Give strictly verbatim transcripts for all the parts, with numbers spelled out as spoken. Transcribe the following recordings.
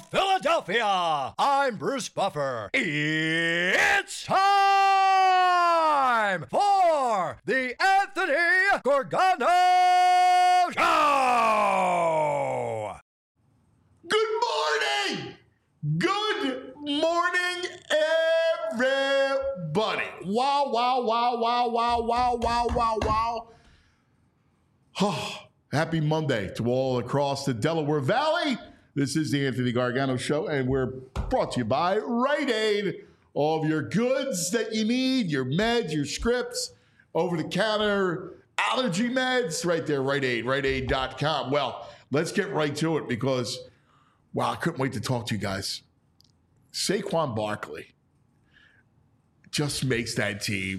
Philadelphia. I'm Bruce Buffer. It's time for the Anthony Gargano Show. Good morning. Good morning, everybody. Wow, wow, wow, wow, wow, wow, wow, wow, wow. Oh, happy Monday to all across the Delaware Valley. This is the Anthony Gargano Show, and we're brought to you by Rite Aid. All of your goods that you need, your meds, your scripts, over-the-counter allergy meds, right there, Rite Aid, rite aid dot com. Well, let's get right to it because, wow, I couldn't wait to talk to you guys. Saquon Barkley just makes that team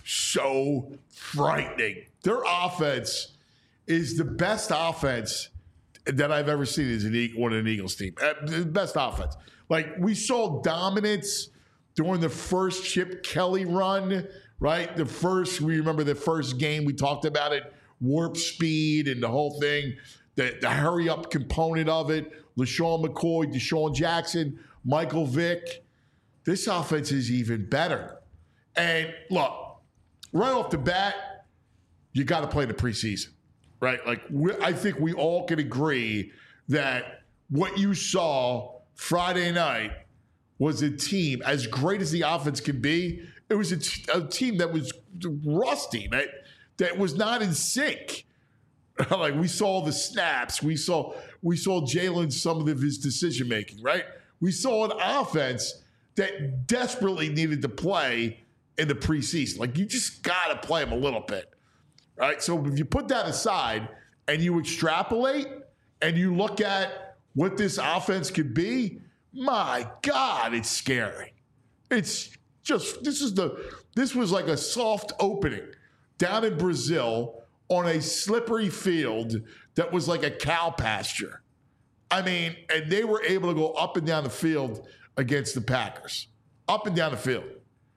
so frightening. Their offense is the best offense that I've ever seen as an on an Eagles team. Uh, the best offense. Like, we saw dominance during the first Chip Kelly run, right? The first, we remember the first game, we talked about it, warp speed and the whole thing, the, the hurry-up component of it, LaShawn McCoy, Deshaun Jackson, Michael Vick. This offense is even better. And, look, right off the bat, you got to play the preseason. Right? Like, I think we all can agree that what you saw Friday night was a team, as great as the offense can be, it was a, t- a team that was rusty, that, that was not in sync. Like, we saw the snaps. We saw we saw Jalen, some of his decision-making, right? We saw an offense that desperately needed to play in the preseason. Like, you just got to play them a little bit. Right, so if you put that aside and you extrapolate and you look at what this offense could be, my God, it's scary. It's just this is the this was like a soft opening down in Brazil on a slippery field that was like a cow pasture. I mean, and they were able to go up and down the field against the Packers, up and down the field.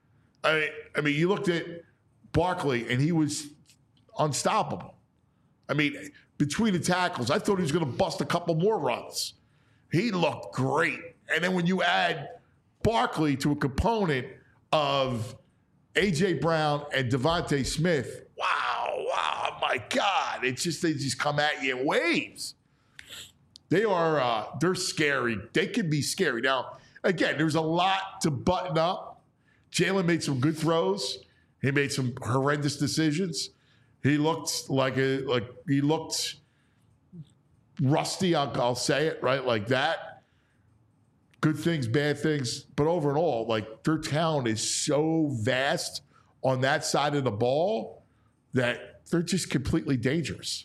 I mean, I mean, you looked at Barkley and he was unstoppable. I mean, between the tackles, I thought he was going to bust a couple more runs. He looked great. And then when you add Barkley to a component of A J. Brown and Devontae Smith, wow, wow, my God. It's just, they just come at you in waves. They are, uh, they're scary. They can be scary. Now, again, there's a lot to button up. Jalen made some good throws. He made some horrendous decisions. He looked like a like he looked rusty. I'll, I'll say it right like that. Good things, bad things, but over and all, like their talent is so vast on that side of the ball that they're just completely dangerous.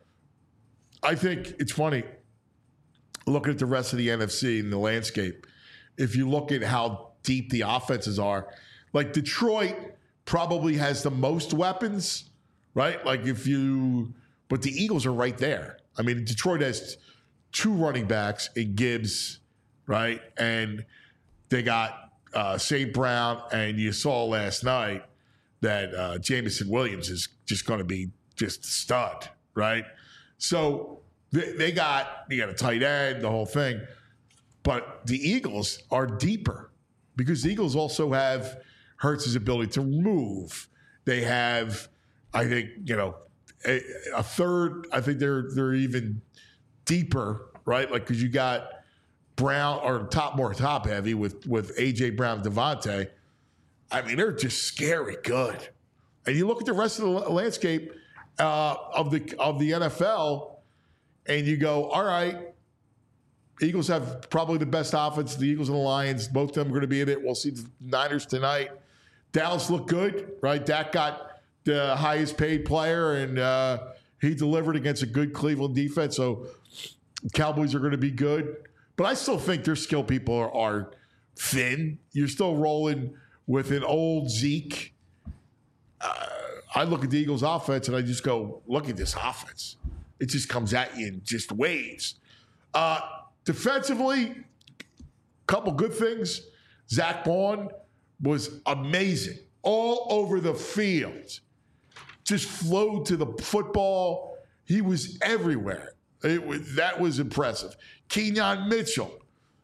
I think it's funny looking at the rest of the N F C and the landscape. If you look at how deep the offenses are, like Detroit probably has the most weapons. Right? Like if you, but the Eagles are right there. I mean, Detroit has two running backs in Gibbs, right? And they got uh, Saint Brown, and you saw last night that uh, Jameson Williams is just going to be just a stud, right? So they, they got, you got a tight end, the whole thing. But the Eagles are deeper because the Eagles also have Hurts' ability to move. They have, I think, you know, a, a third, I think they're they're even deeper, right? Like, because you got Brown, or top more top heavy with, with A J. Brown and Devontae. I mean, they're just scary good. And you look at the rest of the landscape uh, of the of the N F L, and you go, all right, Eagles have probably the best offense. The Eagles and the Lions, both of them are going to be in it. We'll see the Niners tonight. Dallas looked good, right? Dak got the highest paid player, and uh, he delivered against a good Cleveland defense. So Cowboys are going to be good. But I still think their skill people are, are thin. You're still rolling with an old Zeke. Uh, I look at the Eagles' offense, and I just go, look at this offense. It just comes at you in just waves. Uh, defensively, couple good things. Zach Bond was amazing all over the field. Just flowed to the football. He was everywhere. It was, that was impressive. Kenyon Mitchell,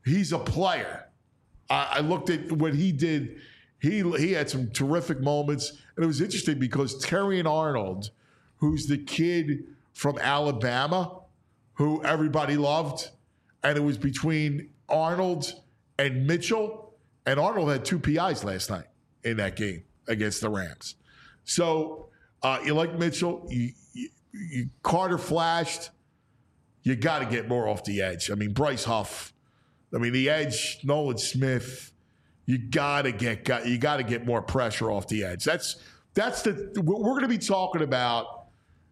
he's a player. I, I looked at what he did. He he had some terrific moments, and it was interesting because Terrion Arnold, who's the kid from Alabama, who everybody loved, and it was between Arnold and Mitchell, and Arnold had two P Is last night in that game against the Rams. So uh, you like Mitchell, you, you, you Carter flashed. You got to get more off the edge. I mean, Bryce Huff. I mean, the edge, Nolan Smith. You got to get got, you got to get more pressure off the edge. That's that's the what we're going to be talking about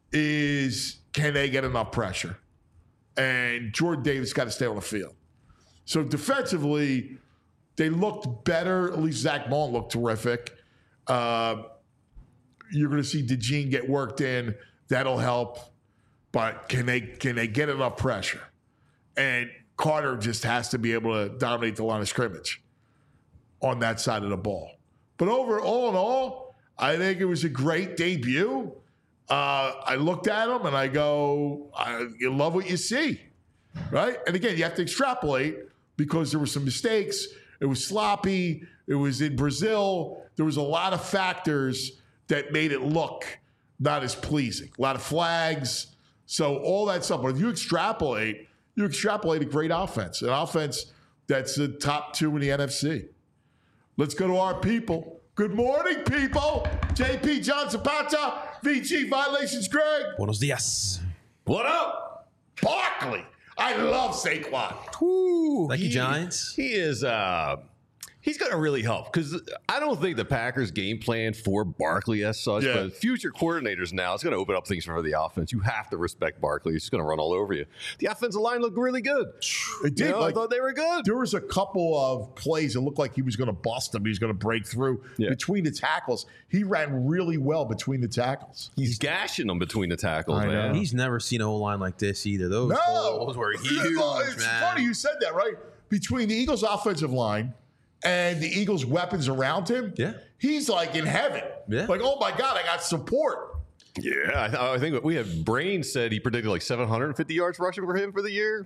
is can they get enough pressure? And Jordan Davis got to stay on the field. So defensively, they looked better. At least Zach Bond looked terrific. Uh, you're going to see DeJean get worked in. That'll help. But can they can they get enough pressure? And Carter just has to be able to dominate the line of scrimmage on that side of the ball. But over all in all, I think it was a great debut. Uh, I looked at him and I go, I, you love what you see, right? And again, you have to extrapolate because there were some mistakes. It was sloppy. It was in Brazil. There was a lot of factors that made it look not as pleasing. A lot of flags. So all that stuff. But if you extrapolate, you extrapolate a great offense, an offense that's the top two in the N F C. Let's go to our people. Good morning, people. J P John Zapata, V G Violations Greg. Buenos dias. What up? Barkley. I love Saquon. Woo. Thank he, you, Giants. He is, uh, he's going to really help because I don't think the Packers game plan for Barkley as such, Yeah. but future coordinators now, it's going to open up things for the offense. You have to respect Barkley. He's going to run all over you. The offensive line looked really good. It did. You know, like, I thought they were good. there was a couple of plays that looked like he was going to bust them. He was going to break through Yeah. between the tackles. He ran really well between the tackles. He's gashing them between the tackles, I know. man. He's never seen an O-line like this either. Those No. holes were huge, Well, it's man. funny you said that, right? Between the Eagles' offensive line and the Eagles' weapons around him, Yeah. he's like in heaven. Yeah. Like, oh my God, I got support. Yeah, I, th- I think we have Brain said he predicted like seven hundred fifty yards rushing for him for the year.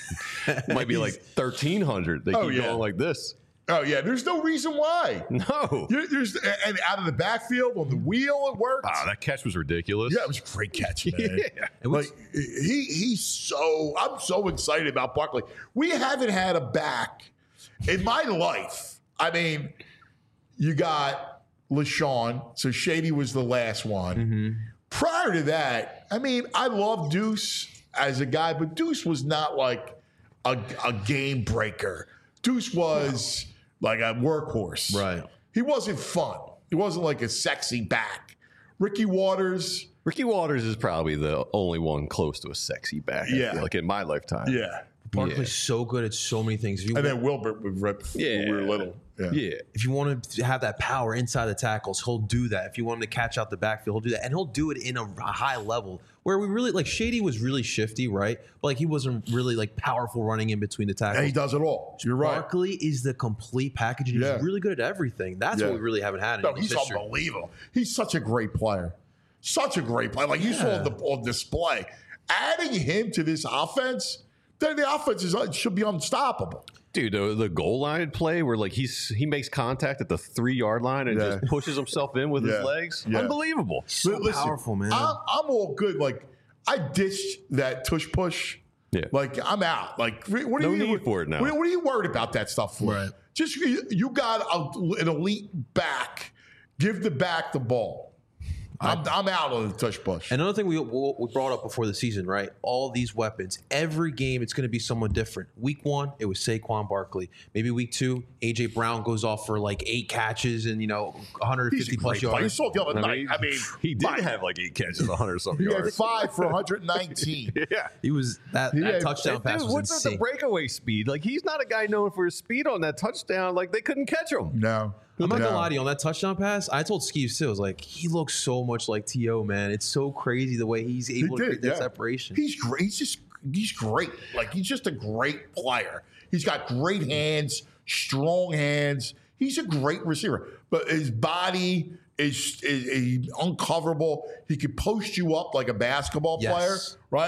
Might be like thirteen hundred. They Oh, keep yeah. going like this. Oh, yeah, there's no reason why. No. You're- There's And out of the backfield on the wheel, it worked. Wow, that catch was ridiculous. Yeah, it was a great catch, man. Yeah. It was- Like he he's so I'm so excited about Barkley. We haven't had a back in my life. I mean, you got LaShawn, so Shady was the last one. Mm-hmm. Prior to that, I mean, I love Deuce as a guy, but Deuce was not like a, a game breaker. Deuce was like a workhorse. Right. He wasn't fun. He wasn't like a sexy back. Ricky Waters. Ricky Waters is probably the only one close to a sexy back. I Yeah. feel like in my lifetime. Yeah. Barkley's Yeah. so good at so many things. If you, And then Wilbert would rip Yeah. when we were little. Yeah. Yeah. if you want to have that power inside the tackles, he'll do that. If you want him to catch out the backfield, he'll do that. And he'll do it in a high level where we really, like, Shady was really shifty, right? But, like, he wasn't really, like, powerful running in between the tackles. And he does it all. You're right. Barkley is the complete package, and Yeah. he's really good at everything. That's Yeah. what we really haven't had in No, Eagles he's history. unbelievable. He's such a great player. Such a great player. Like you saw on, the, on display. Adding him to this offense, then the offense is, should be unstoppable. Dude, the, the goal line play where like he's he makes contact at the three yard line and Yeah. just pushes himself in with Yeah. his legs. Yeah. Unbelievable. So Listen, powerful, man. I'm, I'm all good. Like, I ditched that tush push. Yeah. Like, I'm out. Like, what are No you need for it now. What, what are you worried about that stuff for? Right. Just you, you got a, an elite back. Give the back the ball. I'm, I'm out on the tush push. Another thing we, we brought up before the season, right? All these weapons. Every game, it's going to be someone different. Week one, it was Saquon Barkley. Maybe week two, A J Brown goes off for like eight catches and, you know, one hundred fifty He's a plus great player. You yards. saw the other I night. mean, I mean, he did my- have like eight catches, one hundred something He had yards. five for one hundred nineteen. Yeah. He was that, He that had- touchdown Dude, pass was what's with the insane. breakaway speed? Like he's not a guy known for his speed on that touchdown. Like they couldn't catch him. No. I'm not No. gonna lie to you on that touchdown pass. I told Skeeve still, I was like, he looks so much like T O, man. It's so crazy the way he's able to did, create that yeah. separation. He's great. He's just he's great. Like he's just a great player. He's got great hands, strong hands. He's a great receiver. But his body is, is, is uncoverable. He could post you up like a basketball Yes. player, right?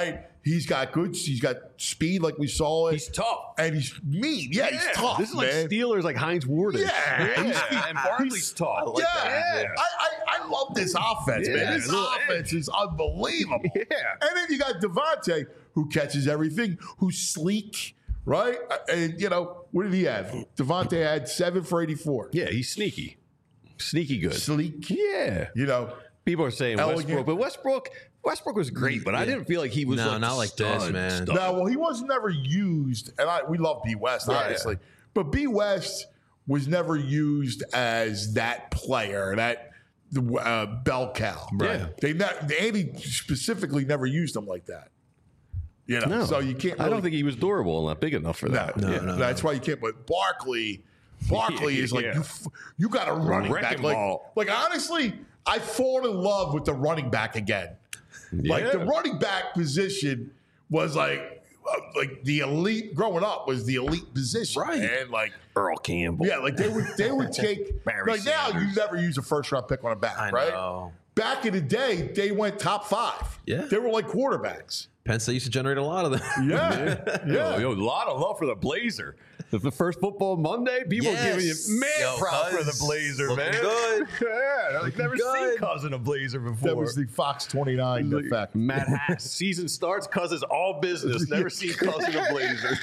He's got good. He's got speed, like we saw it. He's tough. And he's mean. Yeah, he's tough, This is man. like Steelers, like Heinz Ward. Yeah. yeah. And Barkley's tough. yeah, that. I, I, I love this offense, Yeah, man. This a little offense is unbelievable. Yeah. And then you got Devontae, who catches everything, who's sleek, right? And, you know, what did he have? Devontae had seven for eighty-four. Yeah, he's sneaky. Sneaky good. Sleek. Yeah. You know, People are saying Elegant. Westbrook, but Westbrook Westbrook was great, but I didn't feel like he was No, like not like this, stud, man. stud. now, well, he was never used, and I we love B. West, Yeah. obviously, but B. West was never used as that player, that uh, bell cow. Right. Yeah. They ne- Andy specifically never used him like that. You know, No. so you can't. I really- don't think he was durable and not big enough for that. No, No, yeah, no, that's why you can't. But Barkley, Barkley is like Yeah. you. f- You got a running back. Wrecking Like, ball. like honestly, I fall in love with the running back again. Like the Yeah. running back position was like, uh, like the elite. Growing up was the elite position, Right. And like, Earl Campbell. yeah, like they would they would take Barry like now you Sanders. never use a first round pick on a back, I right? know. Back in the day, they went top five. Yeah. they were like quarterbacks. Penn State used to generate a lot of them. Yeah, Yo, yo, a lot of love for the Blazer. The, the first football Monday, people Yes. are giving you man Yo, props for the Cuz, Blazer, looking man. good. Yeah, I've never seen good. Cousin a Blazer before. that was the Fox twenty-nine effect. Matt Hass. Season starts, Cousin's all business. Never seen Cousin a Blazer.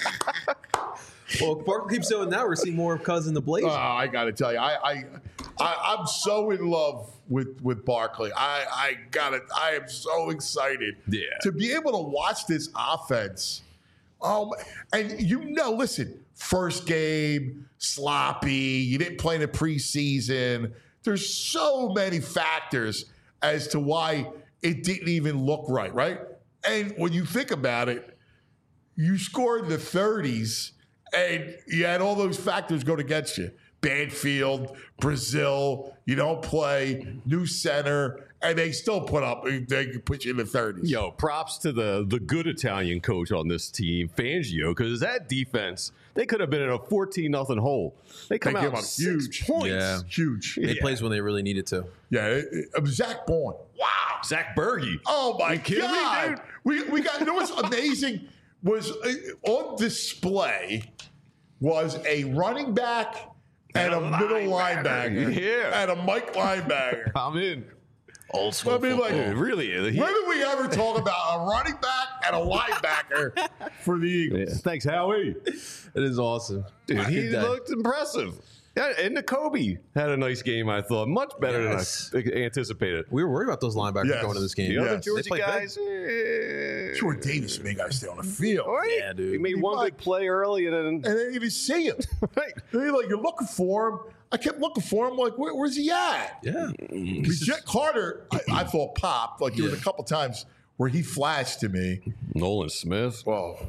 Well, Barkley keeps doing that. We're seeing more of Cousin the Blazer. Oh, I got to tell you, I, I, I, I'm so in love with with Barkley. I, I got it. I am so excited. Yeah. To be able to watch this offense. Um, and you know, listen, first game sloppy. You didn't play in the preseason. There's so many factors as to why it didn't even look right, right? And when you think about it, you scored in the thirties, and you had all those factors go against you. Bad field, Brazil, you don't play, new center, and they still put up, they could put you in the thirties. Yo, props to the the good Italian coach on this team, Fangio, because that defense, they could have been in a fourteen nothing hole. They come They came out out six huge. points. Yeah. Huge. They Yeah. plays when they really needed to. Yeah, it, it, Zach Bourne. Wow. Zach Berge. Oh my You kidding me, God. dude? We we got you know what's amazing was uh, on display was a running back and, And a, a middle linebacker. linebacker. Yeah. And a Mike linebacker. I'm in. Old school. I mean, like, It really is. He- when did we ever talk about a running back and a linebacker for the Eagles? Yeah. Thanks, Howie. It is awesome. Dude, he Good day. looked impressive. Yeah, and Nakobe had a nice game, I thought. Much better Yes. than I anticipated. We were worried about those linebackers Yes. going to this game. The other Yes. Georgia They played guys, eh, Sure, Davis may got to stay on the field. right? Yeah, dude. He made He one might. big play early, and then And then you didn't see him. right. And you're like, you're looking for him. I kept looking for him. Like, Where, where's he at? Yeah. Because Jet Carter, I, I thought popped. Like there was Yeah. a couple times where he flashed to me. Nolan Smith. Well,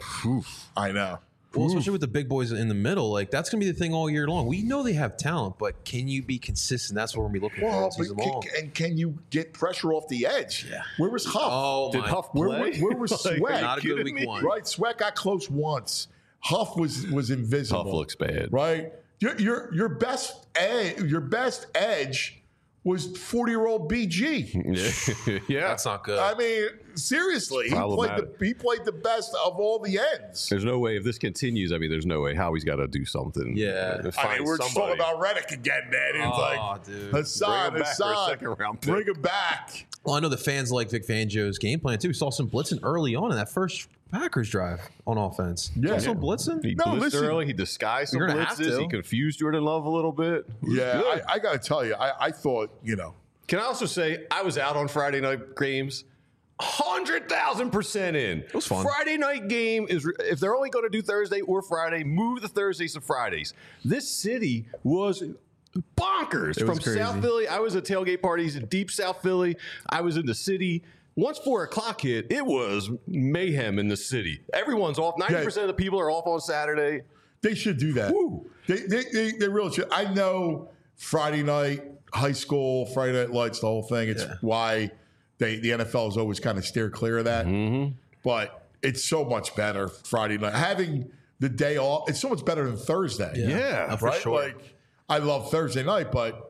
I know. Well, especially with the big boys in the middle, like that's gonna be the thing all year long. We know they have talent, but can you be consistent? That's what we're gonna be looking for all Well, season but long. can, and can you get pressure off the edge? Yeah. Where was Huff? Oh Did my! Huff Where- play? where- where was Like, Sweat? are you Not a good kidding week me? one. Right, Sweat got close once. Huff was was invisible. Huff looks bad. Right, your your your best edge, your best edge was forty year old B G. Yeah. yeah. That's not good. I mean, seriously, he played the Problematic. he played the best of all the ends. There's no way if this continues. I mean, there's no way Howie's got to do something. Yeah. Find I mean, we're just talking somebody. about Reddick again, man. It's Oh, like dude. Hassan, Bring him back for a Hassan, second round pick. bring him back. Well, I know the fans like Vic Fangio's game plan too. We saw some blitzing early on in that first Packers drive on offense. Yeah. Saw some blitzing. He No, blitzed listen. early. He disguised some You're gonna have blitzes. to. He confused Jordan Love a little bit. It was Yeah, good. I, I got to tell you, I, I thought, you know, Can I also say I was out on Friday night games, hundred thousand percent in. It was fun. Friday night game is if they're only going to do Thursday or Friday, move the Thursdays to Fridays. This city was bonkers It was from crazy. South Philly. I was at tailgate parties in deep South Philly. I was in the city. Once four o'clock hit, it was mayhem in the city. Everyone's off. Ninety percent of the people are off on Saturday. they should do that. Woo. They, they, they, they really should. I know Friday night, high school, Friday night lights, the whole thing. It's Yeah. why they, the N F L has always kind of steered clear of that. Mm-hmm. But it's so much better Friday night. Having the day off, it's so much better than Thursday. Yeah, Uh, for right? sure. Like, I love Thursday night, but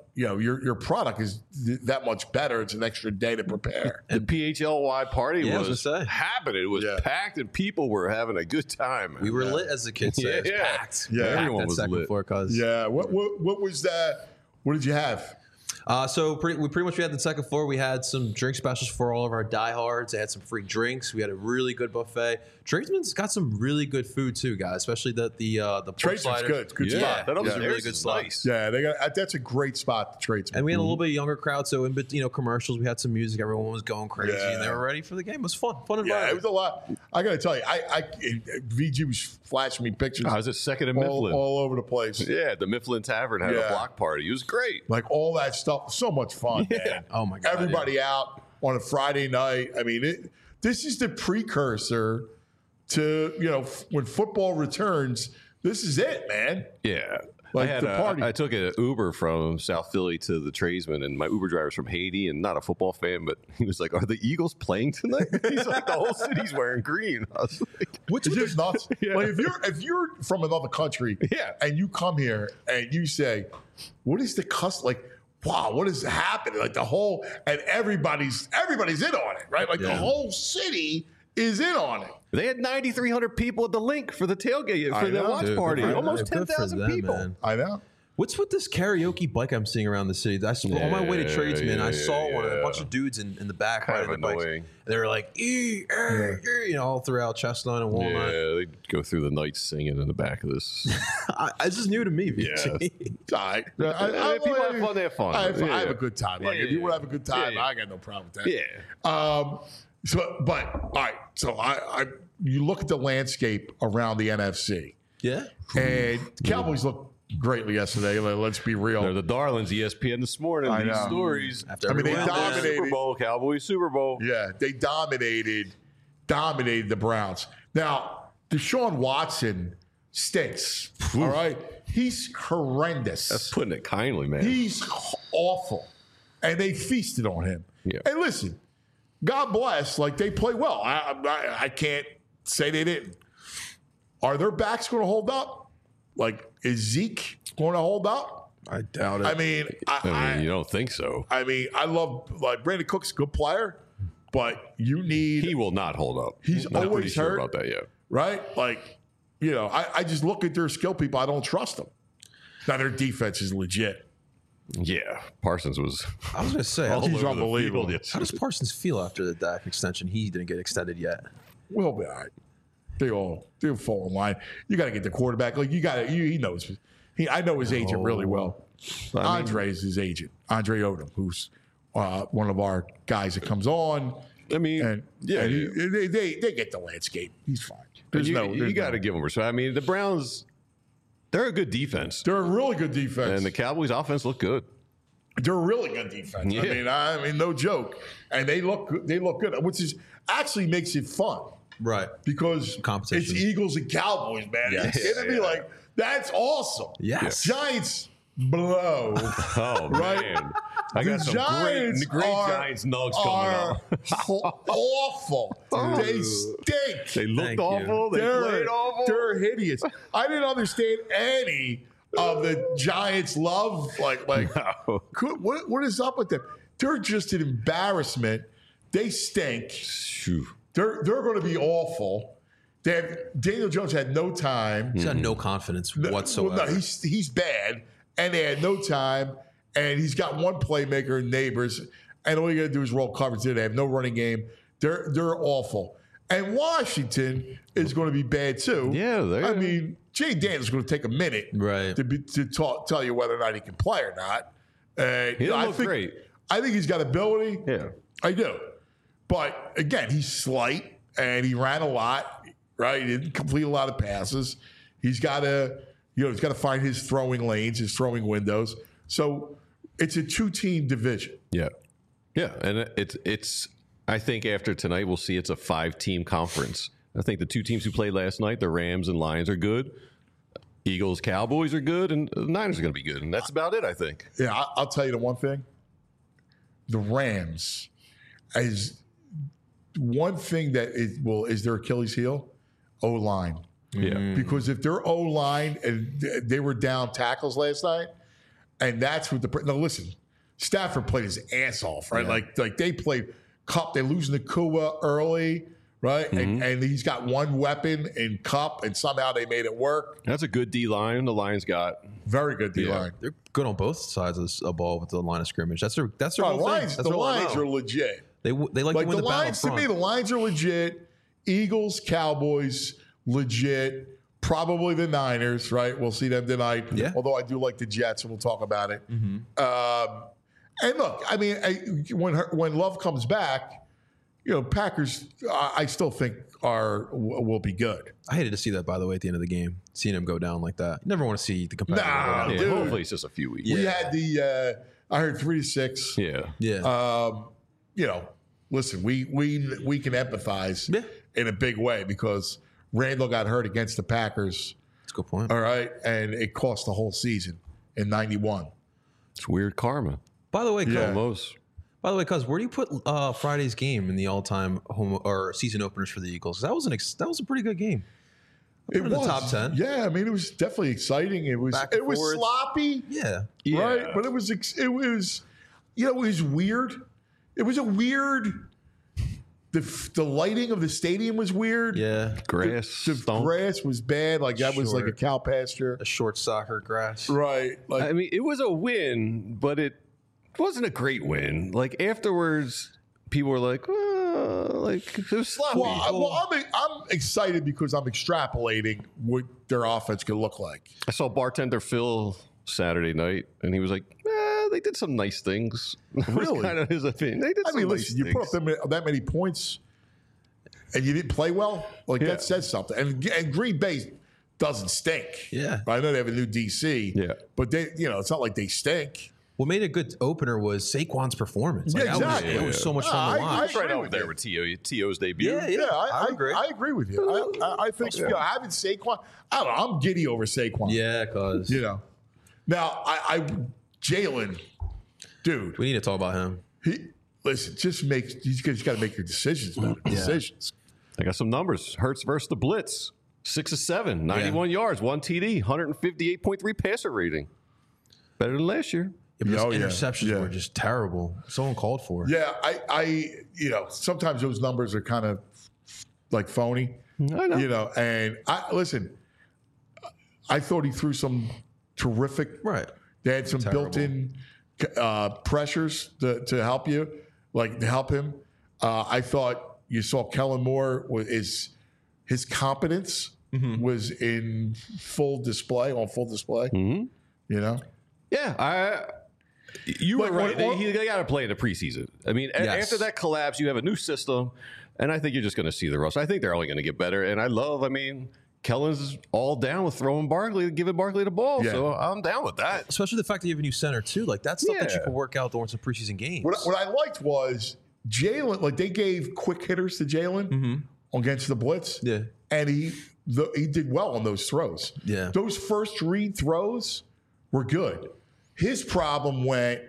you know, your your product is th- that much better. It's an extra day to prepare. The P H L Y party Yeah, I was was, gonna say. happening. It was Yeah. packed, and people were having a good time. We were lit, as the kids say. It was Yeah. packed. Yeah. Packed Everyone that was second lit. floor, cuz. Yeah. What what what was that? What did you have? Uh, so pretty, we pretty much we had the second floor. We had some drink specials for all of our diehards. They had some free drinks. We had a really good buffet. Tradesman's got some really good food too, guys. Especially the the uh, the pork Tradesman's sliders. good. It's a good Yeah, spot. that was was a yeah, really good spot. nice. Yeah, they got uh, that's a great spot. The Tradesman. And we had a little bit younger crowd, so in bet- you know commercials, we had some music. Everyone was going crazy, Yeah. and they were ready for the game. It was fun, fun Yeah, it environment. was a lot. I got to tell you, I, I V G was flashing me pictures I was at second in all, Mifflin. all over the place. Yeah, the Mifflin Tavern had Yeah. a block party. It was great. Like all that stuff, so much fun, man. Oh my God, Everybody out on a Friday night. I mean, it, this is the precursor to you know f- when football returns. This is it, man. Yeah. Like I had the a- party. I took an Uber from South Philly to the Tradesman, and my Uber driver's from Haiti and not a football fan, but he was like, "Are the Eagles playing tonight?" He's like, "The whole city's wearing green." I was like, Which is just nuts. Yeah. Like if you're if you're from another country, Yeah. and you come here and you say, "What is the cus like?" Wow, what is happening? Like the whole and everybody's everybody's in on it, right? Like the Yeah. whole city is in on it. They had ninety-three hundred people at the link for the tailgate I for the know. watch Dude, party. good for- Almost good ten for thousand them, people. man. I know. What's with this karaoke bike I'm seeing around the city? I saw, on my way to Yeah, Tradesman, yeah, I saw yeah, one, a yeah. bunch of dudes in, in the back Kind riding of their bikes. annoying. They were like, e, er, er, you know, all throughout Chestnut and Walnut. Yeah, they go through the night singing in the back of this. I, this is new to me, V G. Yeah. It's all right. I, Yeah, people have fun, they have fun. I have, I Yeah. have a good time. Like Yeah, if you yeah, want to have a good time, yeah, yeah. I got no problem with that. Yeah. Um, so, but all right. So I, I, you look at the landscape around the N F C, Yeah. and the Cowboys look greatly yesterday. Like, let's be real. They're the darlings. E S P N this morning. I These know. stories. After I mean, they every win, man. dominated. Super Bowl, Cowboys, Super Bowl. Yeah, they dominated, dominated the Browns. Now, Deshaun Watson stinks. All right, he's horrendous. That's putting it kindly, man. He's awful, and they feasted on him. Yeah. And listen, God bless. Like they play well. I, I, I can't say they didn't. Are their backs going to hold up? Like is Zeke going to hold up? I doubt it. I mean, I, I mean, I, you don't think so. I mean, I love like Brandon Cook's a good player, but you need He will not hold up. He's not always pretty sure hurt. about that yet. right? Like, you know, I, I just look at their skill people. I don't trust them. Now their defense is legit. Yeah, Parsons was. I was going to say, all how, He's over the unbelievable. field, yes. how does Parsons feel after the Dak extension? He didn't get extended yet. We'll be all right. They all they fall in line. You got to get the quarterback. Like you got to. He knows. He I know his agent really well. I mean- Andre is his agent. Andre Odom, who's uh, one of our guys that comes on. I mean, And yeah, and he- yeah. they, they they get the landscape. He's fine. There's you, no. you there's got to no- give them respect. I mean, the Browns, they're a good defense, They're a really good defense. and the Cowboys' offense look good. They're a really good defense. Yeah. I mean, I mean, no joke. And they look good- they look good, which is actually makes it fun Right. because Competition. it's Eagles and Cowboys, man. Yes. Are you kidding me? Yeah. Like that's awesome. Yes. Giants blow. Oh Right? man, I got The some Giants great, great are- Giants nugs coming are up. ho- awful. They stink. They looked Thank awful. you. They They're, played awful. they're hideous. I didn't understand any of the Giants' love. Like, like No. could- what, what is up with them? They're just an embarrassment. They stink. Phew. They're they're going to be awful. They have, Daniel Jones had no time. He's got no confidence No- whatsoever. well, no, he's he's bad, and they had no time. And he's got one playmaker, Neighbors, and all you got to do is roll coverage. They have no running game. They're they're awful. And Washington is going to be bad too. Yeah, they- I mean, Jay Daniels is going to take a minute, Right. to be, to talk, tell you whether or not he can play or not. Uh, He I look think, great. I think he's got ability. Yeah. I do. But again, he's slight and he ran a lot, right? He didn't complete a lot of passes. He's got to, you know, he's got to find his throwing lanes, his throwing windows. So it's a two-team division. Yeah, yeah, and it- it's it's. I think after tonight we'll see it's a five-team conference. I think the two teams who played last night, the Rams and Lions, are good. Eagles, Cowboys are good, and the Niners are going to be good, and that's about it. I think. Yeah, I, I'll tell you the one thing. The Rams is one thing that is, will is their Achilles heel, O-line. Yeah, Because if their O-line and th- they were down tackles last night, and that's what the now listen. Stafford played his ass off, right? Yeah. Like like they played Cup. They're losing to Kua early, right? Mm-hmm. And, and he's got one weapon in Cup, and somehow they made it work. That's a good D line. The Lions got. Very good D line. They're good on both sides of the ball with the line of scrimmage. That's their that's their Oh, whole Lions, thing. That's the their whole Lions M O. are legit. They w- they like, Like to win the the, battle Lions to front. me, the Lions are legit. Eagles, Cowboys, legit. Probably the Niners, right? We'll see them tonight. Yeah. Although I do like the Jets, and we'll talk about it. Mm-hmm. Um, and look, I mean, I, when her, when Love comes back, you know, Packers, I, I still think are will be good. I hated to see that, by the way, at the end of the game, seeing him go down like that. You never want to see the competitor Nah, go down. Yeah, dude. hopefully it's just a few weeks. We Yeah. had the, uh, I heard three to six. Yeah. Yeah. Um, you know, listen, we we we can empathize Yeah. in a big way because Randall got hurt against the Packers. That's a good point. All right, and it cost the whole season in ninety-one. It's weird karma. By the way, Cuz, Yeah. Almost. by the way, Cuz, where do you put uh, Friday's game in the all-time home or season openers for the Eagles? That was an ex- that was a pretty good game. It in the was top ten. Yeah, I mean, it was definitely exciting. It was Back and it was forwards. sloppy, Yeah. right? But it was ex- it was you know it was weird. It was a weird. The the lighting of the stadium was weird. Yeah. Grass. The stunk. grass was bad. Like that was like a Short. cow pasture. A short soccer grass. Right. Like I mean, it was a win, but it wasn't a great win. Like afterwards, people were like, uh, like it was sloppy. Well, I, well I'm, I'm excited because I'm extrapolating what their offense could look like. I saw bartender Phil Saturday night, and he was like, eh, "They did some nice things." Really? Kind of his opinion. They did. I some mean, nice listen, you things. put up that many, that many points and you didn't play well, like Yeah. that says something. And, and Green Bay doesn't stink. Yeah. I know they have a new D C. Yeah. But they, you know, it's not like they stink. What made a good opener was Saquon's performance. Like, Yeah, that was- exactly. It was so much Ah, fun to I- watch. It's right agree up with there you. with T O T O's debut. Yeah, Yeah, I, I agree. I agree with you. I, I, I think you know, having Saquon, I don't know, I'm giddy over Saquon. Yeah, cause You know. Now, I, I Jalen, dude, we need to talk about him. he listen, just make you just got to make your decisions, man. Decisions. I got some numbers. Hurts versus the Blitz. Six of seven, ninety-one yards, one T D, one fifty-eight point three passer rating. Better than last year. Yeah, but his Oh, yeah. interceptions Yeah. were just terrible. Someone called for it. Yeah, I, I, you know, sometimes those numbers are kind of like phony, I know. you know. And I listen, I thought he threw some terrific. Right. They had some Terrible. built-in uh, pressures to, to help you, like to help him. Uh, I thought you saw Kellen Moore was is his competence Mm-hmm. was in full display on full display. Mm-hmm. You know, Yeah, I. You Like, were right. what- They, they got to play in the preseason. I mean, a- Yes. after that collapse, you have a new system, and I think you're just going to see the rust. I think they're only going to get better. And I love. I mean, Kellen's all down with throwing Barkley, giving Barkley the ball. Yeah. So I'm down with that. Especially the fact that you have a new center too. Like that's stuff that you Yeah. can work out during some preseason games. what, what I liked was Jalen. Like they gave quick hitters to Jalen against the blitz. Mm-hmm. Yeah. and he the, he did well on those throws. Yeah. Those first read throws were good. His problem went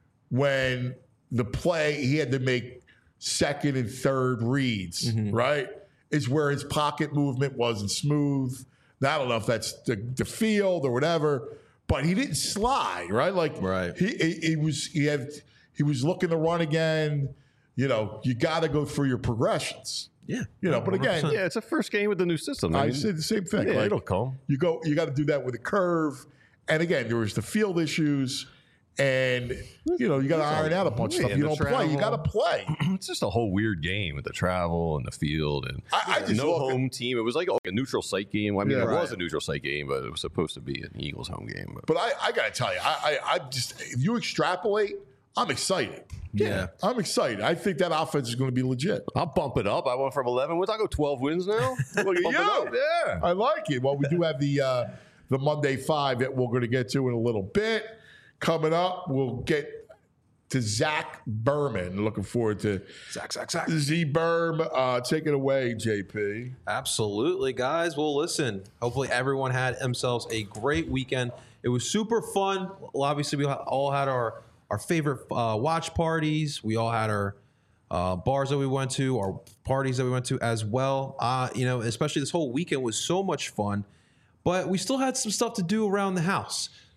when the play he had to make second and third reads, Mm-hmm. right? Is where his pocket movement wasn't smooth. Now, I don't know if that's the, the field or whatever, but he didn't slide, right? Like Right. he, he he was he had he was looking to run again. You know, you got to go through your progressions. Yeah. You know, but again, Yeah, it's a first game with the new system. I mean, said the same thing. Yeah, like, it'll come. You go, you got to do that with a curve. And again, there was the field issues, and you know you got to iron out a bunch of Yeah, stuff. You the don't play, you got travel. to play. It's just a whole weird game with the travel and the field and I- I just no look at- home team. It was like a neutral site game. I mean, Yeah, it was right. a neutral site game, but it was supposed to be an Eagles home game. But But I, I got to tell you, I, I, I just if you extrapolate, I'm excited. Yeah. I'm excited. I think that offense is going to be legit. I'll bump it up. I went from eleven wins. I'll go twelve wins now. Look at Bump it you. up. Yeah. I like it. Well, we do have the uh, the Monday Five that we're going to get to in a little bit. Coming up, we'll get to Zach Berman. Looking forward to Zach, Zach, Zach. Z Berm. Uh, take it away, J P. Absolutely, guys. Well, listen, hopefully everyone had themselves a great weekend. It was super fun. Well, obviously, we all had our, our favorite uh, watch parties. We all had our uh, bars that we went to, our parties that we went to as well. Uh, you know, especially this whole weekend was so much fun. But we still had some stuff to do around the house.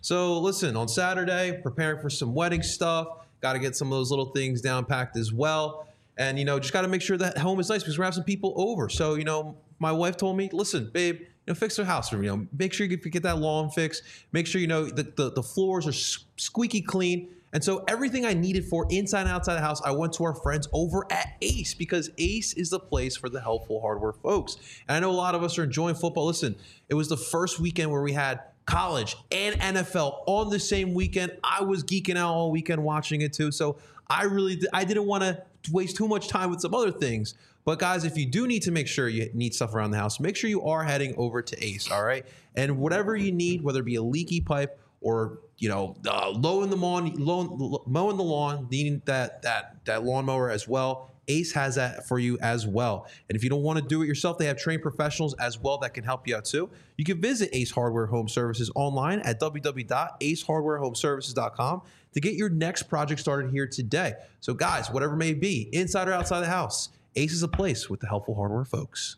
So listen, on Saturday, preparing for some wedding stuff. Got to get some of those little things down packed as well. And, you know, just got to make sure that home is nice because we're going to have some people over. So, you know, my wife told me, listen, babe, you know, fix the house for me. You know, make sure you get that lawn fixed. Make sure, you know, that the, the floors are squeaky clean. And so everything I needed for inside and outside the house, I went to our friends over at Ace because Ace is the place for the helpful hardware folks. And I know a lot of us are enjoying football. Listen, it was the first weekend where we had college and N F L on the same weekend. I was geeking out all weekend watching it too. So I really, I didn't want to waste too much time with some other things. But guys, if you do need to make sure you need stuff around the house, make sure you are heading over to Ace, all right? And whatever you need, whether it be a leaky pipe or, you know, uh, low in the lawn, low, mowing the lawn, needing that that that lawnmower as well, Ace has that for you as well. And if you don't want to do it yourself, they have trained professionals as well that can help you out too. You can visit Ace Hardware Home Services online at w w w dot ace hardware home services dot com to get your next project started here today. So guys, whatever it may be, inside or outside the house, Ace is a place with the helpful hardware folks.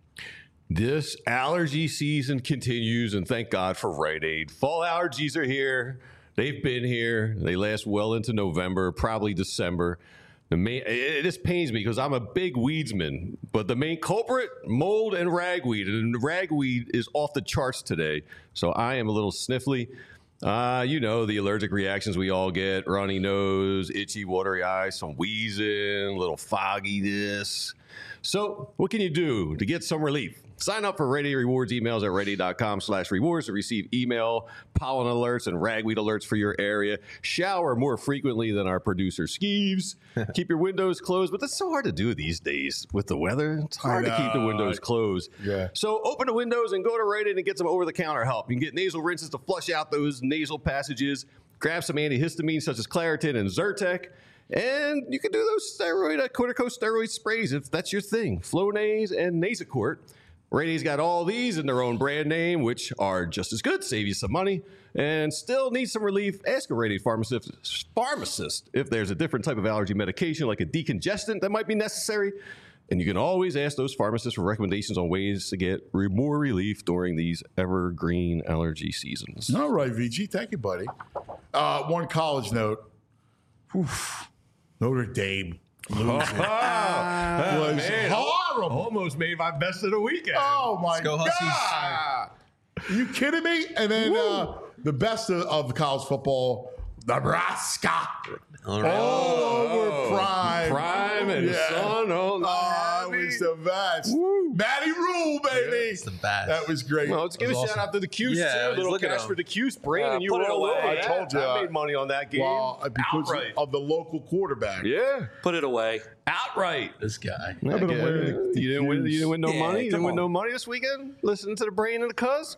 This allergy season continues, and thank God for Rite Aid. Fall allergies are here. They've been here. They last well into November, probably December. The main, it just pains me because I'm a big weedsman, but the main culprit, mold and ragweed, and ragweed is off the charts today. So I am a little sniffly. Uh, you know, the allergic reactions we all get, runny nose, itchy, watery eyes, some wheezing, a little fogginess. So what can you do to get some relief? Sign up for Rite Aid Rewards emails at rite aid dot com slash rewards to receive email, pollen alerts, and ragweed alerts for your area. Shower more frequently than our producer Skeeves. Keep your windows closed, but that's so hard to do these days with the weather. It's hard to keep the windows closed. Yeah. So open the windows and go to Rite Aid and get some over-the-counter help. You can get nasal rinses to flush out those nasal passages. Grab some antihistamines such as Claritin and Zyrtec. And you can do those steroid, uh, corticosteroid sprays if that's your thing. Flonase and Nasacort. Rite Aid's got all these in their own brand name, which are just as good, save you some money, and still need some relief. Ask a Rite Aid pharmacist, pharmacist if there's a different type of allergy medication, like a decongestant, that might be necessary. And you can always ask those pharmacists for recommendations on ways to get re- more relief during these evergreen allergy seasons. All right, V G. Thank you, buddy. Uh, one college note. Oof. Notre Dame. Losing. Oh, was man. horrible. Almost made my best of the weekend. Oh, my go, God. Huskies. Are you kidding me? And then uh, the best of, of college football, Nebraska. All right. All over Prime. Prime and Yeah. Son. Oh, Oh, it was the best. Matty Rule, baby. It's the best. That was great. Well, let's give a That was shout awesome. out to the Cuse, Yeah, I too. was Little looking cash at 'em. for the Cuse brain, Uh, and you put were it all away. over. I that. told you. I made money on that game. Well, because Outright. of the local quarterback. Yeah. Put it away. Outright. This guy. I've been Okay. winning the You didn't win. You didn't win no Yeah, money. You didn't come win on. no money this weekend. Listening to the brain and the cuz.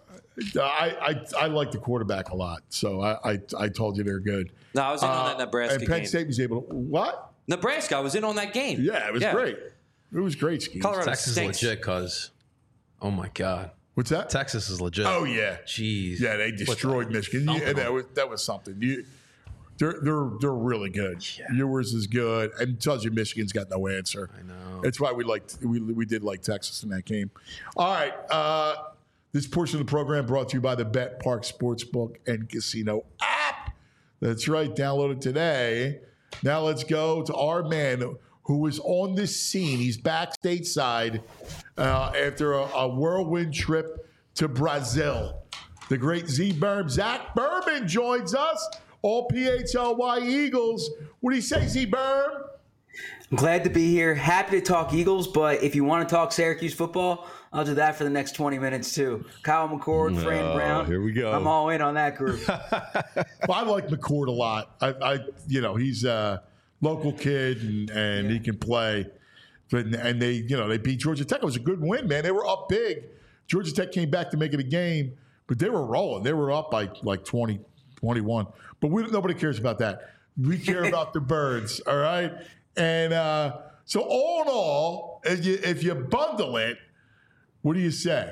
I, I I like the quarterback a lot, so I I, I told you they're good. No, I was in on that Uh, Nebraska and Penn game. State was able to what? Nebraska, I was in on that game. Yeah, it was great. It was great, Ski. Colorado Texas is stinks. legit, cuz. Oh my God. What's that? Texas is legit. Oh yeah, Jeez. yeah. They destroyed Michigan. You, and that was that was something. You, they're they're they're really good. Yours is good, and it tells you Michigan's got no answer. I know. That's why we liked we we did like Texas in that game. All right. Uh, this portion of the program brought to you by the Bet Park Sportsbook and Casino app. That's right. Download it today. Now let's go to our man who was on the scene. He's back stateside uh, after a, a whirlwind trip to Brazil. The great Z Berm, Zach Berman joins us. All P H L Y Eagles. What do you say, Z Berm? I'm glad to be here. Happy to talk Eagles, but if you want to talk Syracuse football, I'll do that for the next twenty minutes too. Kyle McCord, Fran Oh, Brown. here we go. I'm all in on that group. Well, I like McCord a lot. I, I you know, he's a local kid and, and he can play. But and they, you know, they beat Georgia Tech. It was a good win, man. They were up big. Georgia Tech came back to make it a game, but they were rolling. They were up by like twenty, twenty-one. But we, nobody cares about that. We care about the birds, all right? And uh, so all in all, if you, if you bundle it, what do you say?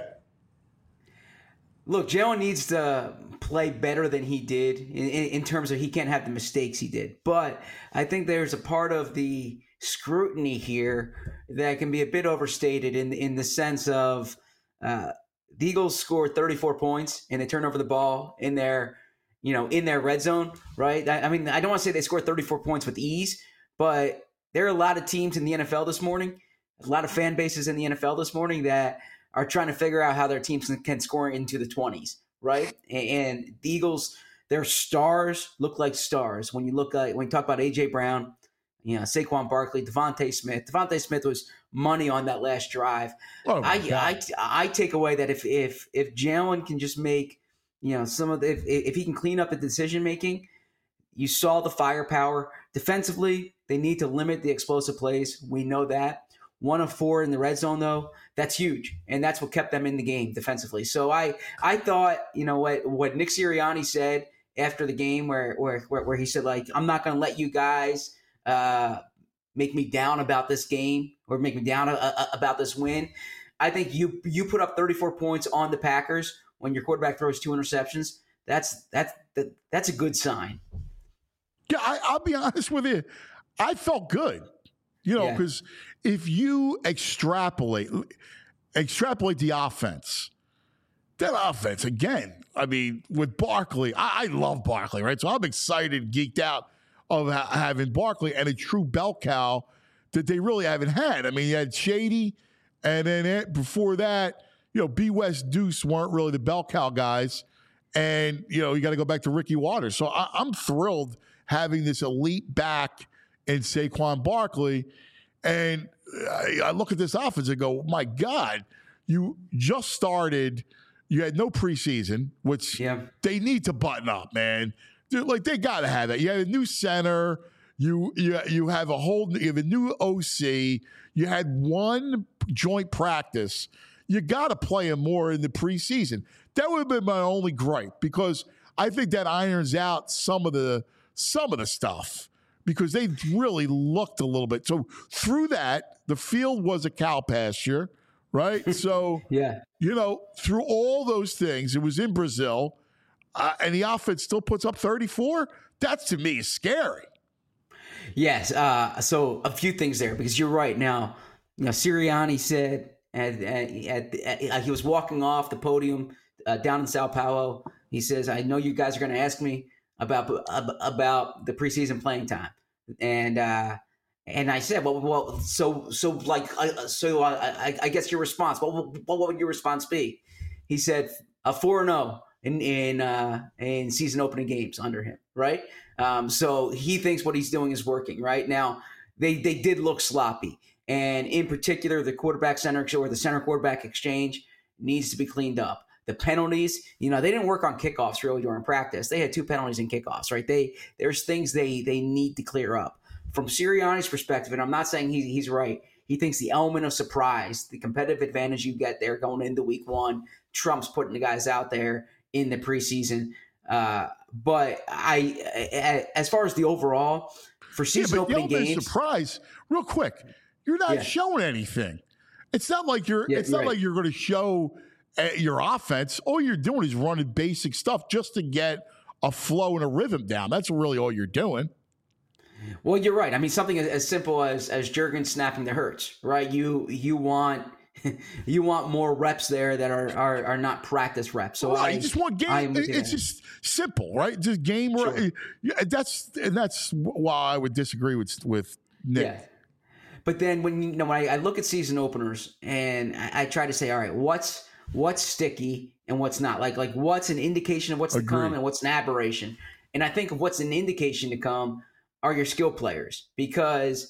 Look, Jalen needs to play better than he did in, in, in terms of he can't have the mistakes he did. But I think there's a part of the scrutiny here that can be a bit overstated in in the sense of uh, the Eagles scored thirty-four points and they turned over the ball in their you know, in their red zone, right? I, I mean, I don't want to say they scored thirty-four points with ease, but there are a lot of teams in the N F L this morning, a lot of fan bases in the N F L this morning that are trying to figure out how their teams can score into the twenties, right? And, and the Eagles, their stars look like stars. When you look at, when you talk about A J Brown, you know, Saquon Barkley, Devontae Smith. Devontae Smith was money on that last drive. Oh my I, God. I I take away that if if if Jalen can just make, you know, some of the, if if he can clean up the decision making, you saw the firepower. Defensively, they need to limit the explosive plays. We know that. One of four in the red zone, though, that's huge, and that's what kept them in the game defensively. So I I thought, you know, what what Nick Sirianni said after the game, where where where he said, like, I'm not going to let you guys uh, make me down about this game or make me down a, a, about this win. I think you you put up thirty-four points on the Packers when your quarterback throws two interceptions. That's that's that, that's a good sign. Yeah, I, I'll be honest with you. I felt good, you know, Yeah. because if you extrapolate, extrapolate the offense, that offense again. I mean, with Barkley, I, I love Barkley, right? So I'm excited, geeked out of ha- having Barkley and a true bell cow that they really haven't had. I mean, you had Shady, and then it, before that, you know, B. West, Deuce weren't really the bell cow guys, and you know, you got to go back to Ricky Waters. So I, I'm thrilled having this elite back in Saquon Barkley. And I, I look at this offense and go, my God, you just started. You had no preseason, which Yeah. they need to button up, man. Dude, like, they got to have that. You had a new center. You, you, you have a whole you have a new O C. You had one joint practice. You got to play him more in the preseason. That would have been my only gripe, because I think that irons out some of the some of the stuff, because they really looked a little bit. So through that, the field was a cow pasture, right? So, Yeah. you know, through all those things, it was in Brazil, uh, and the offense still puts up thirty-four. That, to me, is scary. Yes. Uh, so a few things there, because you're right. Now, you know, Sirianni said at, at, at, at he was walking off the podium uh, down in Sao Paulo. He says, "I know you guys are going to ask me about about the preseason playing time," and uh, and I said, "Well, well, so so like uh, so I, I, I guess your response. What, what what would your response be?" He said, "A four and zero in in uh, in season opening games under him." Right. Um, so he thinks what he's doing is working. Right now, they they did look sloppy, and in particular, the quarterback center or the center quarterback exchange needs to be cleaned up. The penalties, you know, they didn't work on kickoffs really during practice. They had two penalties in kickoffs, right? They there's things they they need to clear up. From Sirianni's perspective, and I'm not saying he, he's right, he thinks the element of surprise, the competitive advantage you get there going into week one, trumps putting the guys out there in the preseason. Uh, but I, I, as far as the overall, for season yeah, but opening the element games, of surprise, real quick, you're not Yeah. showing anything. It's not like you're. Yeah, it's not right. like you're going to show uh, your offense. All you're doing is running basic stuff just to get a flow and a rhythm down. That's really all you're doing. Well, you're right. I mean, something as, as simple as as Jurgen snapping the Hurts, right? You you want you want more reps there that are are, are not practice reps. So Right, I you just want I game. am with you It's there. just simple, right? Just game. Sure. Yeah, that's and that's why I would disagree with with Nick. Yeah. But then when you know when I, I look at season openers and I, I try to say, all right, what's what's sticky and what's not? Like like what's an indication of what's to Agreed. come and what's an aberration? And I think of what's an indication to come are your skill players, because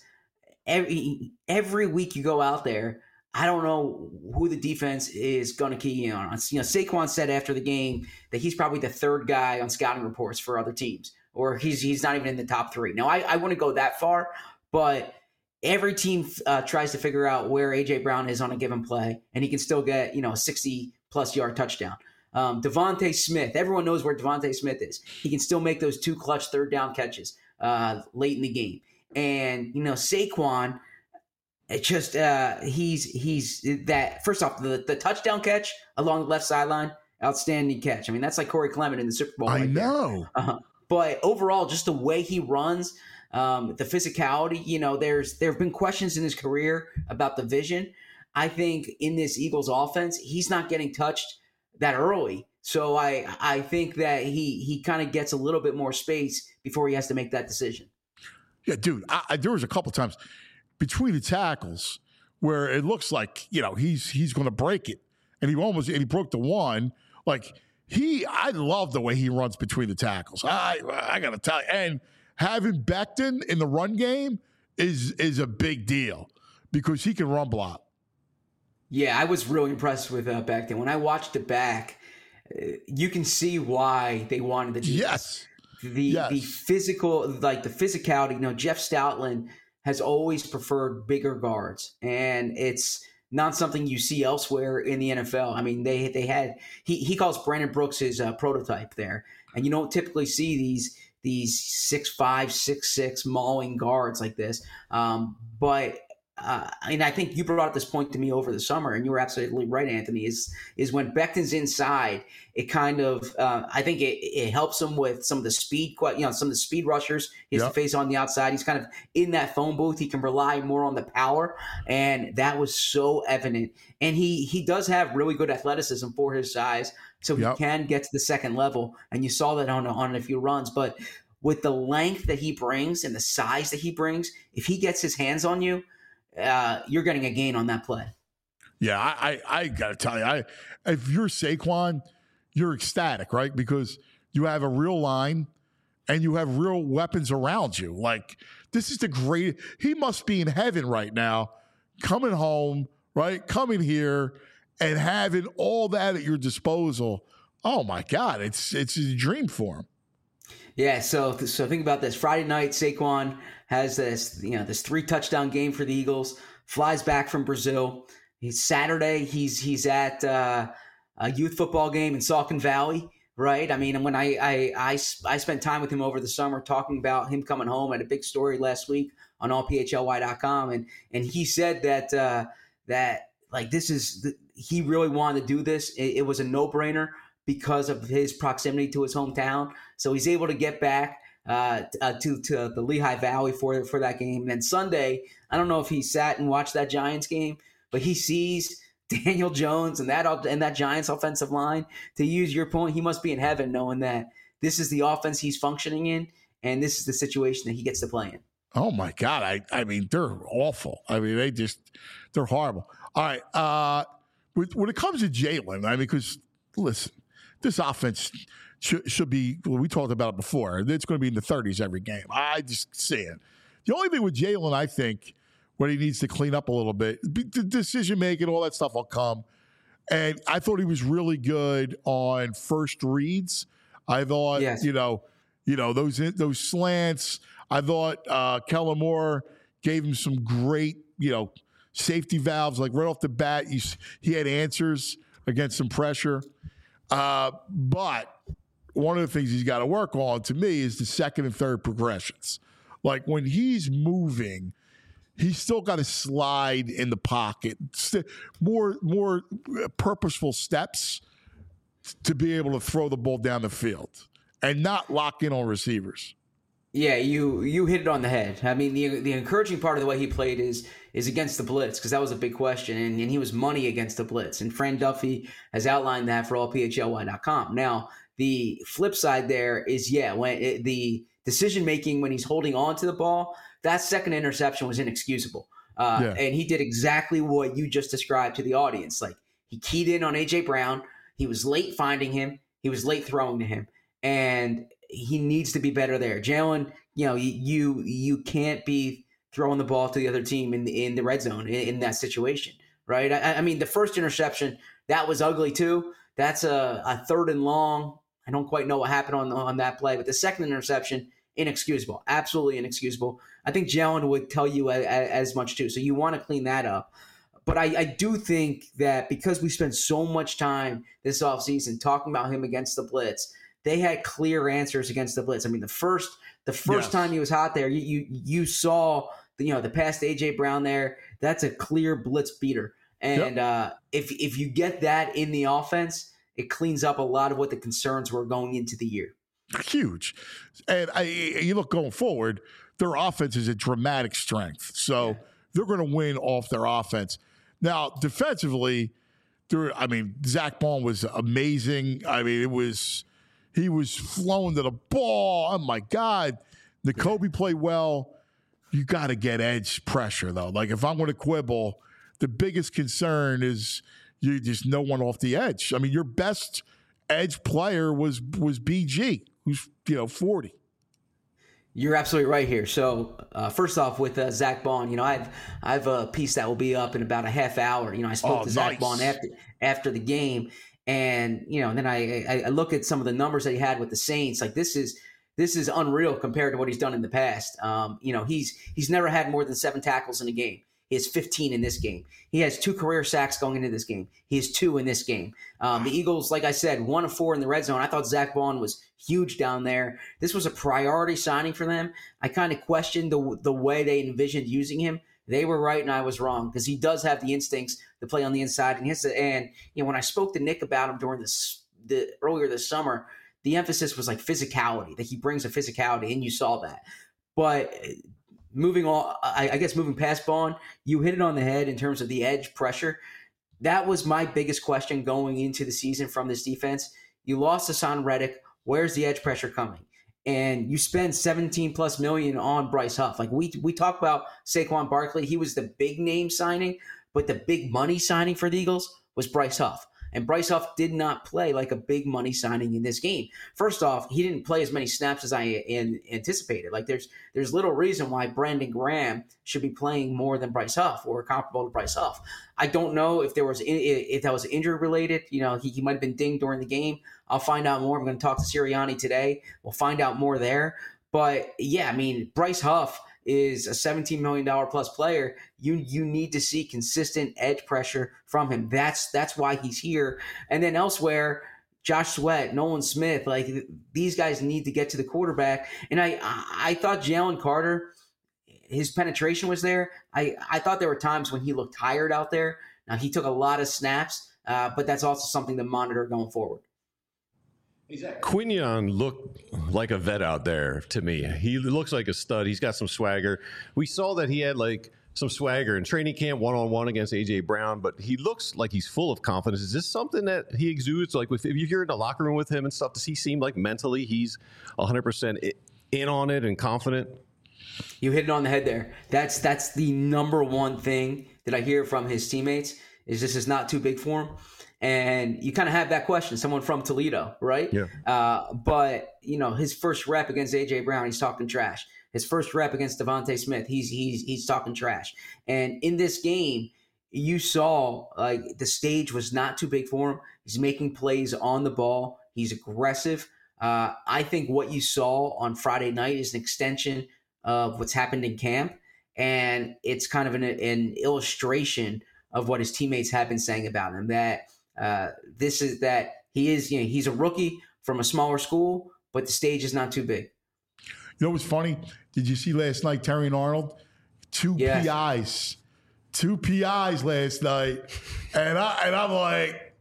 every every week you go out there, I don't know who the defense is going to key in on. You know, Saquon said after the game that he's probably the third guy on scouting reports for other teams, or he's he's not even in the top three. Now, I, I wouldn't go that far, but every team uh, tries to figure out where A J Brown is on a given play, and he can still get, you know, a sixty-plus yard touchdown. Um, Devontae Smith, everyone knows where Devontae Smith is. He can still make those two clutch third down catches uh, late in the game. And, you know, Saquon, it just uh, he's he's that first off the, the touchdown catch along the left sideline, outstanding catch. I mean, that's like Corey Clement in the Super Bowl. I right there. know. Uh, but overall, just the way he runs, um, the physicality. You know, there's there have been questions in his career about the vision. I think in this Eagles offense, he's not getting touched that early. So I I think that he he kind of gets a little bit more space before he has to make that decision. Yeah, dude, I, I, there was a couple times between the tackles where it looks like, you know, he's he's going to break it. And he almost and he broke the one. Like, he, I love the way he runs between the tackles. I I got to tell you. And having Becton in the run game is is a big deal because he can run block. Yeah, I was really impressed with uh, Becton. When I watched it back, uh, you can see why they wanted to do Yes. this. The Yes. the physical, like the physicality. You know, Jeff Stoutland has always preferred bigger guards, and it's not something you see elsewhere in the N F L. I mean, they they had he he calls Brandon Brooks his uh, prototype there, and you don't typically see these these six five, six six mauling guards like this. Um, but uh, and I think you brought up this point to me over the summer, and you were absolutely right, Anthony. Is is when Becton's inside, it kind of uh, I think it, it helps him with some of the speed, you know, some of the speed rushers he has Yep. to face on the outside. He's kind of in that phone booth. He can rely more on the power, and that was so evident. And he he does have really good athleticism for his size, so Yep. he can get to the second level. And you saw that on on a few runs, but with the length that he brings and the size that he brings, if he gets his hands on you, uh, you're getting a gain on that play. Yeah, I, I, I got to tell you, I, if you're Saquon, you're ecstatic, right? Because you have a real line and you have real weapons around you. Like, this is the great, he must be in heaven right now, coming home, right? Coming here and having all that at your disposal. Oh my God, it's it's a dream for him. Yeah, so so think about this. Friday night, Saquon has this, you know, this three touchdown game for the Eagles. Flies back from Brazil. He's Saturday. He's he's at uh, a youth football game in Saucon Valley, right? I mean, when I, I I I spent time with him over the summer talking about him coming home. I had a big story last week on all p h l y dot com, and and he said that uh, that like this is the, he really wanted to do this. It, it was a no brainer because of his proximity to his hometown. So he's able to get back uh, uh, to to the Lehigh Valley for for that game. And then Sunday, I don't know if he sat and watched that Giants game, but he sees Daniel Jones and that and that Giants offensive line. To use your point, he must be in heaven knowing that this is the offense he's functioning in, and this is the situation that he gets to play in. Oh my God. I, I mean, they're awful. I mean, they just, they're horrible. All right. Uh, when it comes to Jalen, I mean, because listen, this offense should, should be, well, we talked about it before. It's going to be in the thirties every game. I just see it. The only thing with Jalen, I think, what he needs to clean up a little bit, the decision making, all that stuff will come. And I thought he was really good on first reads. I thought, Yes. you know, you know those those slants. I thought uh, Kellen Moore gave him some great, you know, safety valves. Like right off the bat, you, he had answers against some pressure. Uh, but one of the things he's got to work on, to me, is the second and third progressions. Like when he's moving, he's still got to slide in the pocket, more more purposeful steps to be able to throw the ball down the field and not lock in on receivers. Yeah, you you hit it on the head. I mean, the the encouraging part of the way he played is is against the blitz, because that was a big question, and, and he was money against the blitz. And Fran Duffy has outlined that for all p h l y dot com. Now, the flip side there is, yeah, when it, the decision making when he's holding on to the ball, that second interception was inexcusable. Uh, Yeah. And he did exactly what you just described to the audience. Like, he keyed in on A J Brown. He was late finding him. He was late throwing to him. And he needs to be better there. Jalen, you know, you you can't be throwing the ball to the other team in the, in the red zone in, in that situation, right? I, I mean, the first interception, that was ugly too. That's a, a third and long. I don't quite know what happened on on that play, but the second interception, inexcusable, absolutely inexcusable. I think Jalen would tell you a, a, as much too. So you want to clean that up. But I, I do think that because we spent so much time this offseason talking about him against the blitz, they had clear answers against the blitz. I mean, the first the first Yes. time he was hot there, you you, you saw the, you know the pass to A J Brown there. That's a clear blitz beater. And Yep. uh, if if you get that in the offense, it cleans up a lot of what the concerns were going into the year. Huge. And I, you look going forward, their offense is a dramatic strength. So Yeah. they're going to win off their offense. Now, defensively, there, I mean, Zach Bond was amazing. I mean, it was he was flowing to the ball. Oh my God, Nakobe played well. You got to get edge pressure though. Like if I'm going to quibble, the biggest concern is you just no one off the edge. I mean, your best edge player was was B G, who's you know forty. You're absolutely right here. So uh, first off, with uh, Zach Bond, you know, I've I've a piece that will be up in about a half hour. You know, I spoke oh, to Zach nice. Bond after after the game, and you know, and then I, I I look at some of the numbers that he had with the Saints. Like this is this is unreal compared to what he's done in the past. Um, you know, he's he's never had more than seven tackles in a game. He has fifteen in this game. He has two career sacks going into this game. He has two in this game. Um, the Eagles, like I said, one of four in the red zone. I thought Zach Bond was huge down there. This was a priority signing for them. I kind of questioned the the way they envisioned using him. They were right and I was wrong because he does have the instincts to play on the inside. And, his, and you know, when I spoke to Nick about him during this the earlier this summer, the emphasis was like physicality, that he brings a physicality, and you saw that. But moving on, I, I guess moving past Bond, you hit it on the head in terms of the edge pressure. That was my biggest question going into the season from this defense. You lost Hassan Reddick. Where's the edge pressure coming? And you spend seventeen plus million on Bryce Huff. Like we we talk about Saquon Barkley, he was the big name signing, but the big money signing for the Eagles was Bryce Huff. And Bryce Huff did not play like a big money signing in this game. First off, he didn't play as many snaps as I in, anticipated. Like there's there's little reason why Brandon Graham should be playing more than Bryce Huff or comparable to Bryce Huff. I don't know if there was if that was injury related. You know, he, he might have been dinged during the game. I'll find out more. I'm going to talk to Sirianni today. We'll find out more there. But yeah, I mean, Bryce Huff is a seventeen million dollars plus player. You you need to see consistent edge pressure from him. That's that's why he's here. And then elsewhere, Josh Sweat, Nolan Smith, like these guys need to get to the quarterback. And I I thought Jalen Carter, his penetration was there. I, I thought there were times when he looked tired out there. Now he took a lot of snaps, uh, but that's also something to monitor going forward. Quinion looked like a vet out there to me. He looks like a stud. He's got some swagger. We saw that he had like some swagger in training camp one-on-one against A J Brown, but he looks like he's full of confidence. Is this something that he exudes? Like with, if you're in the locker room with him and stuff, does he seem like mentally he's one hundred percent in on it and confident? You hit it on the head there. That's that's the number one thing that I hear from his teammates is this is not too big for him. And you kind of have that question, someone from Toledo, right? Yeah. Uh, but, you know, his first rep against A J Brown, he's talking trash. His first rep against Devontae Smith, he's he's he's talking trash. And in this game, you saw like the stage was not too big for him. He's making plays on the ball. He's aggressive. Uh, I think what you saw on Friday night is an extension of what's happened in camp. And it's kind of an, an illustration of what his teammates have been saying about him, that uh, this is that he is, you know, he's a rookie from a smaller school, but the stage is not too big. You know what's funny? Did you see last night, Terry and Arnold? Two Yes. P Is. Two P Is last night. And, I, and I'm like,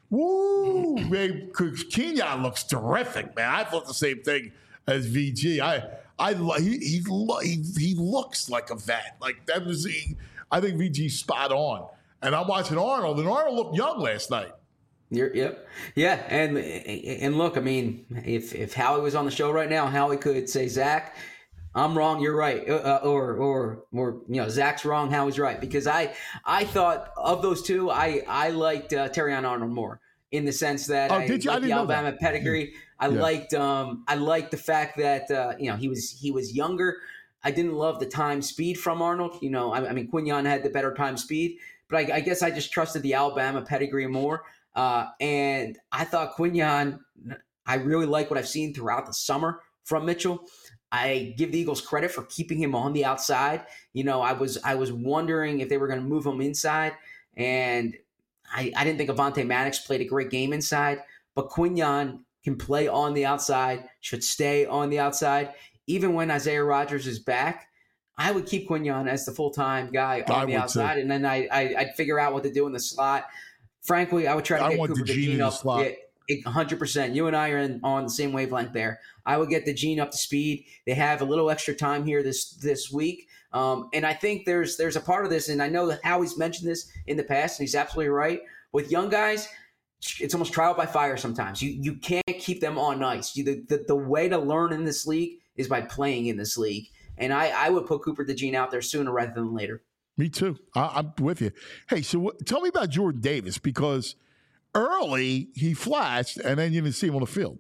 woo, man, Kenyon looks terrific, man. I thought the same thing as V G. I, I, he, he, he, he looks like a vet. Like, that was, he, I think V G's spot on. And I'm watching Arnold, and Arnold looked young last night. You're, yep. Yeah. And and look, I mean, if if Howie was on the show right now, Howie could say, Zach, I'm wrong, you're right. Uh, or, or, or, you know, Zach's wrong, Howie's right. Because I I thought of those two, I, I liked uh, Terrion Arnold more in the sense that oh, I did you? I liked didn't the know Alabama that. pedigree. I Yeah. liked um I liked the fact that, uh, you know, he was he was younger. I didn't love the time speed from Arnold. You know, I, I mean, Quinion had the better time speed. But I, I guess I just trusted the Alabama pedigree more. Uh, and I thought Quinion, I really like what I've seen throughout the summer from Mitchell. I give the Eagles credit for keeping him on the outside. You know, I was I was wondering if they were going to move him inside. And I, I didn't think Avonte Maddox played a great game inside. But Quinion can play on the outside, should stay on the outside. Even when Isaiah Rodgers is back, I would keep Quinion as the full-time guy on I the would outside, too. and then I, I, I'd figure out what to do in the slot. Frankly, I would try to I get want Cooper DeJean in DeJean the up slot. yeah, one hundred percent. You and I are in, on the same wavelength there. I would get DeJean up to speed. They have a little extra time here this this week, um, and I think there's there's a part of this, and I know that Howie's mentioned this in the past, and he's absolutely right. with young guys, it's almost trial by fire sometimes. You you can't keep them on ice. You, the, the, the way to learn in this league is by playing in this league. And I, I would put Cooper DeJean out there sooner rather than later. Me too. I, I'm with you. Hey, so what, tell me about Jordan Davis, because early he flashed and then you didn't see him on the field.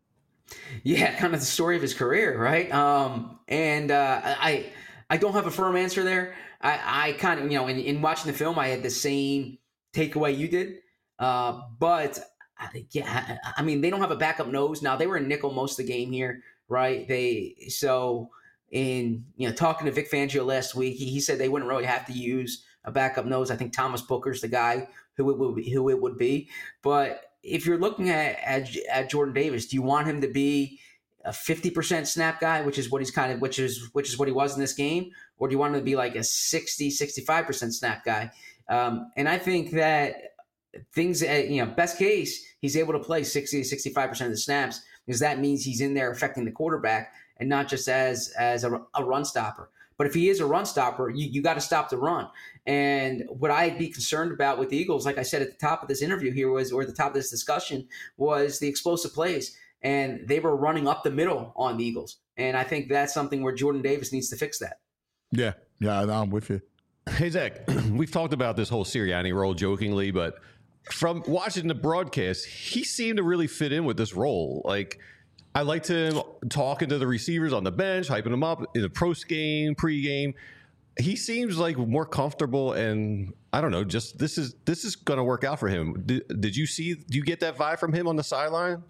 Yeah, kind of the story of his career, right? Um, and uh, I I don't have a firm answer there. I, I kind of, you know, in, in watching the film, I had the same takeaway you did. Uh, but yeah, I mean, they don't have a backup nose now. They were in nickel most of the game here, right? They so in you know talking to Vic Fangio last week, he, he said they wouldn't really have to use a backup nose. I think Thomas Booker's the guy who it would be, who it would be. But if you're looking at, at at Jordan Davis, do you want him to be a fifty percent snap guy, which is what he's kind of which is which is what he was in this game, or do you want him to be like a sixty, sixty-five percent snap guy? Um, and I think that things, you know, best case, he's able to play sixty to sixty-five percent of the snaps, because that means he's in there affecting the quarterback and not just as as a, a run stopper. But if he is a run stopper, you, you got to stop the run. And what I'd be concerned about with the Eagles, like I said at the top of this interview here was, or at the top of this discussion, was the explosive plays. And they were running up the middle on the Eagles. And I think that's something where Jordan Davis needs to fix that. Yeah, yeah, I'm with you. Hey, Zach, we've talked about this whole Sirianni role jokingly, but from watching the broadcast, he seemed to really fit in with this role. Like, I liked him talking to the receivers on the bench, hyping them up in the post game, pre-game. He seems like more comfortable, and I don't know, just this is this is going to work out for him. Did, did you see, do you get that vibe from him on the sideline?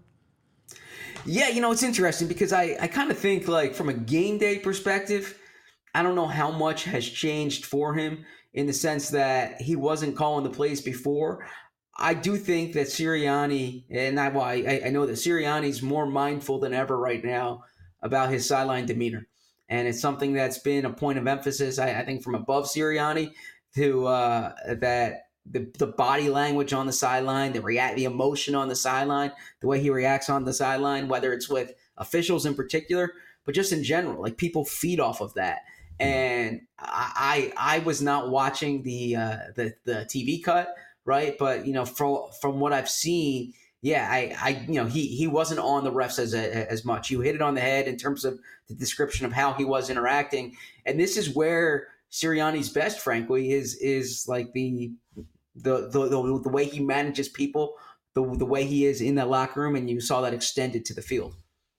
Yeah, you know, it's interesting because I, I kind of think, like, from a game day perspective, I don't know how much has changed for him in the sense that he wasn't calling the plays before. I do think that Sirianni, and I, well, I, I know that Sirianni's more mindful than ever right now about his sideline demeanor. And it's something that's been a point of emphasis, I, I think, from above Sirianni to uh, that the, the body language on the sideline, the react, the emotion on the sideline, the way he reacts on the sideline, whether it's with officials in particular, but just in general, like people feed off of that. And I I, I was not watching the, uh, the the T V cut, right? But you know, from from what I've seen, yeah, I, I you know he he wasn't on the refs as as much. You hit it on the head in terms of the description of how he was interacting, and this is where Sirianni's best, frankly, is is like the the the the, the way he manages people, the the way he is in that locker room, and you saw that extended to the field.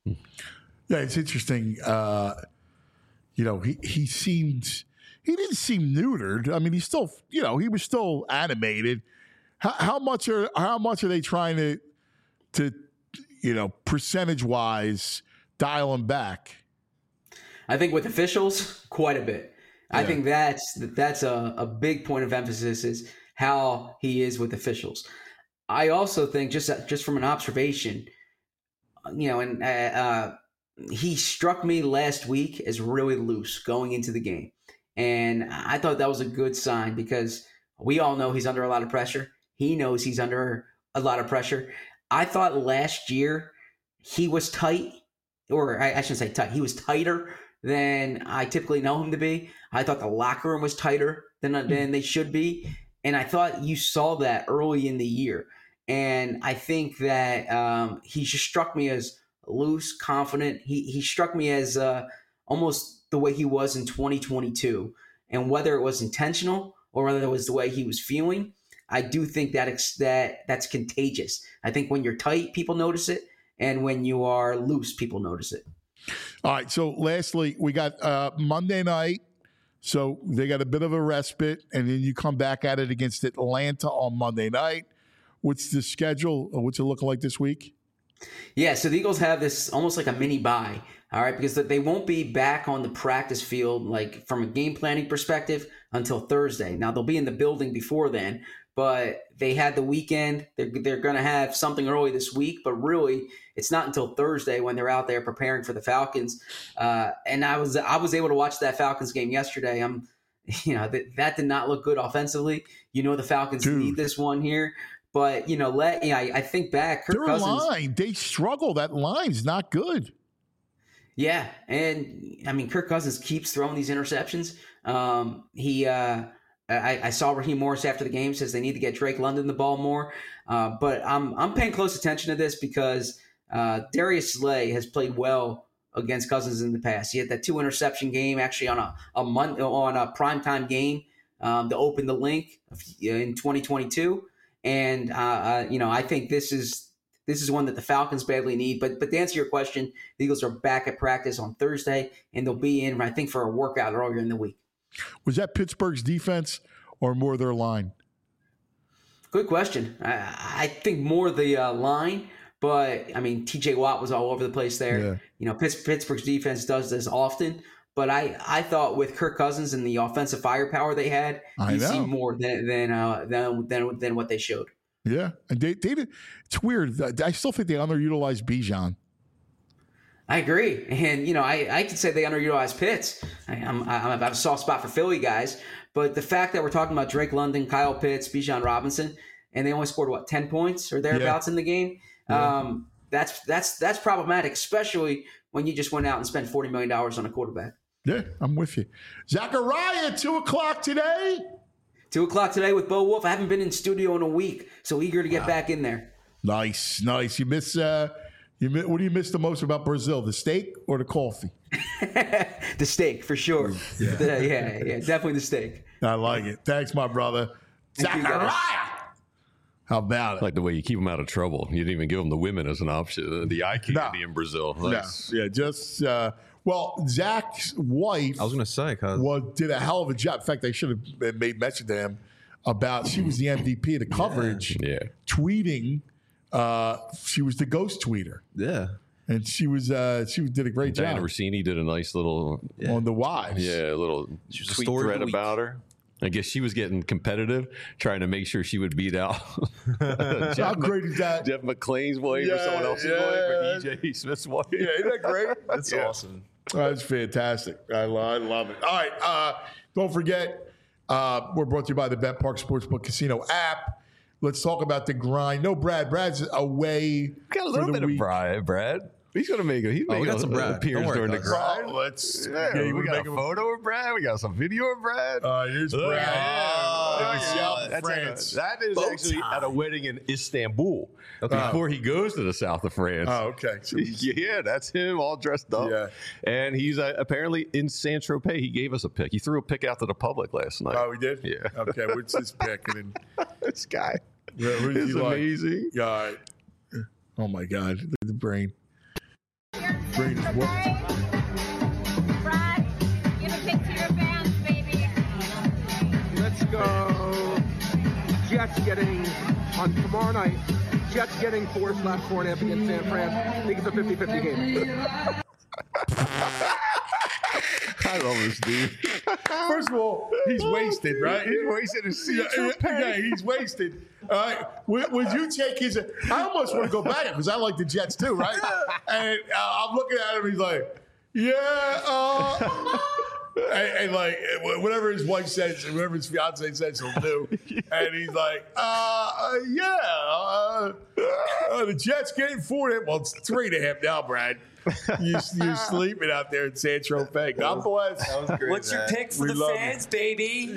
Yeah, it's interesting. Uh, you know, he he seemed he didn't seem neutered. I mean, he's still, you know, he was still animated. How, how much are how much are they trying to to you know percentage wise dial him back? I think with officials, quite a bit. Yeah. I think that's that's a, a big point of emphasis is how he is with officials. I also think just just from an observation, you know, and uh, uh, he struck me last week as really loose going into the game, and I thought that was a good sign because we all know he's under a lot of pressure. He knows he's under a lot of pressure. I thought last year he was tight, or I, I shouldn't say tight. He was tighter than I typically know him to be. I thought the locker room was tighter than, than they should be. And I thought you saw that early in the year. And I think that um, he just struck me as loose, confident. He he struck me as uh, almost the way he was in twenty twenty-two. And whether it was intentional or whether it was the way he was feeling, I do think that ex- that that's contagious. I think when you're tight, people notice it. And when you are loose, people notice it. All right. So lastly, we got uh, Monday night. So they got a bit of a respite, and then you come back at it against Atlanta on Monday night. What's the schedule? What's it looking like this week? Yeah, so the Eagles have this almost like a mini bye, all right, because they won't be back on the practice field, like from a game planning perspective, until Thursday. Now, they'll be in the building before then, but they had the weekend. They're, they're going to have something early this week, but really it's not until Thursday when they're out there preparing for the Falcons. Uh, and I was I was able to watch that Falcons game yesterday. I'm, you know, that, that did not look good offensively. You know, the Falcons Dude. need this one here. But, you know, let yeah, I, I think back. Kirk Their Cousins, line, they struggle. That line's not good. Yeah, and I mean, Kirk Cousins keeps throwing these interceptions. Um, he, uh, I, I saw Raheem Morris after the game says they need to get Drake London the ball more. Uh, but I'm I'm paying close attention to this because uh, Darius Slay has played well against Cousins in the past. He had that two interception game actually on a a month on a primetime game um, to open the link in twenty twenty-two. And uh, uh, you know, I think this is this is one that the Falcons badly need. But but to answer your question, the Eagles are back at practice on Thursday, and they'll be in, I think, for a workout earlier in the week. Was that Pittsburgh's defense or more their line? Good question. I, I think more the uh, line, but I mean, T J Watt was all over the place there. Yeah. You know, Pitts, Pittsburgh's defense does this often, but I, I thought with Kirk Cousins and the offensive firepower they had, I you know. see more than than, uh, than than than what they showed. Yeah, and they, they did. It's weird. I still think they underutilized Bijan. I agree, and you know, I, I could say they underutilized Pitts. I, I'm I, I have a soft spot for Philly guys, but the fact that we're talking about Drake London, Kyle Pitts, Bijan Robinson, and they only scored what ten points or thereabouts in the game, Yeah. um, that's that's that's problematic, especially when you just went out and spent forty million dollars on a quarterback. Yeah, I'm with you. Zachariah, two o'clock today. Two o'clock today with Bo Wolf. I haven't been in studio in a week, so eager to get back in there. Nice, nice. You miss. Uh, you miss, what do you miss the most about Brazil? The steak or the coffee? The steak, for sure. Yeah. The, yeah, yeah, definitely the steak. I like it. Thanks, my brother. Thank you, Zachariah. guys. How about I it? like the way you keep them out of trouble. You didn't even give them the women as an option. The eye candy No. in Brazil. No, Nice. yeah, just uh, well, Zach's wife I was gonna say, cause was, did a hell of a job. In fact, they should have made mention to him about she was the M V P of the coverage, Yeah. tweeting. Uh, she was the ghost tweeter, yeah, and she was uh, she did a great Diana job Rossini did a nice little, on the wives. yeah, little was the tweet story of thread the week. about her. I guess she was getting competitive, trying to make sure she would beat out How Jeff, great is that? Jeff McClain's wife or Yeah, someone else's yeah. wife or E J Smith's wife. Yeah, isn't that great? that's Yeah. awesome. That's fantastic. I, lo- I love it. All right. Uh, don't forget, uh, we're brought to you by the Bet Park Sportsbook Casino app. Let's talk about the grind. No, Brad. Brad's away. Got a for little the bit week. of Brad. Brad. He's gonna make it. He's Oh, we making got some a- Brad. appearance Don't worry, during the Doug. grind. Oh, let's. Yeah, you we wanna got make a him- photo of Brad. We got some video of Brad. Uh, here's Look Brad. at him. in the Look south at of that. France. That is Bow actually tie. at a wedding in Istanbul before he goes to the south of France. Oh, okay. So he's- Yeah, that's him all dressed up. Yeah. And he's uh, apparently in Saint Tropez. He gave us a pick. He threw a pick out to the public last night. oh, we did? Yeah. Okay. What's this pick? And then, This guy yeah, who does is he like? amazing. Yeah, all right. Oh, my God. Look at the brain. Brain is what? Brad, give a pic to your fans, baby. Let's go. Jets getting on tomorrow night. Jets getting four slash four and a half against San Fran. I think it's a fifty-fifty game. I love this dude. First of all, he's wasted, right? He's wasted his Yeah, seat. yeah, yeah, he's wasted. All right. Would, would you take his? I almost want to go back because I like the Jets too, right? And uh, I'm looking at him. He's like, yeah. Uh, and, and like whatever his wife says, whatever his fiance says, he'll do. And he's like, uh, uh yeah. Uh, uh, the Jets getting four and a half. Well, it's three and a half now, Brad. You, you're sleeping out there in San Tropez. God bless. What's your pick for We the love fans, baby?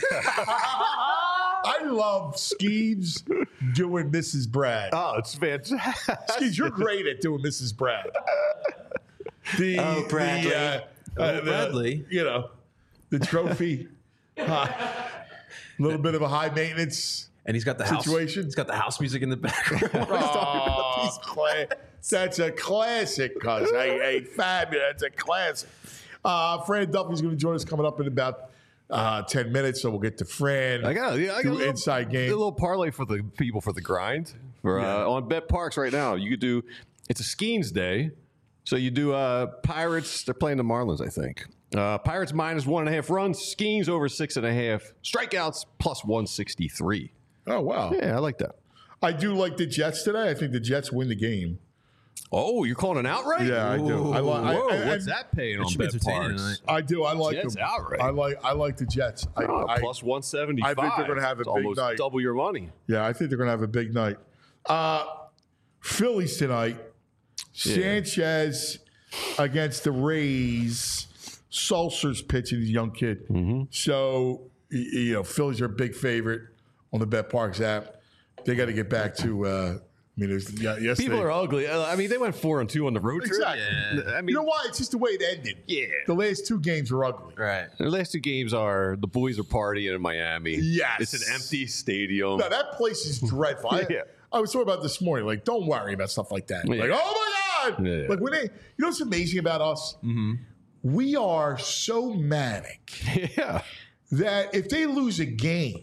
I love Skeeves doing Missus Brad. Oh, it's fantastic. Skeeves, you're great at doing Missus Brad. The, Oh, Bradley. The, uh, Oh, uh, the- Bradley. you know, the trophy. A little bit of a high maintenance. And he's got the house. Situation? He's got the house music in the background. Oh, cla- that's a classic, cuz. Hey, hey, fabulous. That's a classic. Uh, Fran Duffy's going to join us coming up in about uh, ten minutes, so we'll get to Fran. I got, yeah, I got do a little, inside game. A little parlay for the people for the grind. For uh, on Bet Parks right now, you could do. It's a Skeens day, so you do uh, Pirates. They're playing the Marlins, I think. Uh, Pirates minus one and a half runs. Skeens over six and a half. Strikeouts plus one sixty three. Oh, wow. Yeah, I like that. I do like the Jets today. I think the Jets win the game. Oh, you're calling an outright? Yeah, I do. I, li- I, Whoa, I, what's I- that paying on should be Bet entertaining Parks? tonight. I do. I like Jets them. outright. I like. I like the Jets. I, Oh, I, plus one seventy five. I think they're gonna have a It's big almost night. double your money. yeah, I think they're going to have a big night. Uh, Phillies tonight. Sanchez against the Rays. Sulcer's pitching, the young kid. Mm-hmm. So y- you know, Phillies are a big favorite on the BetParx app. They got to get back to. Uh, I mean, it was, yeah, yesterday. People are ugly. Uh, I mean, they went four and two on the road trip. Exactly. I mean, You know why? It's just the way it ended. Yeah. The last two games were ugly. Right. the last two games are the boys are partying in Miami. Yes. It's an empty stadium. No, that place is dreadful. I, Yeah. I was talking about this morning. Like, don't worry about stuff like that. Yeah. Like, oh my God. Yeah. Like when they, you know what's amazing about us? Mm-hmm. We are so manic yeah. that if they lose a game,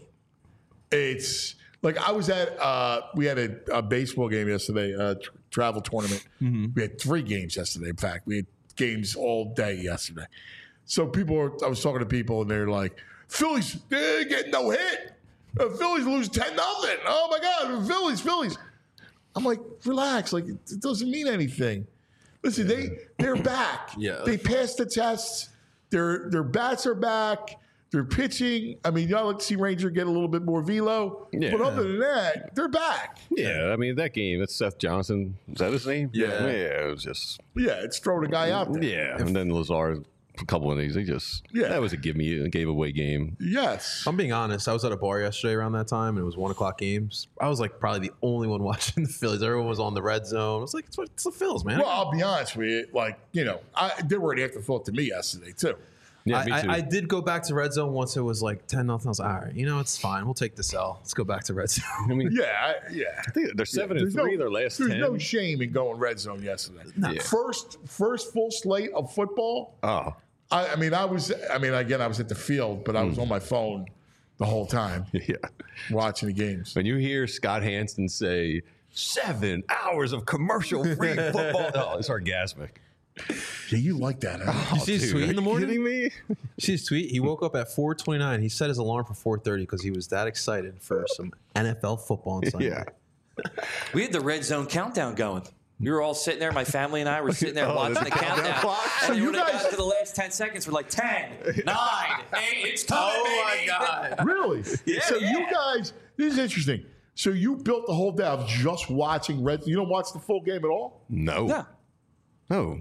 it's like I was at. Uh, we had a, a baseball game yesterday, a tr- travel tournament. We had three games yesterday. In fact, we had games all day yesterday. So people, were, I was talking to people, and they're like, "Phillies, they get no hit. Uh, Phillies lose ten nothing. Oh my God, Phillies, Phillies." I'm like, relax. Like it, it doesn't mean anything. Listen, they they're back. Yeah. They passed the tests. Their their bats are back. They're pitching. I mean, y'all like to see Ranger get a little bit more velo. Yeah. But other than that, they're back. Yeah. I mean, that game, that's Seth Johnson. Is that his name? Yeah. Yeah. It was just, Yeah, it's throwing a guy out there. yeah. And then Lazar, a couple of these, they just, Yeah. that was a give me, a gave away game. Yes. I'm being honest. I was at a bar yesterday around that time, and it was one o'clock games. I was like probably the only one watching the Phillies. Everyone was on the red zone. I was like, it's, it's the Phils, man. Well, I'll be honest with you. Like, you know, I, they were an afterthought to me yesterday, too. Yeah, I, me too. I, I did go back to red zone once it was like ten nothing. I was like, all right, you know, it's fine. We'll take this L. Let's go back to red zone. I mean, Yeah, I, yeah. I think they're seven and There's three. no, their last there's ten. no shame in going red zone yesterday. Yeah. First, first full slate of football. oh, I, I mean, I was. I mean, again, I was at the field, but I Hmm. was on my phone the whole time yeah. watching the games. When you hear Scott Hansen say seven hours of commercial-free football, oh, it's orgasmic. Yeah, you like that, huh? You see his Dude, tweet are in the you morning? kidding me? See his tweet? He woke up at four twenty-nine. He set his alarm for four thirty because he was that excited for some N F L football on Sunday. Yeah. We had the red zone countdown going. We were all sitting there. My family and I were sitting there Oh, watching the the countdown countdown. clock? And So then you when it guys- got to the last ten seconds, we're like ten, nine, eight, it's coming, Oh baby. my God. Really? Yeah, So you yeah. guys, this is interesting. So you built the whole day of just watching red. You don't watch the full game at all. No. No, No.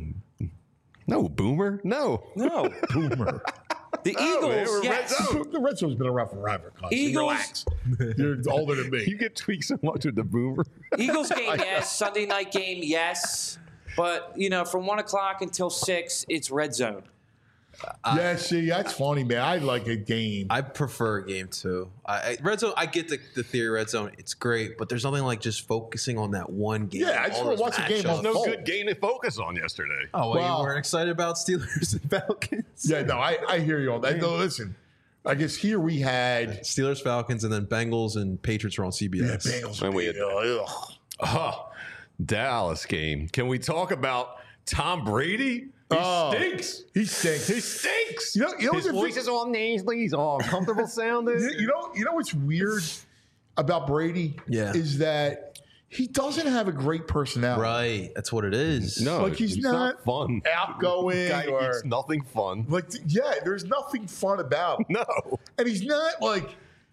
No, Boomer. No. no. Boomer. The man, Eagles, we're red yes. zone. The red zone's been around forever. Cuz. Eagles- Relax. You're older than me. You get tweaked so much with the Boomer. Eagles game, yes. Sunday night game, yes. But, you know, from one o'clock until six, it's red zone. yeah, see, that's funny, man. I like a game. I prefer a game too. I, I, red zone. I get the, the theory. Red zone. It's great, but there's nothing like just focusing on that one game. Yeah, I just all wanna those watch a game matchups. on No Oh. good game to focus on yesterday. Oh, well, Wow. you weren't excited about Steelers and Falcons? Yeah, no, I, I hear you on that. No, listen, I guess here we had Steelers, Falcons, and then Bengals and Patriots were on C B yeah, S. Bengals. And we had- Ugh. Oh, Dallas game. Can we talk about Tom Brady? He Oh. stinks. He stinks. He stinks. You know, you know His what's voice is all nasally. He's all uncomfortable sounding. You you know, you know what's weird about Brady? Yeah. is that he doesn't have a great personality. Right, that's what it is. No, Like, he's not fun. outgoing Guy or- eats nothing fun. Like, yeah, there's nothing fun about him. No. And he's not like,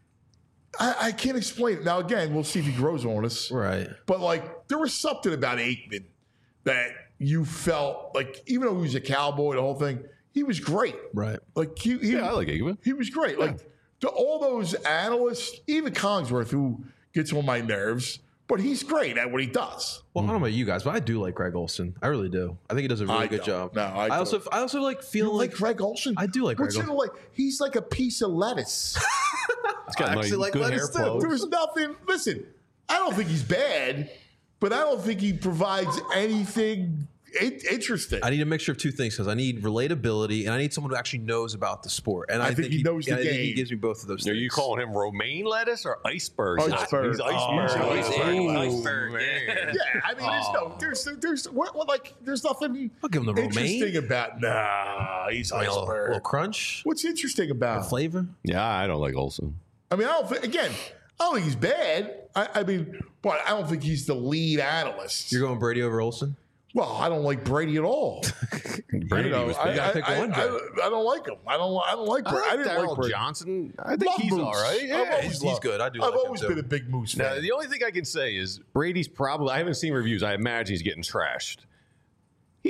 I, I can't explain it. Now, again, we'll see if he grows on us. Right. But, like, there was something about Aikman that you felt like, even though he was a cowboy, the whole thing, he was great. Right. Like, he, he, Yeah, I like Aikman. he was great. Like, to all those analysts, even Cogsworth, who gets on my nerves, but he's great at what he does. Well, I don't know about you guys, but I do like Greg Olson. I really do. I think he does a really I good don't. job. No, I also, don't. I also like You feeling like like, Greg Olson? I do like What's Greg it like? He's like a piece of lettuce. He's got I nice, actually like good lettuce, too. hair There flows. was nothing. Listen, I don't think he's bad, but I don't think he provides anything in- interesting. I need a mixture of two things because I need relatability and I need someone who actually knows about the sport. And I, I think he knows the and I think he game. gives me both of those Are things. you calling him romaine lettuce or iceberg? Iceberg. He's Oh, iceberg. he's Ooh, iceberg, man. yeah, I mean, there's no, there's, there's, what, what, like, there's nothing I'll give him the interesting romaine. about. Nah, he's A little, iceberg. little crunch, What's interesting about? him? flavor. Yeah, I don't like Olson. I mean, I don't think. Again, I don't think he's bad. I, I mean, but I don't think he's the lead analyst. You're going Brady over Olson? Well, I don't like Brady at all. Brady You know, was I, You gotta I, pick I, one, I, Joe. I don't like him. I don't. I don't like. I Brady. I, like didn't like Daryl Brady. Johnson. I think Love he's Moose. all right. I've Yeah, always he's- he's loved- good. I do I've like him, always too. been a big Moose Now, fan. the only thing I can say is Brady's probably, I haven't seen reviews. I imagine he's getting trashed. He's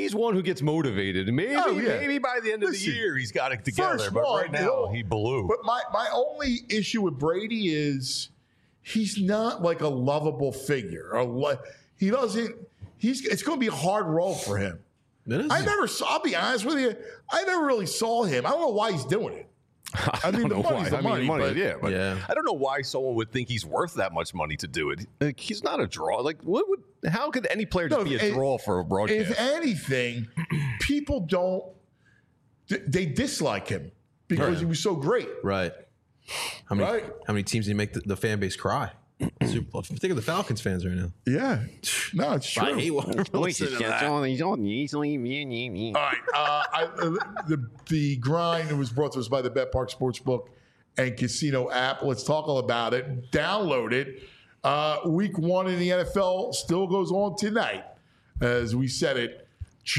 he's one who gets motivated. And maybe, Oh, yeah. maybe by the end of Listen, the year, he's got it together. First But one, right now, he'll- he blew. But my, my only issue with Brady is he's not like a lovable figure. Or what he doesn't. He's it's going to be a hard role for him. It is. I never saw. I'll be honest with you. I never really saw him. I don't know why he's doing it. I, mean, don't the know money's why. the I mean, money, money, but- yeah, but Yeah. I don't know why someone would think he's worth that much money to do it. Like, he's not a draw. Like, what would? How could any player just No, be a if- draw for a broadcast? If anything, people don't. th- They dislike him because Right. he was so great. Right. How many Right. how many teams do you make the, the fan base cry? Super, think of the Falcons fans right now. Yeah, no, it's true. I hate when I listen to that. All right, uh, I, uh, the the grind was brought to us by the Bet Park Sportsbook and Casino app. Let's talk all about it. Download it. Uh, week one in the N F L still goes on tonight, as we said it.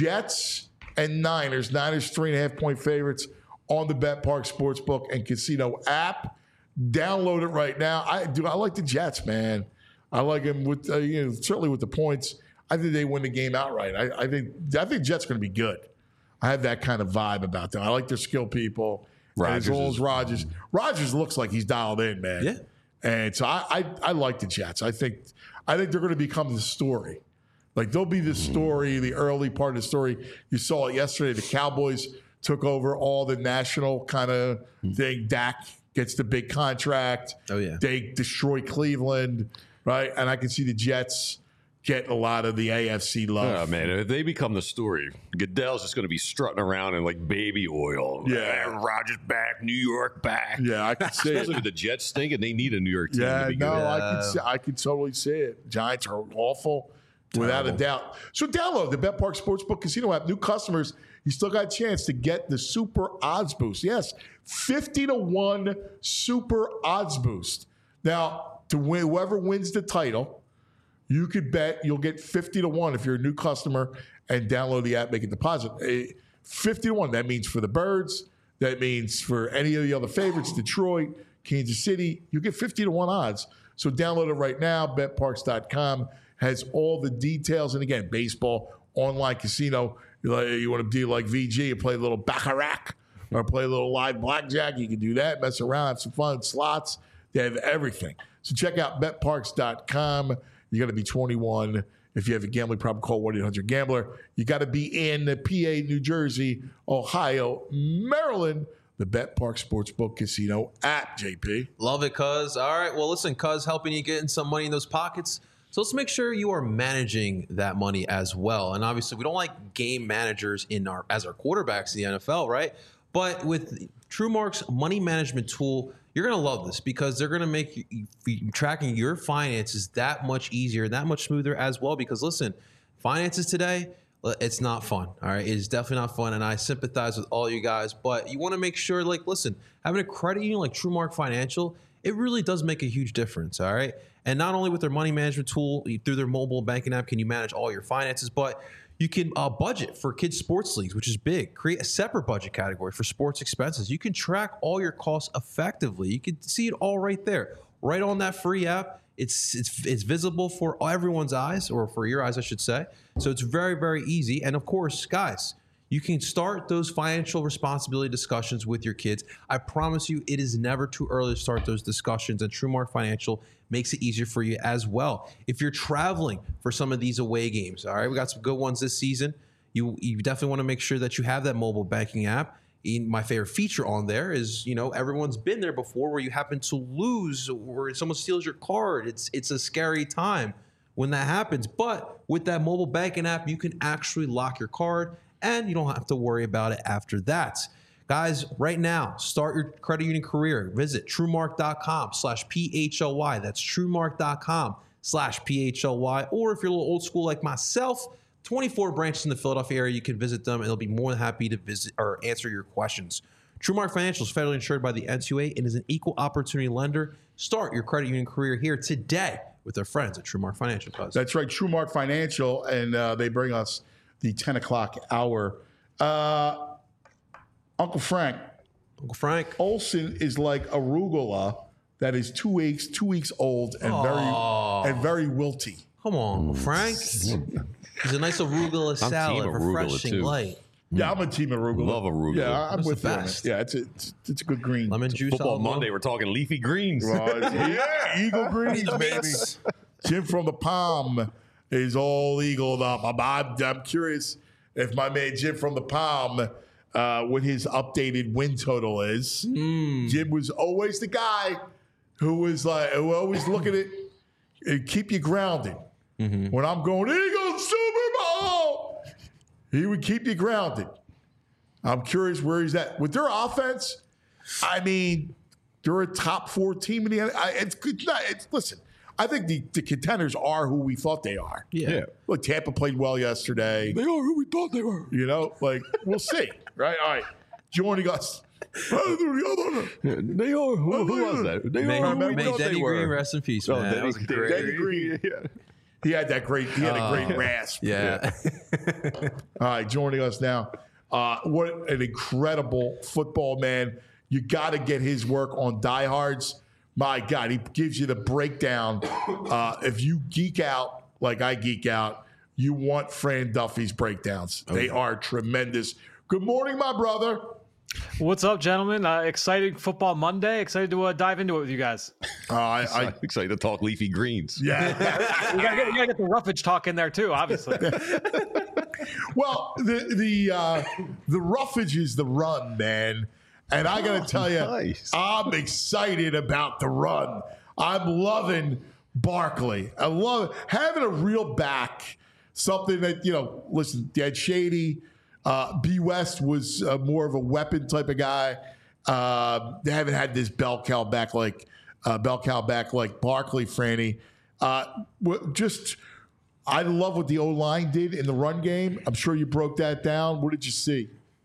Jets and Niners. Niners three and a half point favorites on the Bet Park Sportsbook and Casino app. Download it right now. I do. I like the Jets, man. I like them with uh, you know certainly with the points. I think they win the game outright. I, I think I think Jets going to be good. I have that kind of vibe about them. I like their skill people. And as Rodgers well is- as Rodgers. Rodgers looks like he's dialed in, man. Yeah. And so I, I I like the Jets. I think I think they're going to become the story. Like they'll be the story, the early part of the story. You saw it yesterday. The Cowboys took over all the national kind of thing. Dak gets the big contract. Oh, yeah. They destroy Cleveland, right? And I can see the Jets getting a lot of the A F C love. Oh, man, if they become the story, Goodell's just going to be strutting around in like baby oil. Yeah. Eh, Rodgers back, New York back. Yeah, I can see Especially it. with the Jets stink, and they need a New York team Yeah, to be no, good. I can see, I can totally see it. Giants are awful, without a doubt. So download the Bet Park Sportsbook Casino app. New customers, you still got a chance to get the Super Odds Boost. Yes, fifty to one Super Odds Boost. Now, to win, whoever wins the title, you could bet you'll get fifty to one if you're a new customer and download the app, make a deposit. Eh, fifty to one, that means for the Birds, that means for any of the other favorites, Detroit, Kansas City, you get fifty to one odds. So download it right now. bet parks dot com has all the details. And again, baseball, online casino. You, like, you want to do like V G, you play a little baccarat or play a little live blackjack. You can do that, mess around, have some fun. Slots, they have everything. So check out bet parks dot com. You got to be twenty-one. If you have a gambling problem, call one eight hundred gambler. You got to be in P A, New Jersey, Ohio, Maryland. The Bet Park Sportsbook Casino app, J P. Love it, cuz. All right. Well, listen, cuz helping you get in some money in those pockets. So let's make sure you are managing that money as well. And obviously, we don't like game managers in our as our quarterbacks in the N F L, right? But with TrueMark's money management tool, you're going to love this because they're going to make you, you, tracking your finances that much easier, that much smoother as well. Because listen, finances today, it's not fun. All right. It is definitely not fun. And I sympathize with all you guys. But you want to make sure, like, listen, having a credit union like TrueMark Financial, it really does make a huge difference. All right. And not only with their money management tool, through their mobile banking app, can you manage all your finances, but you can uh, budget for kids' sports leagues, which is big. Create a separate budget category for sports expenses. You can track all your costs effectively. You can see it all right there, right on that free app. It's it's it's visible for everyone's eyes, or for your eyes, I should say. So it's very, very easy. And of course, guys, you can start those financial responsibility discussions with your kids. I promise you, it is never too early to start those discussions, and TrueMark Financial makes it easier for you as well. If you're traveling for some of these away games, all right, we got some good ones this season. You you definitely want to make sure that you have that mobile banking app. In my favorite feature on there is, you know, everyone's been there before where you happen to lose or someone steals your card. It's it's a scary time when that happens. But with that mobile banking app, you can actually lock your card and you don't have to worry about it after that. Guys, right now, start your credit union career. Visit TrueMark.com slash P-H-L-Y. That's TrueMark.com slash P-H-L-Y. Or if you're a little old school like myself, twenty-four branches in the Philadelphia area, you can visit them and they'll be more than happy to visit or answer your questions. TrueMark Financial is federally insured by the N C U A and is an equal opportunity lender. Start your credit union career here today with our friends at TrueMark Financial. Cause. That's right, TrueMark Financial, and uh, they bring us the ten o'clock hour. Uh, Uncle Frank. Uncle Frank. Olsen is like arugula that is two weeks two weeks old and Aww. very and very wilty. Come on, Frank. It's a nice arugula salad, team arugula, refreshing, too. light. Yeah, I'm a team arugula. Love arugula. Yeah, I'm That's with the you on it. best. Yeah, it's a, it's, it's a good green. Lemon juice. Football olive oil. Monday, we're talking leafy greens. Well, it's- yeah, Eagle Greens, baby. Jim from the Palm is all eagled up. I'm, I'm, I'm curious if my man Jim from the Palm, uh, what his updated win total is. Jim was always the guy who was like, who always look at it and keep you grounded. When I'm going, Eagles Super Bowl, he would keep you grounded. I'm curious where he's at. With their offense, I mean, they're a top four team in the N F L. I- It's good. Not, it's, listen, I think the, the contenders are who we thought they are. Yeah. Look, Tampa played well yesterday. They are who we thought they were. You know, like, we'll see. Right? All right. Joining us. They are. Who, who was that? They May, are who we may thought Denny they were. Green rest in peace, Oh, man. That Denny, was great. Denny Green. He had that great, he had a great rasp. Yeah. All right, joining us now. Uh, what an incredible football man. You got to get his work on Diehards. My God, he gives you the breakdown. Uh, if you geek out like I geek out, you want Fran Duffy's breakdowns. They are tremendous. Good morning, my brother. What's up, gentlemen? Uh, exciting football Monday. Excited to uh, dive into it with you guys. Uh, I, I, I'm excited to talk leafy greens. yeah. We gotta, get, we gotta get the roughage talk in there too, obviously. Well, the the uh, the roughage is the run, man. And I got to tell you, nice. I'm excited about the run. I'm loving Barkley. I love having a real back. Something that, you know, listen, Dead Shady, uh, B. West was uh, more of a weapon type of guy. Uh, they haven't had this bell cow back like uh, bell cow back like Barkley, Franny. Uh, w- just, I love what the O-line did in the run game. I'm sure you broke that down. What did you see?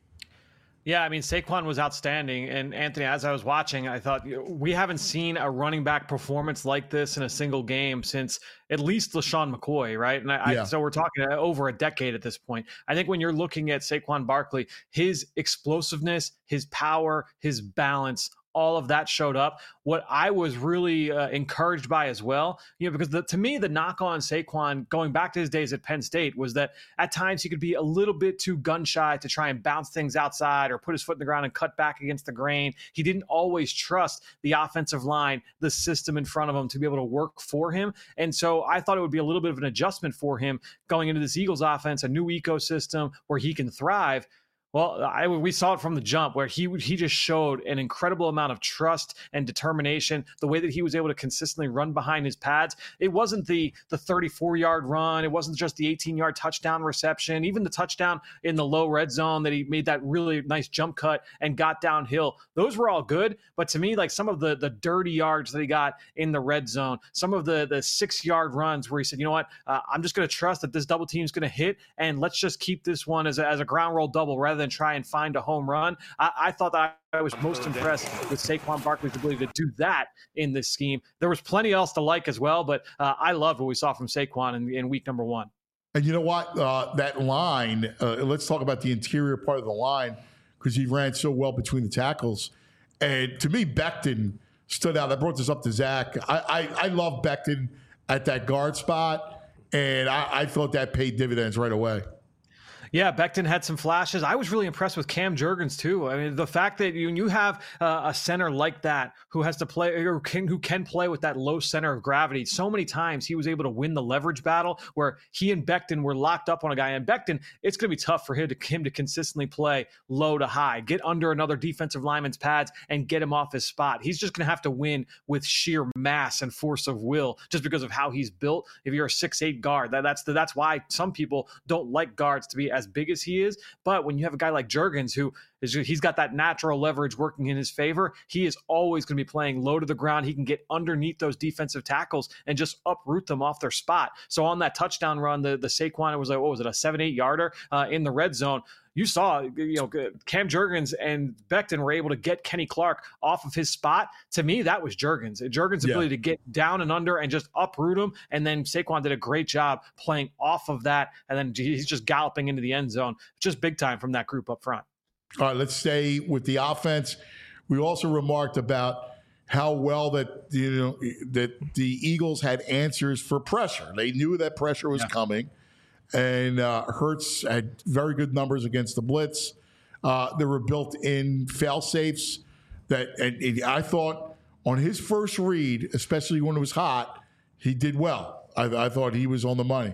Yeah, I mean, Saquon was outstanding. And Anthony, as I was watching, I thought, you know, we haven't seen a running back performance like this in a single game since at least LaShawn McCoy, right? And I, Yeah. I, so we're talking over a decade at this point. I think when you're looking at Saquon Barkley, his explosiveness, his power, his balance, all of that showed up. What I was really uh, encouraged by as well, you know, because the, to me, the knock on Saquon going back to his days at Penn State was that at times he could be a little bit too gun shy to try and bounce things outside or put his foot in the ground and cut back against the grain. He didn't always trust the offensive line, the system in front of him to be able to work for him. And so I thought it would be a little bit of an adjustment for him going into this Eagles offense, a new ecosystem where he can thrive. Well, I, we saw it from the jump where he he just showed an incredible amount of trust and determination. The way that he was able to consistently run behind his pads. It wasn't the the thirty-four-yard run. It wasn't just the eighteen-yard touchdown reception. Even the touchdown in the low red zone that he made that really nice jump cut and got downhill. Those were all good. But to me, like some of the the dirty yards that he got in the red zone, some of the the six-yard runs where he said, you know what, uh, I'm just going to trust that this double team is going to hit, and let's just keep this one as a, as a ground roll double rather than try and find a home run. I, I thought that I was most impressed with Saquon Barkley's ability to do that in this scheme. There was plenty else to like as well, but uh, I loved what we saw from Saquon in, in week number one. And you know what? Uh, that line, uh, let's talk about the interior part of the line because he ran so well between the tackles. And to me, Becton stood out. I brought this up to Zach. I, I, I love Becton at that guard spot, and I, I thought that paid dividends right away. Yeah, Becton had some flashes. I was really impressed with Cam Jurgens too. I mean, the fact that you you have uh, a center like that who has to play or can, who can play with that low center of gravity. So many times he was able to win the leverage battle where he and Becton were locked up on a guy. And Becton, it's going to be tough for him to him to consistently play low to high, get under another defensive lineman's pads and get him off his spot. He's just going to have to win with sheer mass and force of will just because of how he's built. If you're a six eight guard, that, that's the, that's why some people don't like guards to be as big as he is. But when you have a guy like Jurgens who is he's got that natural leverage working in his favor, he is always going to be playing low to the ground. He can get underneath those defensive tackles and just uproot them off their spot. So on that touchdown run, the the Saquon, it was like, what was it, a seven eight yarder uh, in the red zone. You saw, you know, Cam Jurgens and Becton were able to get Kenny Clark off of his spot. To me, that was Jurgens. Jurgens' Yeah. ability to get down and under and just uproot him. And then Saquon did a great job playing off of that. And then he's just galloping into the end zone. Just big time from that group up front. All right, let's stay with the offense. We also remarked about how well that you know that the Eagles had answers for pressure. They knew that pressure was yeah. coming, and uh, Hurts had very good numbers against the blitz. Uh, there were built-in fail safes that, and, and I thought on his first read, especially when it was hot, he did well. I, I thought he was on the money.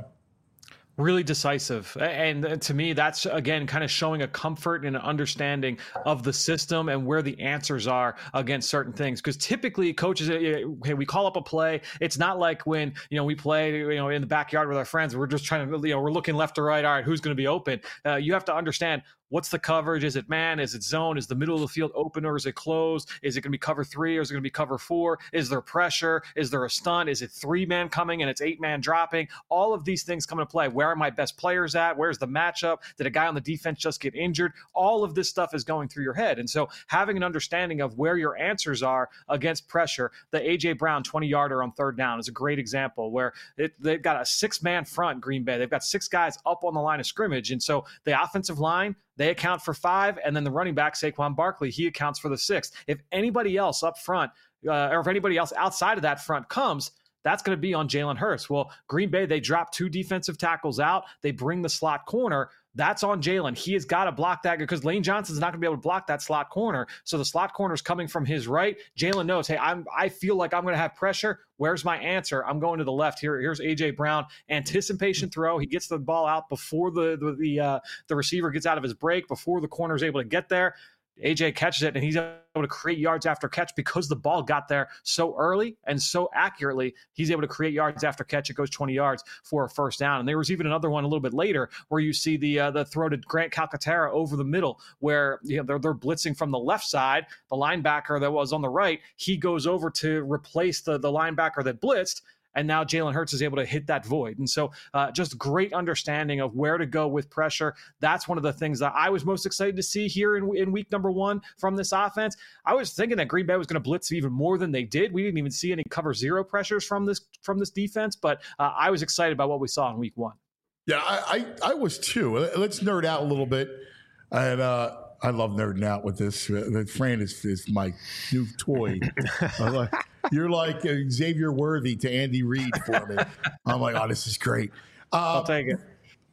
Really decisive. And to me, that's, again, kind of showing a comfort and an understanding of the system and where the answers are against certain things. Because typically coaches, hey, we call up a play. It's not like when, you know, we play, you know, in the backyard with our friends. We're just trying to, you know, we're looking left to right. All right, who's going to be open? Uh, you have to understand, what's the coverage? Is it man? Is it zone? Is the middle of the field open or is it closed? Is it going to be cover three or is it going to be cover four? Is there pressure? Is there a stunt? Is it three man coming and it's eight man dropping? All of these things come into play. Where are my best players at? Where's the matchup? Did a guy on the defense just get injured? All of this stuff is going through your head. And so having an understanding of where your answers are against pressure, the A J Brown twenty yarder on third down is a great example where it, they've got a six man front, Green Bay. They've got six guys up on the line of scrimmage. And so the offensive line, they account for five, and then the running back, Saquon Barkley, he accounts for the sixth. If anybody else up front, uh, or if anybody else outside of that front comes, that's going to be on Jalen Hurts. Well, Green Bay, they drop two defensive tackles out. They bring the slot corner. That's on Jalen. He has got to block that because Lane Johnson's not going to be able to block that slot corner. So the slot corner is coming from his right. Jalen knows, hey, I'm, I feel like I'm going to have pressure. Where's my answer? I'm going to the left. Here, here's A J Brown. Anticipation throw. He gets the ball out before the the the, uh, the receiver gets out of his break, before the corner is able to get there. A J catches it, and he's able to create yards after catch because the ball got there so early and so accurately. He's able to create yards after catch. It goes twenty yards for a first down. And there was even another one a little bit later where you see the uh, the throw to Grant Calcaterra over the middle, where you know they're they're blitzing from the left side. The linebacker that was on the right, he goes over to replace the the linebacker that blitzed. And now Jalen Hurts is able to hit that void. And so uh, just great understanding of where to go with pressure. That's one of the things that I was most excited to see here in, in week number one from this offense. I was thinking that Green Bay was going to blitz even more than they did. We didn't even see any cover zero pressures from this from this defense, but uh, I was excited about what we saw in week one. Yeah, I, I, I was too. Let's nerd out a little bit. And uh, I love nerding out with this. Uh, Fran is, is my new toy. like, you're like uh, Xavier Worthy to Andy Reid for me. I'm like, oh, this is great. Uh, I'll take it.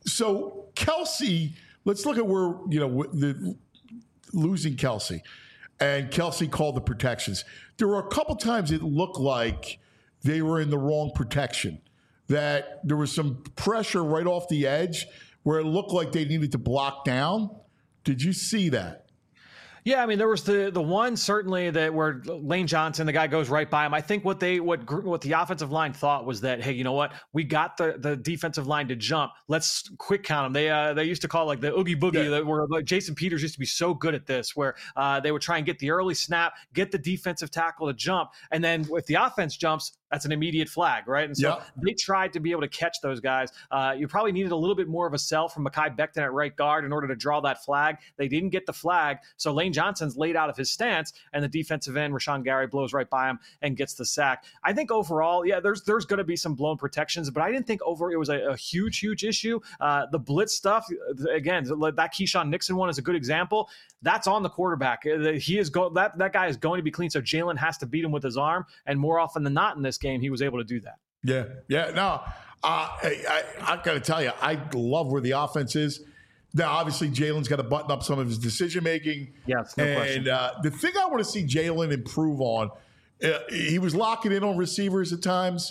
So Kelsey, let's look at where, you know, the losing Kelsey. And Kelsey called the protections. There were a couple times it looked like they were in the wrong protection, that there was some pressure right off the edge where it looked like they needed to block down. Did you see that? Yeah, I mean, there was the the one certainly that where Lane Johnson, the guy goes right by him. I think what they what what the offensive line thought was that, hey, you know what? We got the, the defensive line to jump. Let's quick count them. They uh, they used to call it like the oogie boogie. Yeah. That where like, Jason Peters used to be so good at this, where uh, they would try and get the early snap, get the defensive tackle to jump, and then if the offense jumps, that's an immediate flag, right? And so yep. they tried to be able to catch those guys. Uh, you probably needed a little bit more of a sell from Mekhi Becton at right guard in order to draw that flag. They didn't get the flag, so Lane Johnson's laid out of his stance, and the defensive end, Rashawn Gary, blows right by him and gets the sack. I think overall, yeah, there's there's going to be some blown protections, but I didn't think over it was a, a huge, huge issue. Uh, the blitz stuff, again, that Keyshawn Nixon one is a good example. That's on the quarterback. He is go that that guy is going to be clean, so Jalen has to beat him with his arm, and more often than not in this game, he was able to do that. Yeah, yeah. No, uh, I, I, I got to tell you, I love where the offense is. Now, obviously, Jalen's got to button up some of his decision making. Yes, no and question. uh, the thing I want to see Jalen improve on, uh, he was locking in on receivers at times,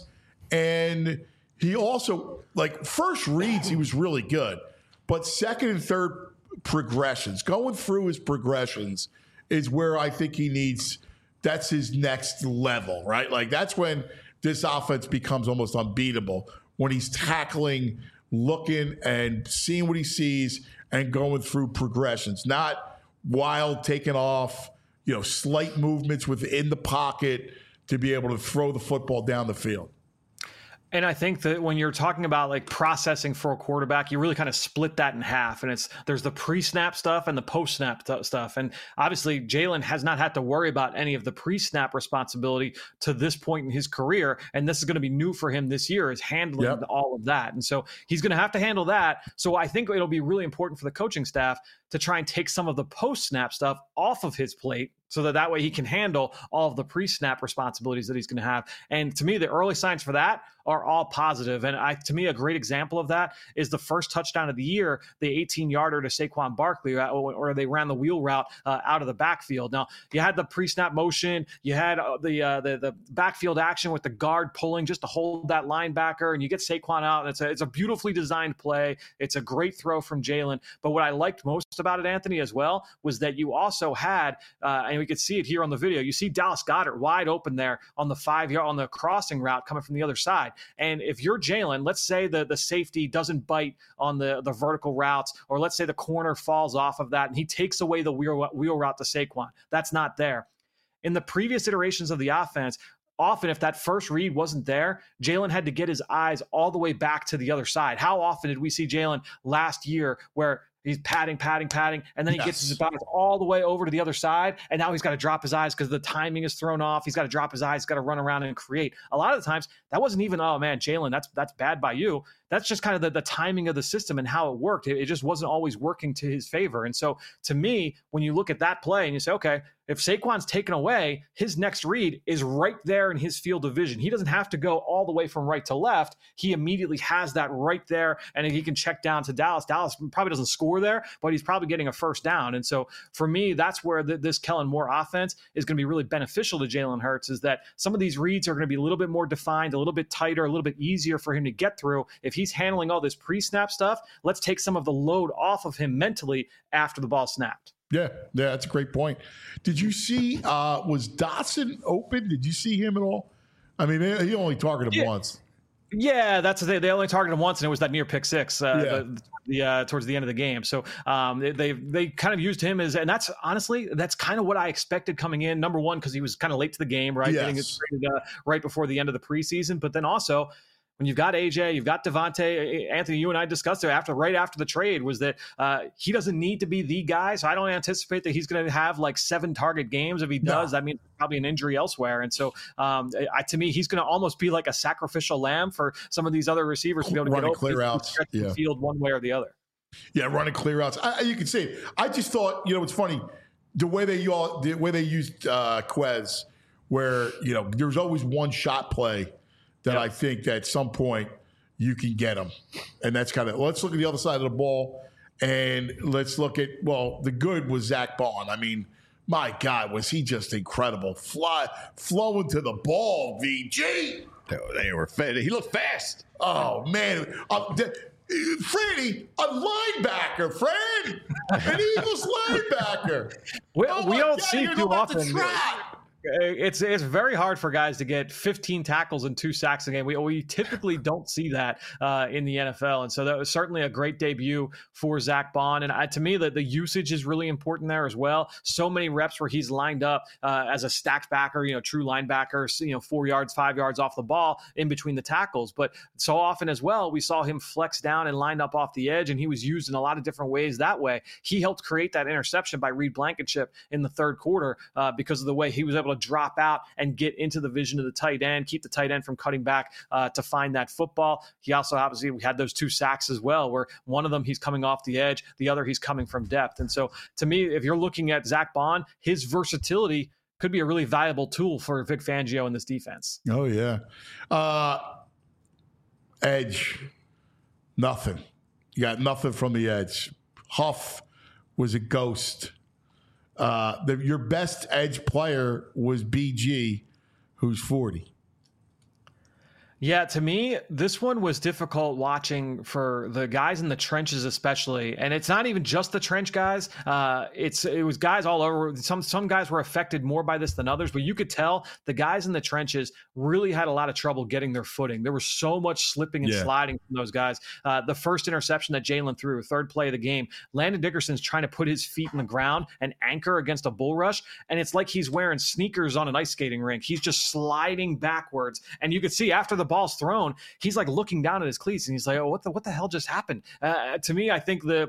and he also, like, first reads, he was really good, but second and third progressions, going through his progressions is where I think he needs, that's his next level, right? Like, that's when this offense becomes almost unbeatable, when he's tackling, looking and seeing what he sees and going through progressions, not wild taking off, you know, slight movements within the pocket to be able to throw the football down the field. And I think that when you're talking about like processing for a quarterback, you really kind of split that in half. And it's there's the pre-snap stuff and the post-snap t- stuff. And obviously, Jalen has not had to worry about any of the pre-snap responsibility to this point in his career. And this is going to be new for him this year, is handling yep. all of that. And so he's going to have to handle that. So I think it'll be really important for the coaching staff to try and take some of the post-snap stuff off of his plate, so that that way he can handle all of the pre-snap responsibilities that he's going to have. And to me, the early signs for that are all positive. And I, to me, a great example of that is the first touchdown of the year, the eighteen-yarder to Saquon Barkley, or they ran the wheel route uh, out of the backfield. Now, you had the pre-snap motion, you had uh, the, uh, the the backfield action with the guard pulling just to hold that linebacker, and you get Saquon out, and it's a, it's a beautifully designed play. It's a great throw from Jalen. But what I liked most about it, Anthony, as well, was that you also had, uh, and we could see it here on the video, you see Dallas Goedert wide open there on the five-yard, on the crossing route coming from the other side. And if you're Jalen, let's say the, the safety doesn't bite on the, the vertical routes, or let's say the corner falls off of that and he takes away the wheel, wheel route to Saquon. That's not there. In the previous iterations of the offense, often if that first read wasn't there, Jalen had to get his eyes all the way back to the other side. How often did we see Jalen last year where he's padding, padding, padding, and then he yes. gets his balance all the way over to the other side, and now he's got to drop his eyes because the timing is thrown off. He's got to drop his eyes, he's got to run around and create. A lot of the times, that wasn't even, oh man, Jalen, that's that's bad by you. That's just kind of the, the timing of the system and how it worked. It, it just wasn't always working to his favor. And so to me, when you look at that play and you say, okay, if Saquon's taken away, his next read is right there in his field of vision. He doesn't have to go all the way from right to left. He immediately has that right there, and he can check down to Dallas. Dallas probably doesn't score there, but he's probably getting a first down. And so for me, that's where the, this Kellen Moore offense is going to be really beneficial to Jalen Hurts, is that some of these reads are going to be a little bit more defined, a little bit tighter, a little bit easier for him to get through. If he's handling all this pre-snap stuff, let's take some of the load off of him mentally after the ball snapped. Yeah, yeah, that's a great point. Did you see, uh, was Dotson open? Did you see him at all? I mean, he only targeted him yeah. once. Yeah, that's they. They only targeted him once, and it was that near pick six uh, yeah. the, the, uh, towards the end of the game. So um, they, they they kind of used him as, and that's honestly that's kind of what I expected coming in. Number one, because he was kind of late to the game, right? Yes. Getting it traded uh, right before the end of the preseason, but then also, when you've got A J, you've got Devontae, Anthony, you and I discussed it after, right after the trade, was that uh, he doesn't need to be the guy. So I don't anticipate that he's going to have like seven target games. If he does, no. I mean, probably an injury elsewhere. And so um, I, to me, he's going to almost be like a sacrificial lamb for some of these other receivers to be able to running get clear outs, yeah. the field one way or the other. Yeah, running clear outs. I, you can see it. I just thought, you know, it's funny the way they all, the way they used uh, Quez, where you know there's always one shot play that yep. I think that at some point you can get them. And that's kind of, let's look at the other side of the ball, and let's look at, well, the good was Zach Bond. I mean, my God, was he just incredible. Fly, flowing to the ball, V G. They were fast. He looked fast. Oh, man. Uh, the, Freddie, a linebacker, Fred. An Eagles linebacker. We, oh we don't God, see too often. It's it's very hard for guys to get fifteen tackles and two sacks a game. We we typically don't see that uh, in the N F L, and so that was certainly a great debut for Zach Bond. And I, to me, that the usage is really important there as well. So many reps where he's lined up uh, as a stacked backer, you know, true linebacker, you know, four yards, five yards off the ball in between the tackles. But so often as well, we saw him flex down and lined up off the edge, and he was used in a lot of different ways that way. He helped create that interception by Reed Blankenship in the third quarter uh, because of the way he was able to drop out and get into the vision of the tight end, keep the tight end from cutting back uh, to find that football. He also obviously we had those two sacks as well, where one of them he's coming off the edge, the other he's coming from depth. And so to me, if you're looking at Zach Bond, his versatility could be a really valuable tool for Vic Fangio in this defense. Oh, yeah. Uh, edge, nothing. You got nothing from the edge. Huff was a ghost. Uh, the, your best edge player was B G, who's forty. Yeah, to me, this one was difficult watching for the guys in the trenches, especially. And it's not even just the trench guys. Uh, it's it was guys all over. Some some guys were affected more by this than others, but you could tell the guys in the trenches really had a lot of trouble getting their footing. There was so much slipping and yeah. sliding from those guys. Uh, the first interception that Jalen threw, third play of the game, Landon Dickerson's trying to put his feet in the ground and anchor against a bull rush, and it's like he's wearing sneakers on an ice skating rink. He's just sliding backwards, and you could see after the ball's thrown, he's like looking down at his cleats and he's like, oh, what the what the hell just happened? Uh, to me, I think the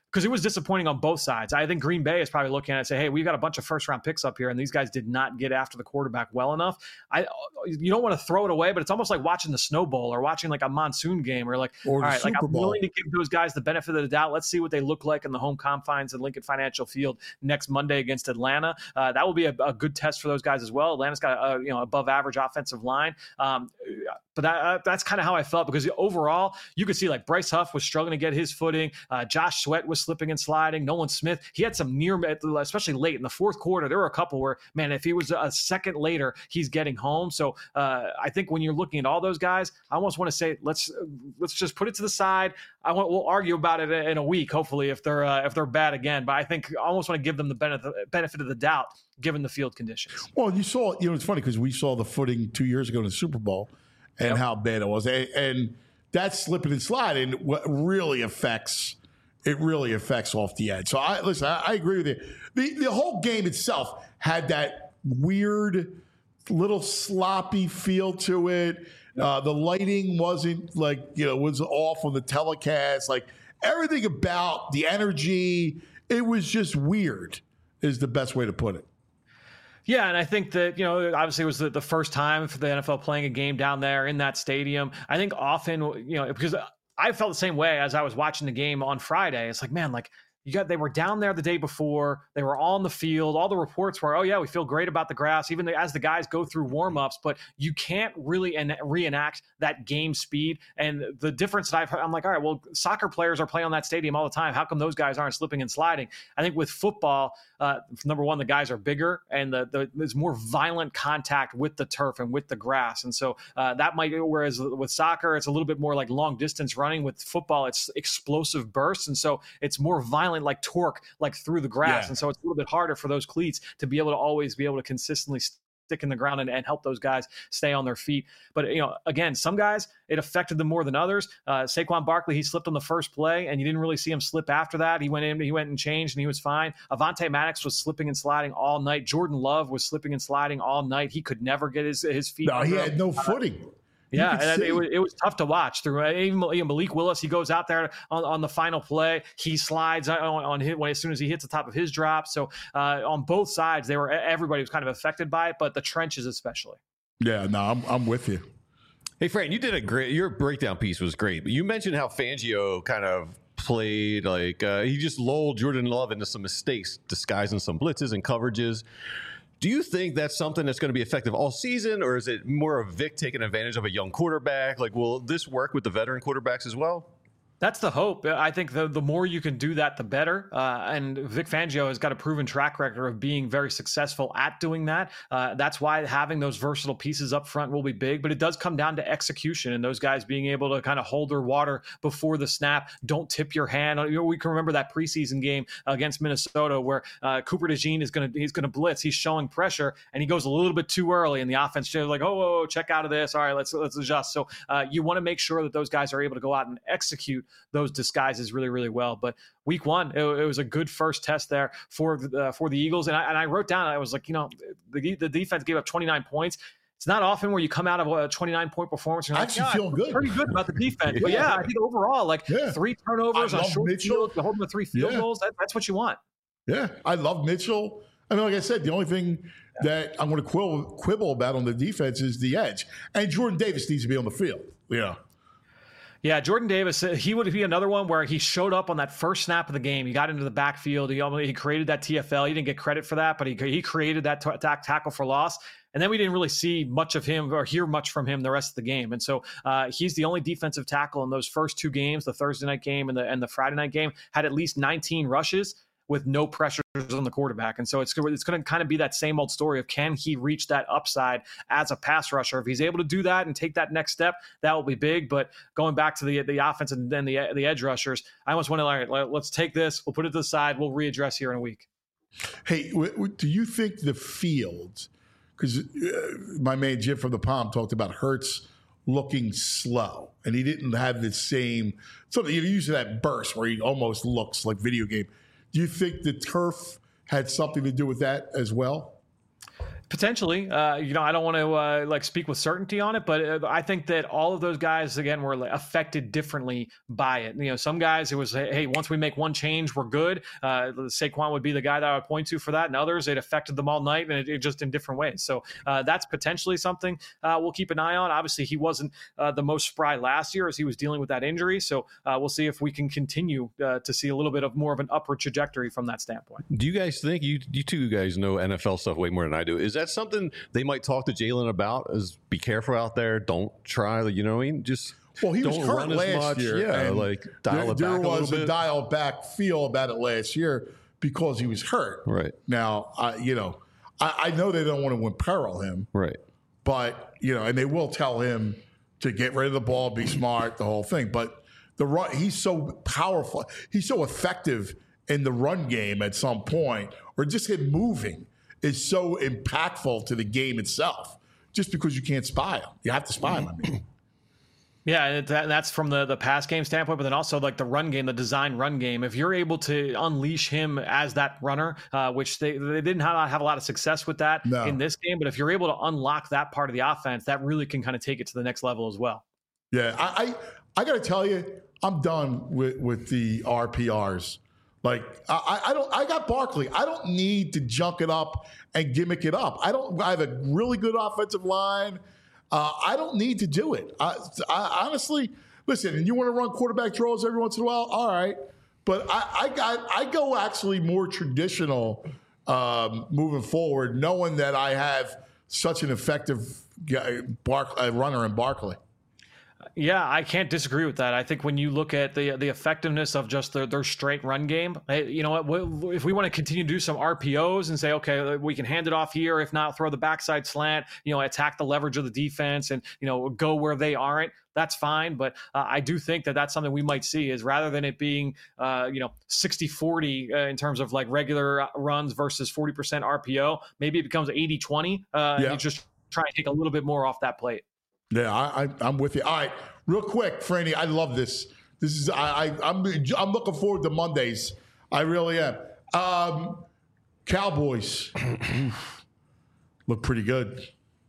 because it was disappointing on both sides. I think Green Bay is probably looking at it and say, hey, we've got a bunch of first round picks up here, and these guys did not get after the quarterback well enough. I you don't want to throw it away, but it's almost like watching the Snow Bowl or watching like a monsoon game, or like, Or all the right, like Super I'm Bowl. willing to give those guys the benefit of the doubt. Let's see what they look like in the home confines of Lincoln Financial Field next Monday against Atlanta. Uh, that will be a, a good test for those guys as well. Atlanta's got a, you know above average offensive line. Um, But that, uh, that's kind of how I felt, because overall, you could see like Bryce Huff was struggling to get his footing. Uh, Josh Sweat was slipping and sliding. Nolan Smith, he had some near, especially late in the fourth quarter. There were a couple where, man, if he was a second later, he's getting home. So uh, I think when you're looking at all those guys, I almost want to say let's let's just put it to the side. I want we'll argue about it in a week, hopefully, if they're uh, if they're bad again. But I think I almost want to give them the benefit benefit of the doubt given the field conditions. Well, you saw, you know, it's funny because we saw the footing two years ago in the Super Bowl and Yep. how bad it was. And, and that slipping and sliding what really affects, it really affects off the edge. So I listen, I, I agree with you. The, the whole game itself had that weird little sloppy feel to it. Uh, the lighting wasn't like, you know, was off on the telecast. Like everything about the energy, it was just weird is the best way to put it. Yeah, and I think that, you know, obviously it was the, the first time for the N F L playing a game down there in that stadium. I think often, you know, because I felt the same way as I was watching the game on Friday. It's like, man, like, you got, they were down there the day before. They were on the field. All the reports were, oh, yeah, we feel great about the grass, even as the guys go through warmups. But you can't really en- reenact that game speed. And the difference that I've heard, I'm like, all right, well, soccer players are playing on that stadium all the time. How come those guys aren't slipping and sliding? I think with football, uh, number one, the guys are bigger, and the, the, there's more violent contact with the turf and with the grass. And so uh, that might, whereas with soccer, it's a little bit more like long distance running. With football, it's explosive bursts. And so it's more violent, like torque, like through the grass. Yeah. And so it's a little bit harder for those cleats to be able to always be able to consistently stick in the ground and, and help those guys stay on their feet. But, you know, again, some guys, it affected them more than others. Uh, Saquon Barkley, he slipped on the first play, and you didn't really see him slip after that. He went in, he went and changed, and he was fine. Avonte Maddox was slipping and sliding all night. Jordan Love was slipping and sliding all night. He could never get his, his feet. No, he under had him. no footing. Yeah, and it was, it was tough to watch. Through even you know, Malik Willis, he goes out there on, on the final play. He slides on, on his, when as soon as he hits the top of his drop. So uh, on both sides, they were everybody was kind of affected by it, but the trenches especially. Yeah, no, I'm I'm with you. Hey, Fran, you did a great. Your breakdown piece was great, but you mentioned how Fangio kind of played like uh, he just lulled Jordan Love into some mistakes, disguising some blitzes and coverages. Do you think that's something that's going to be effective all season, or is it more of Vic taking advantage of a young quarterback? Like, will this work with the veteran quarterbacks as well? That's the hope. I think the the more you can do that, the better. Uh, and Vic Fangio has got a proven track record of being very successful at doing that. Uh, that's why having those versatile pieces up front will be big. But it does come down to execution and those guys being able to kind of hold their water before the snap. Don't tip your hand. You know, we can remember that preseason game against Minnesota where uh, Cooper DeJean is going to he's going to blitz. He's showing pressure and he goes a little bit too early, and the offense is like, oh, whoa, whoa, check out of this. All right, let's let's adjust. So uh, you want to make sure that those guys are able to go out and execute those disguises really, really well. But week one, it, it was a good first test there for uh, for the Eagles. And I, and I wrote down, I was like, you know, the, the defense gave up twenty-nine points. It's not often where you come out of a twenty-nine point performance. And you're Actually like, feel good. Pretty good about the defense. Yeah. But yeah, I think overall, like Yeah. three turnovers I on love short Mitchell. field, to hold them to three field Yeah. goals. That, that's what you want. Yeah, I love Mitchell. I mean, like I said, the only thing that I'm going to quibble, quibble about on the defense is the edge. And Jordan Davis needs to be on the field. Yeah. Yeah, Jordan Davis, he would be another one where he showed up on that first snap of the game. He got into the backfield. He almost, he created that T F L. He didn't get credit for that, but he he created that t- t- tackle for loss. And then we didn't really see much of him or hear much from him the rest of the game. And so uh, he's the only defensive tackle in those first two games, the Thursday night game and the and the Friday night game, had at least nineteen rushes with no pressures on the quarterback. And so it's, it's going to kind of be that same old story of can he reach that upside as a pass rusher? If he's able to do that and take that next step, that will be big. But going back to the the offense and then the the edge rushers, I almost want to, all right, let's take this, we'll put it to the side, we'll readdress here in a week. Hey, w- w- do you think the field, because uh, my man Jim from the Palm talked about Hurts looking slow, and he didn't have the same, something, you use that burst where he almost looks like video game. Do you think the turf had something to do with that as well? Potentially, uh, you know, I don't want to uh, like speak with certainty on it, but uh, I think that all of those guys again were like, affected differently by it. You know, some guys it was, hey, once we make one change, we're good. Uh, Saquon would be the guy that I would point to for that, and others it affected them all night, and it, it just in different ways. So uh, that's potentially something uh, we'll keep an eye on. Obviously, he wasn't uh, the most spry last year as he was dealing with that injury, so uh, we'll see if we can continue uh, to see a little bit of more of an upward trajectory from that standpoint. Do you guys think you you two guys know N F L stuff way more than I do? Is that something they might talk to Jalen about? Is be careful out there. Don't try. You know what I mean? Just well, he don't was hurt run as last much. year. Yeah, and like dial there, it back there a little was bit. a dial back feel about it last year because he was hurt. Right now, I, you know, I, I know they don't want to imperil him. Right, but you know, and they will tell him to get rid of the ball, be smart, the whole thing. But the run, he's so powerful. He's so effective in the run game at some point, or just him moving is so impactful to the game itself. Just because you can't spy him, you have to spy him. I mean, yeah, and that, that's from the the pass game standpoint, but then also like the run game, the design run game. If you're able to unleash him as that runner, uh, which they they didn't have, have a lot of success with that no. in this game, but if you're able to unlock that part of the offense, that really can kind of take it to the next level as well. Yeah, I I, I got to tell you, I'm done with with the R P Rs. Like I, I don't, I got Barkley. I don't need to junk it up and gimmick it up. I don't. I have a really good offensive line. Uh, I don't need to do it. I, I honestly listen. And you want to run quarterback draws every once in a while, all right. But I, I got, I go actually more traditional um, moving forward, knowing that I have such an effective guy, Bark, uh, runner in Barkley. Yeah, I can't disagree with that. I think when you look at the the effectiveness of just their, their straight run game, you know what, if we want to continue to do some R P Os and say, okay, we can hand it off here, if not throw the backside slant, you know, attack the leverage of the defense and, you know, go where they aren't, that's fine. But uh, I do think that that's something we might see is rather than it being, uh, you know, sixty forty uh, in terms of like regular runs versus forty percent R P O, maybe it becomes eighty twenty uh, yeah. and you just try and take a little bit more off that plate. Yeah, I, I, I'm with you. All right, real quick, Franny, I love this. This is I, I I'm I'm looking forward to Mondays. I really am. Um, Cowboys look pretty good.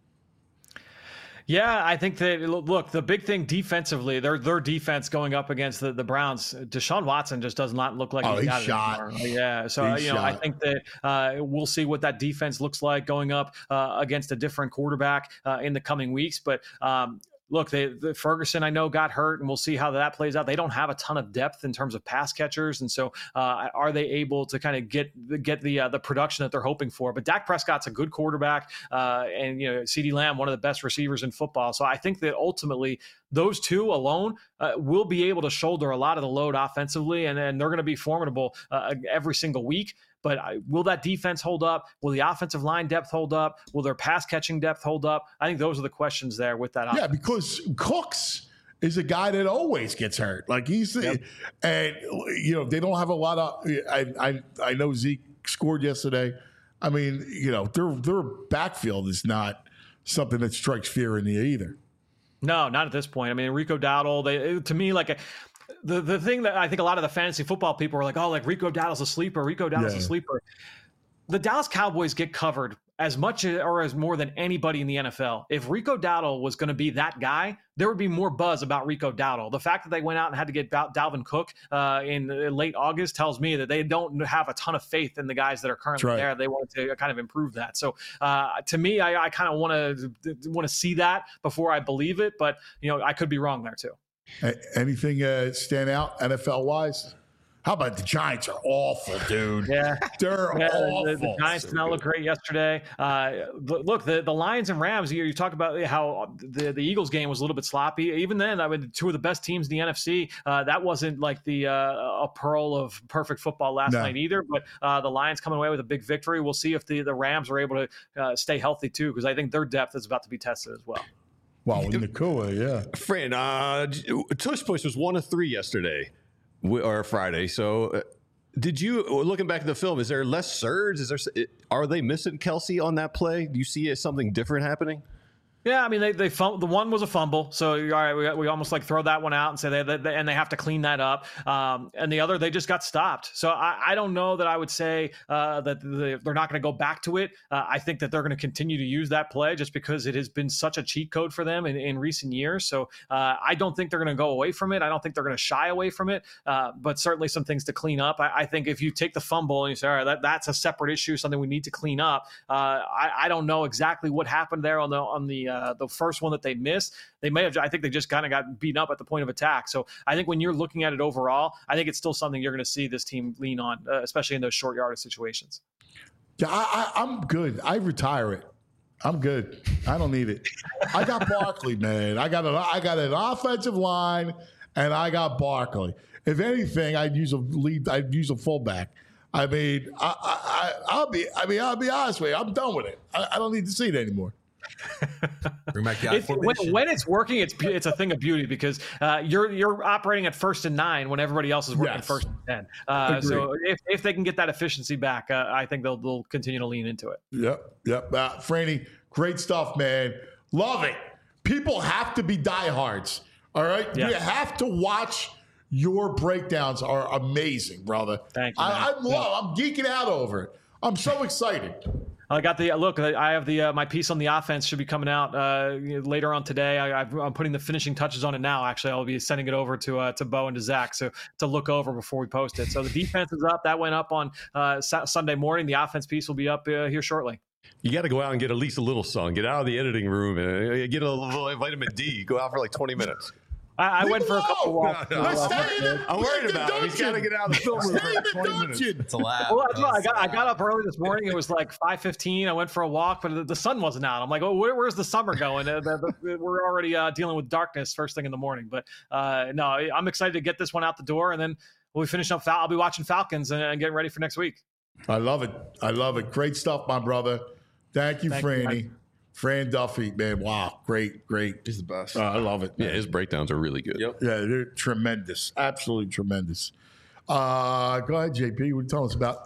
Yeah, I think that, look, the big thing defensively, their their defense going up against the, the Browns, Deshaun Watson just does not look like oh, he's, he's got shot. it anymore. Yeah, so, he's you know, shot. I think that uh, we'll see what that defense looks like going up uh, against a different quarterback uh, in the coming weeks. But, um, look, they, the Ferguson, I know, got hurt, and we'll see how that plays out. They don't have a ton of depth in terms of pass catchers, and so uh, are they able to kind of get get the uh, the production that they're hoping for? But Dak Prescott's a good quarterback, uh, and you know, CeeDee Lamb, one of the best receivers in football. So I think that ultimately those two alone uh, will be able to shoulder a lot of the load offensively, and, and they're going to be formidable uh, every single week. But will that defense hold up? Will the offensive line depth hold up? Will their pass catching depth hold up? I think those are the questions there with that offense. Yeah, because Cooks is a guy that always gets hurt. Like he's, yep. and you know, they don't have a lot of. I I, I know Zeke scored yesterday. I mean, you know, their their backfield is not something that strikes fear in you either. No, not at this point. I mean, Rico Dowdle, they to me like a. The the thing that I think a lot of the fantasy football people are like, oh, like Rico Dowdle's a sleeper. Rico Dowdle's yeah. a sleeper. The Dallas Cowboys get covered as much or as more than anybody in the N F L. If Rico Dowdle was going to be that guy, there would be more buzz about Rico Dowdle. The fact that they went out and had to get Dalvin Cook uh, in late August tells me that they don't have a ton of faith in the guys that are currently right. there. They wanted to kind of improve that. So uh, to me, I, I kind of want to want to see that before I believe it. But you know, I could be wrong there too. Anything uh, stand out N F L wise? How about the Giants are awful, dude? Yeah, they're yeah, awful. The, the Giants did not look great yesterday. Uh, look, the, the Lions and Rams. You, you talk about how the, the Eagles game was a little bit sloppy. Even then, I mean, two of the best teams in the N F C. Uh, that wasn't like the uh, a pearl of perfect football last no. night either. But uh, the Lions coming away with a big victory. We'll see if the, the Rams are able to uh, stay healthy too, because I think their depth is about to be tested as well. Wow, in Nakua, yeah. Fran, uh, Tush Push was one of three yesterday or Friday. So, uh, did you looking back at the film? Is there less surge? Is there are they missing Kelsey on that play? Do you see something different happening? Yeah, I mean, they they fum- the one was a fumble, so all right, we, we almost like throw that one out and say they, they and they have to clean that up. Um, and the other, they just got stopped. So I, I don't know that I would say uh, that they, they're not going to go back to it. Uh, I think that they're going to continue to use that play just because it has been such a cheat code for them in, in recent years. So uh, I don't think they're going to go away from it. I don't think they're going to shy away from it. Uh, but certainly some things to clean up. I, I think if you take the fumble and you say, all right, that, that's a separate issue, something we need to clean up. Uh, I, I don't know exactly what happened there on the on the uh, the first one that they missed. They may have, I think they just kind of got beaten up at the point of attack. So I think when you're looking at it overall, I think it's still something you're going to see this team lean on, uh, especially in those short yardage situations. Yeah, I, I, I'm good. I retire it. I'm good. I don't need it. I got Barkley, man. I got an, I got an offensive line, and I got Barkley. If anything, I'd use a lead. I'd use a fullback. I mean, I, I, I'll be. I mean, I'll be honest with you. I'm done with it. I, I don't need to see it anymore. Bring back the It, when, when it's working, it's it's a thing of beauty because uh, you're you're operating at first and nine when everybody else is working Yes. first and ten. Uh, so if, if they can get that efficiency back, uh, I think they'll they'll continue to lean into it. Yep, yep. Uh, Franny, great stuff, man. Love it. People have to be diehards. All right, Yes. you have to watch. Your breakdowns are amazing, brother. Thank you, I, man. I love. I'm geeking out over it. I'm so excited. I got the look. I have the uh, my piece on the offense should be coming out uh, later on today. I, I'm putting the finishing touches on it now. Actually, I'll be sending it over to uh, to Bo and to Zach so to look over before we post it. So the defense is up. That went up on uh, Sunday morning. The offense piece will be up uh, here shortly. You got to go out and get at least a little sun. Get out of the editing room and uh, get a little vitamin D. Go out for like twenty minutes. I, I Leave went for a him couple alone. walks. No, no. Let's stay in the, I'm worried the about him. He's got to dungeon. get out of the film room Stay in for the twenty minutes. dungeon. It's a lab. Well, that's right. I got I It's a got lab. up early this morning. It was like five fifteen. I went for a walk, but the, the sun wasn't out. I'm like, oh, where, where's the summer going? Uh, the, the, we're already uh, dealing with darkness first thing in the morning. But uh, no, I'm excited to get this one out the door, and then we'll be finishing up. Fal- I'll be watching Falcons and, and getting ready for next week. I love it. I love it. Great stuff, my brother. Thank you, Thank you, Franny. guys. Fran Duffy, man. Wow. Great, great. He's the best. Uh, I love it. Yeah, his breakdowns are really good. Yep. Yeah, they're tremendous. Absolutely tremendous. Uh, go ahead, J P. What are you telling us about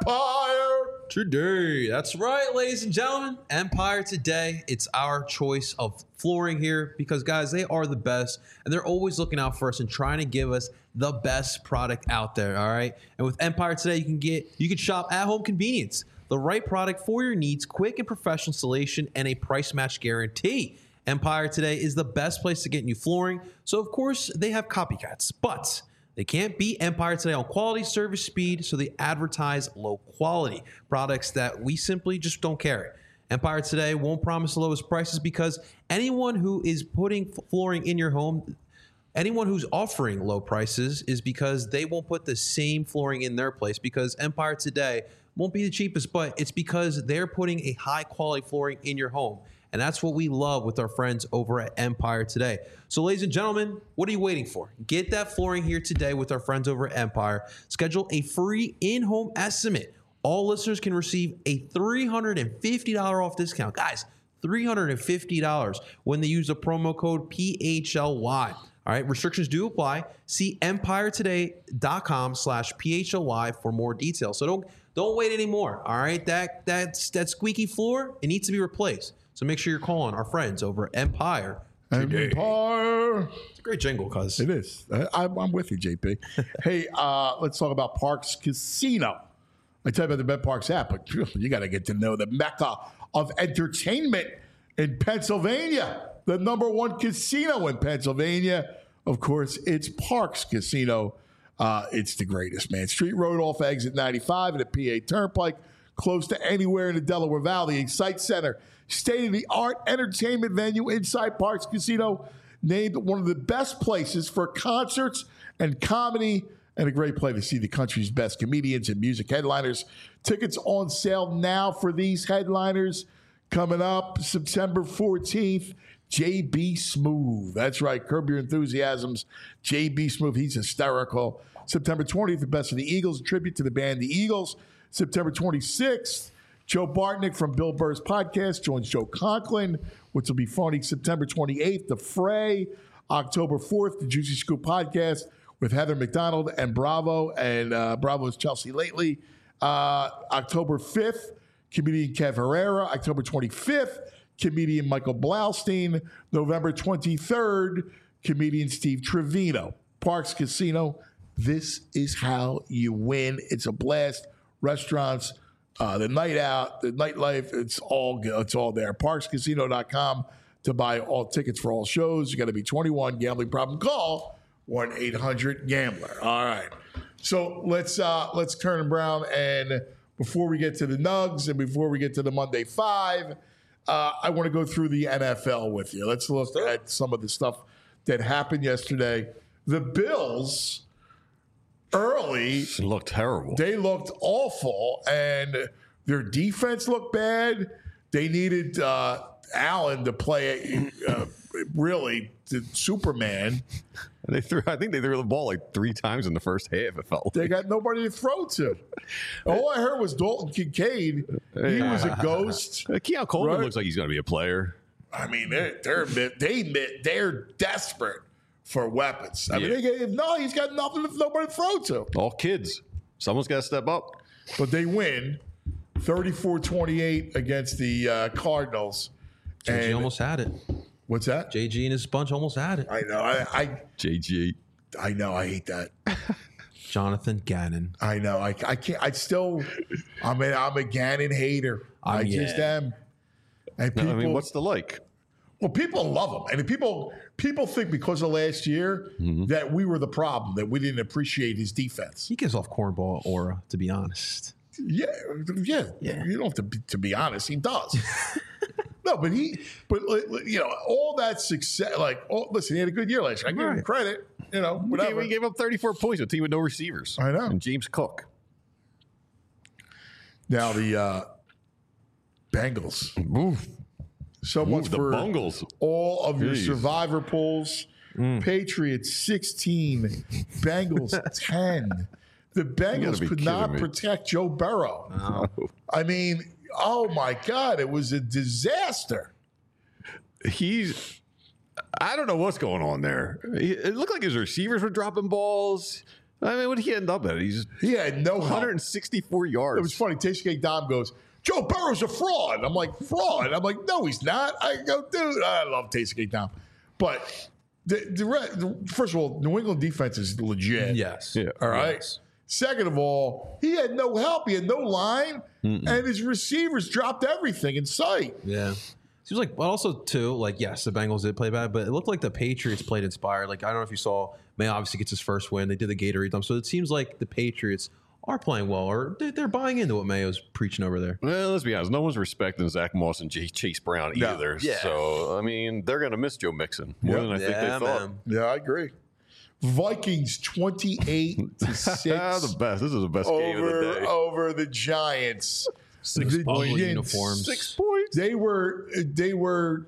Empire? Today, that's right, ladies and gentlemen. Empire Today. It's our choice of flooring here because, guys, they are the best and they're always looking out for us and trying to give us the best product out there. All right. And with Empire Today, you can get you can shop at home convenience, the right product for your needs, quick and professional installation, and a price match guarantee. Empire Today is the best place to get new flooring. So, of course, they have copycats, but they can't beat Empire Today on quality, service, speed, so they advertise low quality products that we simply just don't carry. Empire Today won't promise the lowest prices because anyone who is putting flooring in your home, anyone who's offering low prices is because they won't put the same flooring in their place because Empire Today won't be the cheapest, but it's because they're putting a high quality flooring in your home. And that's what we love with our friends over at Empire Today. So, ladies and gentlemen, what are you waiting for? Get that flooring here today with our friends over at Empire. Schedule a free in-home estimate. All listeners can receive a three hundred fifty dollars off discount. Guys, three hundred fifty dollars when they use the promo code P H L Y. All right, restrictions do apply. See empiretoday.com slash PHLY for more details. So don't don't wait anymore. All right, that that's that squeaky floor, it needs to be replaced. So make sure you're calling our friends over at Empire today. Empire. It's a great jingle, cuz. It is. I, I'm with you, J P. Hey, uh, let's talk about Parks Casino. I tell you about the Bet Parks app, but you got to get to know the mecca of entertainment in Pennsylvania. The number one casino in Pennsylvania. Of course, it's Parks Casino. Uh, it's the greatest, man. Street Road off exit ninety-five at the P A Turnpike, close to anywhere in the Delaware Valley. Excite Center, state-of-the-art entertainment venue inside Parks Casino, named one of the best places for concerts and comedy, and a great place to see the country's best comedians and music headliners. Tickets on sale now for these headliners. Coming up September fourteenth, J B. Smoove. That's right, Curb Your Enthusiasms. J B. Smoove, he's hysterical. September twentieth, the Best of the Eagles, a tribute to the band The Eagles. September twenty-sixth, Joe Bartnick from Bill Burr's podcast joins Joe Conklin, which will be funny. September twenty-eighth, The Fray. October fourth, the Juicy Scoop podcast with Heather McDonald and Bravo, and uh, Bravo's Chelsea Lately. Uh, October fifth, comedian Kev Herrera. October twenty-fifth, comedian Michael Blaustein. November twenty-third, comedian Steve Trevino. Parks Casino. This is how you win. It's a blast. Restaurants, uh, the night out, the nightlife, it's all good. It's all there. parks casino dot com to buy all tickets for all shows. You got to be twenty-one. Gambling problem? Call one eight hundred gambler. All right. So let's uh, let's turn around, and before we get to the Nugs and before we get to the Monday Five, uh, I want to go through the N F L with you. Let's look at some of the stuff that happened yesterday. The Bills early It looked terrible. they looked awful, and their defense looked bad. They needed uh, Allen to play uh, really the Superman. They threw. I think they threw the ball like three times in the first half. It felt. They got nobody to throw to. All I heard was Dalton Kincaid. He was a ghost. Uh, Keon Coleman Right. looks like he's going to be a player. I mean, they're they're they they're desperate for weapons. I mean, Yeah. they gave no. He's got nothing, nobody to throw to. All kids. Someone's got to step up. But they win thirty-four twenty-eight against the uh, Cardinals. J G And- almost had it. What's that? J G and his bunch almost had it. I know. I, I J G. I know. I hate that. Jonathan Gannon. I know. I, I can't. I still. I'm a, I'm a Gannon hater. I Um, just yeah. am. And No, people, I mean, what's the like? well, people love him, and people people think because of last year Mm-hmm. that we were the problem, that we didn't appreciate his defense. He gives off cornball aura, to be honest. Yeah, yeah. Yeah. You don't have to be, to be honest. He does. No, but he, but you know, all that success. Like, oh, listen, he had a good year last year. I give him Right. credit. You know, He gave, whatever. he gave up thirty-four points to a team with no receivers. I know. And James Cook. Now the uh, Bengals. Oof. So Ooh, much the for Bungles. all of your Jeez. survivor polls. Patriots sixteen, Bengals ten. The Bengals be could kidding not me. protect Joe Burrow. I mean, oh my God, it was a disaster. He's. I don't know what's going on there. He- It looked like his receivers were dropping balls. I mean, what did he end up at? He's He had no one help. hundred sixty-four yards. It was funny. Tashkent Dom goes, Joe Burrow's a fraud. I'm like, fraud? I'm like, no, he's not. I go, dude, I love Tashkent Dom. But the, the, re- the first of all, New England defense is legit. Yes. Yeah. All right. Yes. Second of all, he had no help. He had no line, and his receivers dropped everything in sight. Yeah. Seems like, but also too, like yes, the Bengals did play bad, but it looked like the Patriots played inspired. Like I don't know if you saw, May obviously gets his first win. They did the Gatorade dump, so it seems like the Patriots are playing well, or they- they're buying into what Mayo's preaching over there. Well, let's be honest. No one's respecting Zach Moss and J- Chase Brown No. either. Yeah. So, I mean, they're going to miss Joe Mixon more Yep. than I think they thought. Yeah, I agree. Vikings twenty-eight to six Ah, the best. This is the best game of the over day. over the Giants. Six The ugly Giants- uniforms. Six points. They were they were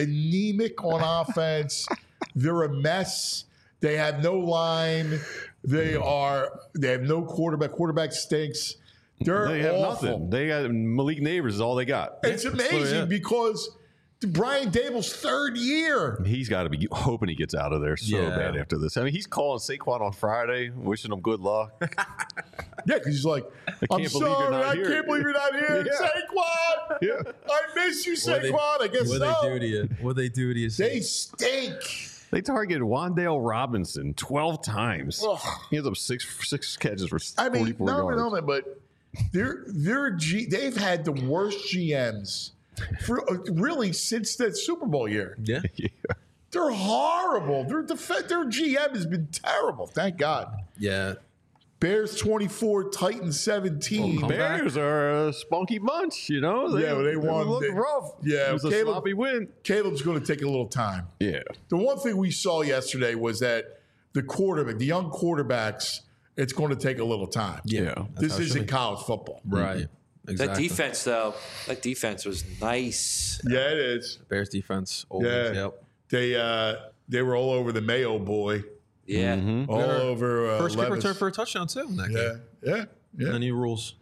anemic on offense. They're a mess. They have no line. They are. They have no quarterback. Quarterback stinks. They're They have awful. nothing. They got Malik Neighbors is all they got. It's amazing So, yeah. because Brian Dable's third year. He's got to be hoping he gets out of there so Yeah. bad after this. I mean, he's calling Saquon on Friday, wishing him good luck. Yeah, because he's like, I'm can't believe you're sorry, not I here." can't believe you're not here, Yeah. Saquon. Yeah. I miss you, Saquon. I guess What so. they do to you? What they do to you? They stink. They targeted Wandale Robinson twelve times. Ugh. He has up six six catches for I mean, forty-four no, yards. no, no, but they're they're G, they've had the worst G Ms for uh, really since that Super Bowl year. Yeah. Yeah. They're horrible. Their def- their G M has been terrible. Thank God. Yeah. Bears twenty-four, Titans seventeen. Come back. Bears are a spunky bunch, you know. They, Yeah, but they won. looked They- rough. Yeah, it was a Caleb- sloppy win. Caleb's going to take a little time. Yeah, The one thing we saw yesterday was that the quarterback, the young quarterbacks, it's going to take a little time. yeah. This how it should isn't be. college football. Right. That Exactly. defense, though, that defense was nice. Yeah, it is. Bears defense. Always. Yeah. Yep. They uh, they were all over the Mayo boy, Yeah. Mm-hmm. all Better- over uh, First kick Levis. return for a touchdown too in that Yeah, game. yeah, yeah. The new rules.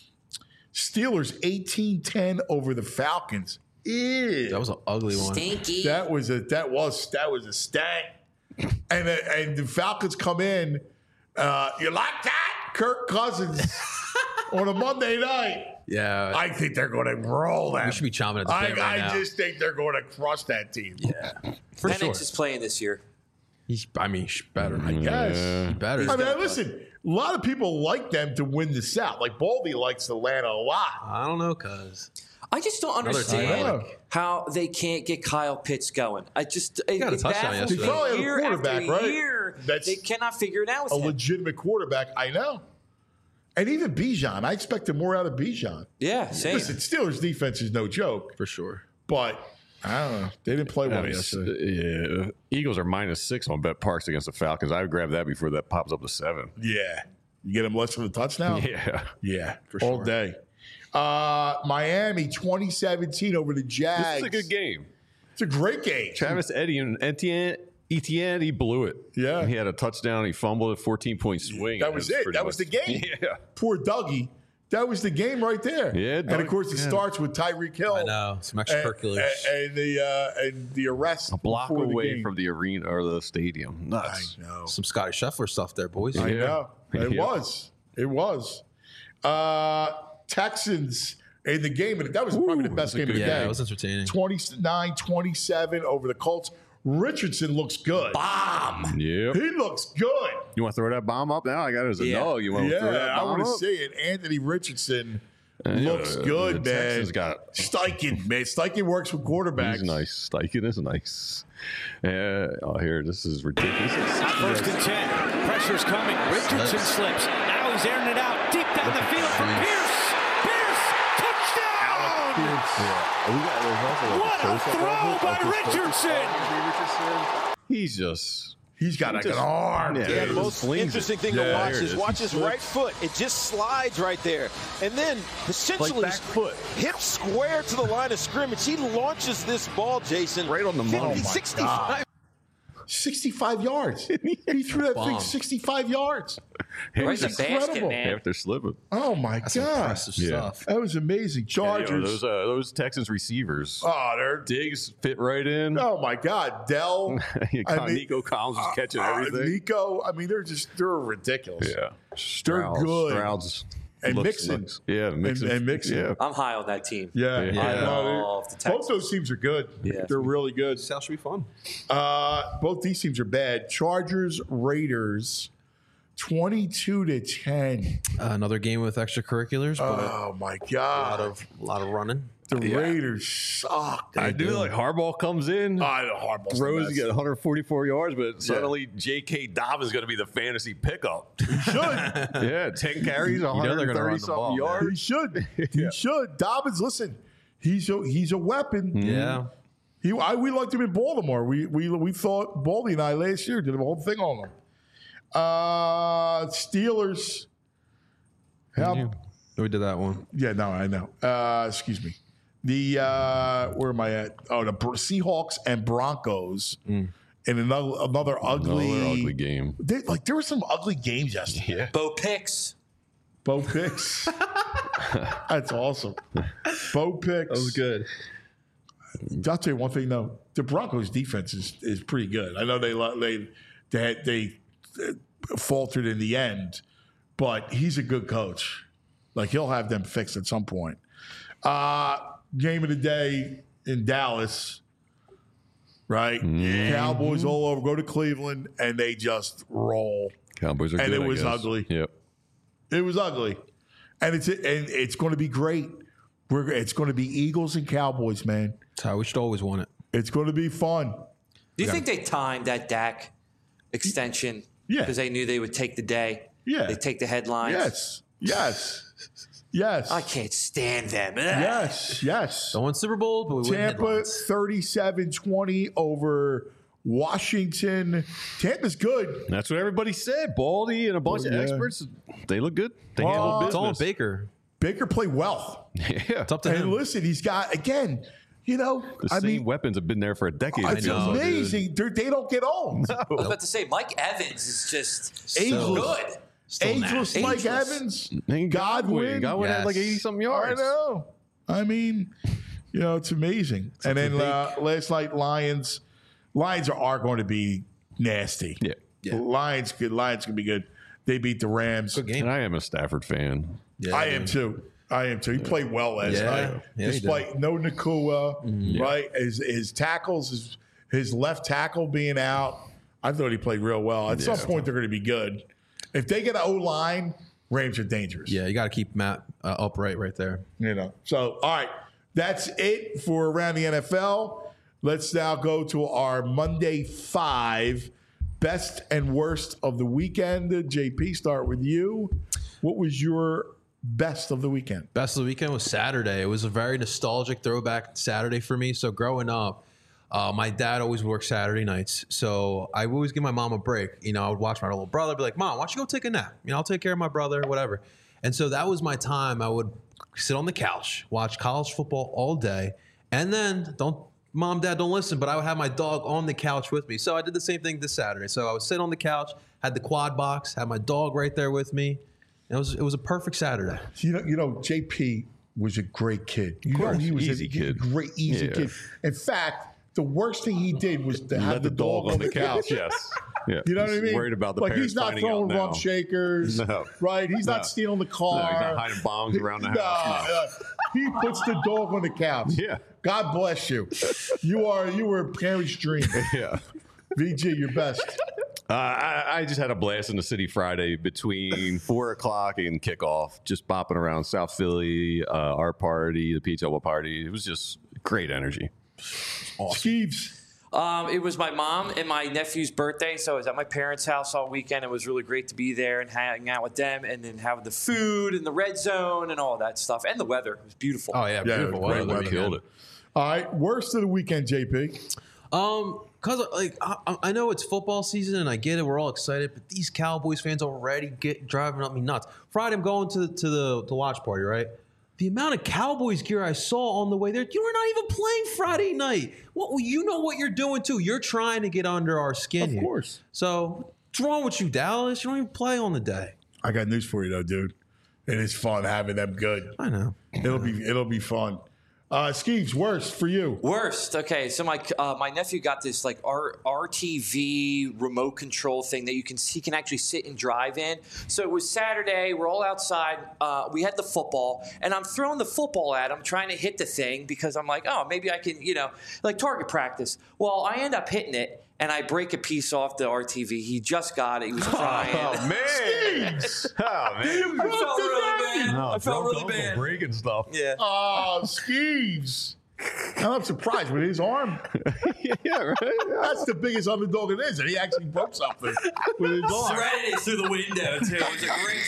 Steelers eighteen ten over the Falcons. Ew. That was an ugly one. Stinky. That was a that was that was a stank. And uh, and the Falcons come in. Uh, you like that, Kirk Cousins? on a Monday night. Yeah. I think they're going to roll them. We should be chomping at the I, bit right I now. just think they're going to crush that team. Yeah. For Penix sure. is playing this year. He's, I mean, he's better. I guess. He better. I mean, listen, a lot of people like them to win the South. Like, Baldy likes Atlanta a lot. I don't know, cuz. I just don't Another understand team. how they can't get Kyle Pitts going. I just it, got a it touchdown baffles yesterday. me. He probably had a year quarterback, after right? year, That's they cannot figure it out with A him. legitimate quarterback, I know. And even Bijan, I expected more out of Bijan. Yeah, same. Listen, Steelers defense is no joke, For sure. but I don't know. They didn't play I well mean, yesterday. yeah, Eagles are minus six on Bet Parks against the Falcons. I would grab that before that pops up to seven. Yeah. You get them less than a touchdown? Yeah, Yeah, For all sure. day. Uh, Miami twenty seventeen over the Jags. this is a good game. It's a great game. Travis Eddie and Etienne, Etienne, he blew it. Yeah. he had a touchdown. He fumbled a fourteen point swing. That and was it's it. pretty That was the much- game. Yeah, Poor Dougie. That was the game right there. Yeah, and of Doug- course it yeah. starts with Tyreek Hill. I know. Some And, extracurriculars. and, and the uh, and the arrest a block before the away game. from the arena or the stadium. I Nuts. know. Some Scotty Scheffler stuff there, boys. I Yeah. know. It Yeah. was. It was. Uh, Texans in the game, and that was probably the best was a game of the good Yeah, day. it was entertaining. twenty-nine twenty-seven over the Colts. Richardson looks good. Bomb. Yep. He looks good. You want to throw that bomb up now? I got it as a Yeah. dog. You want to throw that Yeah, I bomb want to up? see it. Anthony Richardson Yeah, looks the- good, the man. Texans got. Steichen, man. Steichen works with quarterbacks. He's nice. Steichen is nice. Yeah. Oh, here. This is ridiculous. First and ten. Pressure's coming. Richardson slips. Now he's airing it out. Deep down the field for Pierce. Pierce. Touchdown. Yeah. We got- there's also like What a close-up throw of it, by like this Richardson. Richardson. He's just. He's got like Just- an arm. yeah, dude. Yeah, the It most slings it. interesting thing Yeah, to watch here it is is. watch He his flicks. right foot. It just slides right there. And then essentially back foot. hip square to the line of scrimmage. He launches this ball, Jason. Right on the money. Oh, my fifty, sixty-five. sixty-five yards. He threw that thing Bomb. sixty-five yards. Right in the basket, incredible. man. After slipping. Oh, my That's God. impressive Yeah. stuff. That was amazing. Yeah, you know, Chargers. those uh, those Texans receivers. oh, they're. Diggs fit right in. Oh, my God. Dell. I mean, Nico Collins was catching uh, everything. Nico. I mean, they're just, they're ridiculous. Yeah. They're Stroud's, good. Stroud's And looks- Mixon. looks- yeah, Mixon. and Mixon. Yeah. I'm high on that team. Yeah. Yeah. I know. love the Both Texans. those teams are good. Yeah. They're really good. South should be fun. Uh, both these teams are bad. Chargers, Raiders, twenty-two to ten. Uh, another game with extracurriculars, but Oh, my a lot God. of a lot of running. The Yeah. Raiders suck. I do like Harbaugh comes in. I know Harbaugh's Throws, the you get best. one hundred forty-four yards, but suddenly J K. Dobbins is going to be the fantasy pickup. Should. Yeah, ten carries, know they're gonna run one hundred thirty the something ball, man. yards. He should. He should. Dobbins, listen, he's a he's a weapon. Yeah. He, I, we liked him in Baltimore. We we we thought Baldy and I last year did a whole thing on him. Uh, Steelers. How, We did that one. yeah, no, I know. Uh, excuse me. The uh, where am I at? Oh, the Br- Seahawks and Broncos in another another ugly, Another ugly game. They, like there were some ugly games yesterday. Yeah. Bo Picks. Bo Picks. That's awesome. Bo Picks. good. I'll tell you one thing though. The Broncos defense is, is pretty good. I know they lo- they they had, they uh, faltered in the end, but he's a good coach. Like he'll have them fixed at some point. Uh, game of the day in Dallas, right? Cowboys all over. Go to Cleveland and they just roll. Cowboys are And good, it I was guess. ugly. Yep. It was ugly, and it's and it's going to be great. We're it's going to be Eagles and Cowboys, man. That's how we should always want it. It's going to be fun. Do you think they timed that Dak extension? Yeah. Because they knew they would take the day. Yeah. They take the headlines. Yes, yes, yes, I can't stand them. yes, yes. Don't win Super Bowl, but we win Tampa headlines. thirty-seven twenty over Washington. Tampa's good. That's what everybody said. Baldy and a bunch Oh, of yeah. experts, they look good. They Oh, handle It's all on business. Baker. Baker played well, Yeah. It's up to and him. listen, he's got again. You know, The I same mean, weapons have been there for a decade. it it's feels like. amazing. They're, they don't get old. I was about to say, Mike Evans is just so Ageless. good. Ageless Mike Ageless. Evans. And Godwin. Godwin had like Yes. eighty something I yards. know. I mean, you know, it's amazing. and then uh, last night, Lions. Lions are, are going to be nasty. Yeah. Yeah. Lions good. Lions can be good. They beat the Rams. Good game. And I am a Stafford fan. Yeah, I dude. am too. I am too. He played well last Yeah. night, Yeah, he despite no Nakua, Mm-hmm. right? His, his tackles, his, his left tackle being out. I thought he played real well. At some point, they're going to be good. If they get an O line, Rams are dangerous. Yeah, you got to keep Matt uh, upright right there. You know. So, all right, that's it for Around the N F L. Let's now go to our Monday Five best and worst of the weekend. J P, start with you. What was your best of the weekend? Best of the weekend was Saturday. It was a very nostalgic throwback Saturday for me. So growing up, uh, my dad always worked Saturday nights. So I would always give my mom a break. You know, I would watch my little brother, be like, Mom, why don't you go take a nap? You know, I'll take care of my brother, whatever. And so that was my time. I would sit on the couch, watch college football all day. And then, don't, Mom, Dad, don't listen, but I would have my dog on the couch with me. So I did the same thing this Saturday. So I would sit on the couch, had the quad box, had my dog right there with me. It was it was a perfect Saturday. You know, you know, J P was a great kid. You know, he was easy a kid. great, easy Yeah. kid. In fact, the worst thing he did was to have Let the, dog, on the couch. Yes. Yeah. You know what I He's mean? Worried about the like parents he's not finding throwing out rump now. shakers, No. right? He's No. not stealing the No, car. he's not hiding bombs around the No, house. uh, he puts the dog on the couch. Yeah. God bless you. You are you were a parent's dream. Yeah. V G, your best. Uh, I, I just had a blast in the city Friday between four o'clock and kickoff, just bopping around South Philly, uh, our party, the Pizza Hut party. It was just great energy. Steve's. Um, it was my mom and my nephew's birthday, so I was at my parents' house all weekend. It was really great to be there and hang out with them, and then have the food and the red zone and all that stuff, and the weather. It was beautiful. Oh, yeah, Yeah, beautiful great weather. weather. Killed it. All right, worst of the weekend, J P. Um, cause like I, I know it's football season and I get it, we're all excited, but these Cowboys fans already get driving up me nuts. Friday, I'm going to the, to the the watch party, right? The amount of Cowboys gear I saw on the way there, you were not even playing Friday night. What well, you know what you're doing too? You're trying to get under our skin Of here. course. So what's wrong with you, Dallas? You don't even play on the day. I got news for you though, dude. It is fun having them good. I know. It'll be it'll be fun. Uh, Skeeves, worst for you. Worst. Okay, so my uh, my nephew got this like R- RTV remote control thing that you can he can actually sit and drive in. So it was Saturday. We're all outside. Uh, we had the football, and I'm throwing the football at him, trying to hit the thing because I'm like, oh, maybe I can, you know, like target practice. Well, I end up hitting it, and I break a piece off the R T V. He just got it. He was crying. Oh, man. Oh, man. I felt really bad. No, I felt drunk really uncle bad. breaking stuff. Yeah. Oh, Skeeves. And I'm surprised with his arm. Yeah, right. That's the biggest underdog it is, and he actually broke something with his arm. Threaded it through the window too. It was a great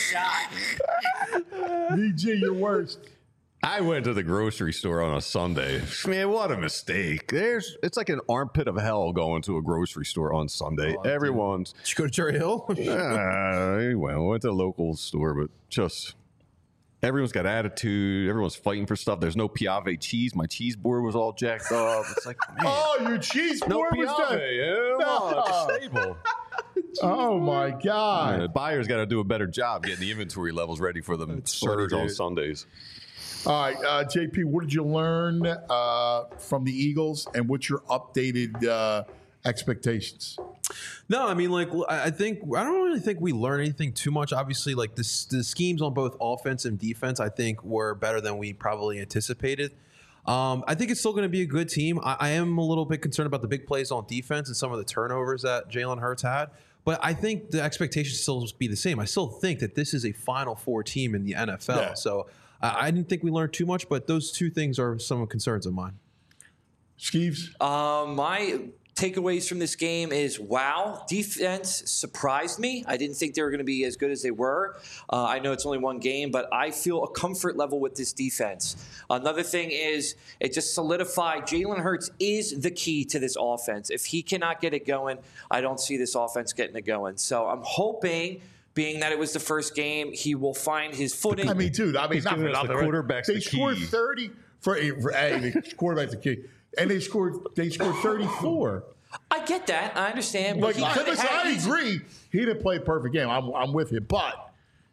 shot. V G, your worst. I went to the grocery store on a Sunday. Man, what a mistake. There's it's like an armpit of hell going to a grocery store on Sunday. Everyone's Did you go to Cherry Hill? uh, well, went to a local store, but just everyone's got attitude. Everyone's fighting for stuff. There's no Piave cheese. My cheese board was all jacked up. It's like, man, Oh, your cheese no board was Piave. done. Yeah, come on, it's a staple. Oh my God. Uh, buyers got to do a better job getting the inventory levels ready for the surge funny, on dude. Sundays. All right, uh, J P, what did you learn uh, from the Eagles, and what's your updated uh, expectations? No, I mean, like, I I think I don't really think we learned anything too much. Obviously, like this, the schemes on both offense and defense, I think, were better than we probably anticipated. Um, I think it's still going to be a good team. I, I am a little bit concerned about the big plays on defense and some of the turnovers that Jalen Hurts had. But I think the expectations still be the same. I still think that this is a Final Four team in the N F L. Yeah. So I, I didn't think we learned too much, but those two things are some concerns of mine. Skeeves? Um, my takeaways from this game is, wow, defense surprised me. I didn't think they were going to be as good as they were. Uh, I know it's only one game, but I feel a comfort level with this defense. Another thing is it just solidified Jalen Hurts is the key to this offense. If he cannot get it going, I don't see this offense getting it going. So I'm hoping, being that it was the first game, he will find his footing. I mean, dude, I mean, He's not for giving us the nothing. right? quarterback's They the scored key. thirty for, for hey, the quarterback's the key, and they scored they scored thirty-four. I get that. I understand. But Like, he I, could've listen, had I easy- agree. He didn't play a perfect game. I'm, I'm with you, but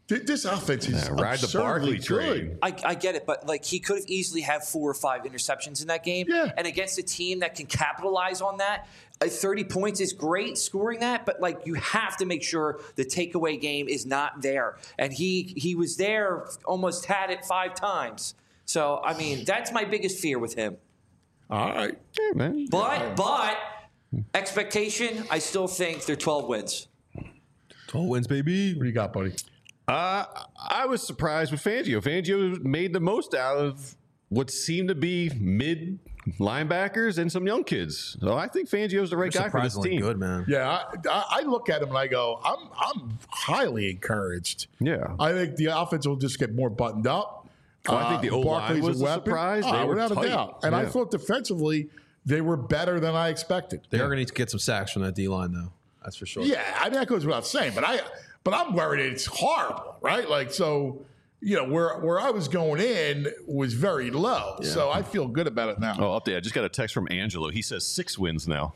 Th- This offense is Yeah, ride the absurdly Barkley train. good. I, I get it, but like he could have easily had four or five interceptions in that game. Yeah. And against a team that can capitalize on that, uh, thirty points is great scoring that, but like you have to make sure the takeaway game is not there. And he he was there, almost had it five times. So I mean, that's my biggest fear with him. All right. Yeah, man. But but expectation, I still think they're twelve wins. twelve wins, baby. What do you got, buddy? Uh, I was surprised with Fangio. Fangio made the most out of what seemed to be mid linebackers and some young kids. So I think Fangio's the right They're guy for this surprisingly team. good, man. Yeah, I, I I look at him and I go, I'm I'm highly encouraged. Yeah. I think the offense will just get more buttoned up. Well, I think the O-line Barkley's was a surprise. Oh, They were without tight. a doubt. And I Yeah. thought defensively they were better than I expected. They are going to need to get some sacks from that D line, though. That's for sure. Yeah, I mean that goes without saying, but I but I'm worried it's horrible, right? Like so, you know, where where I was going in was very low. So I feel good about it now. Oh, update. I just got a text from Angelo. He says six wins now.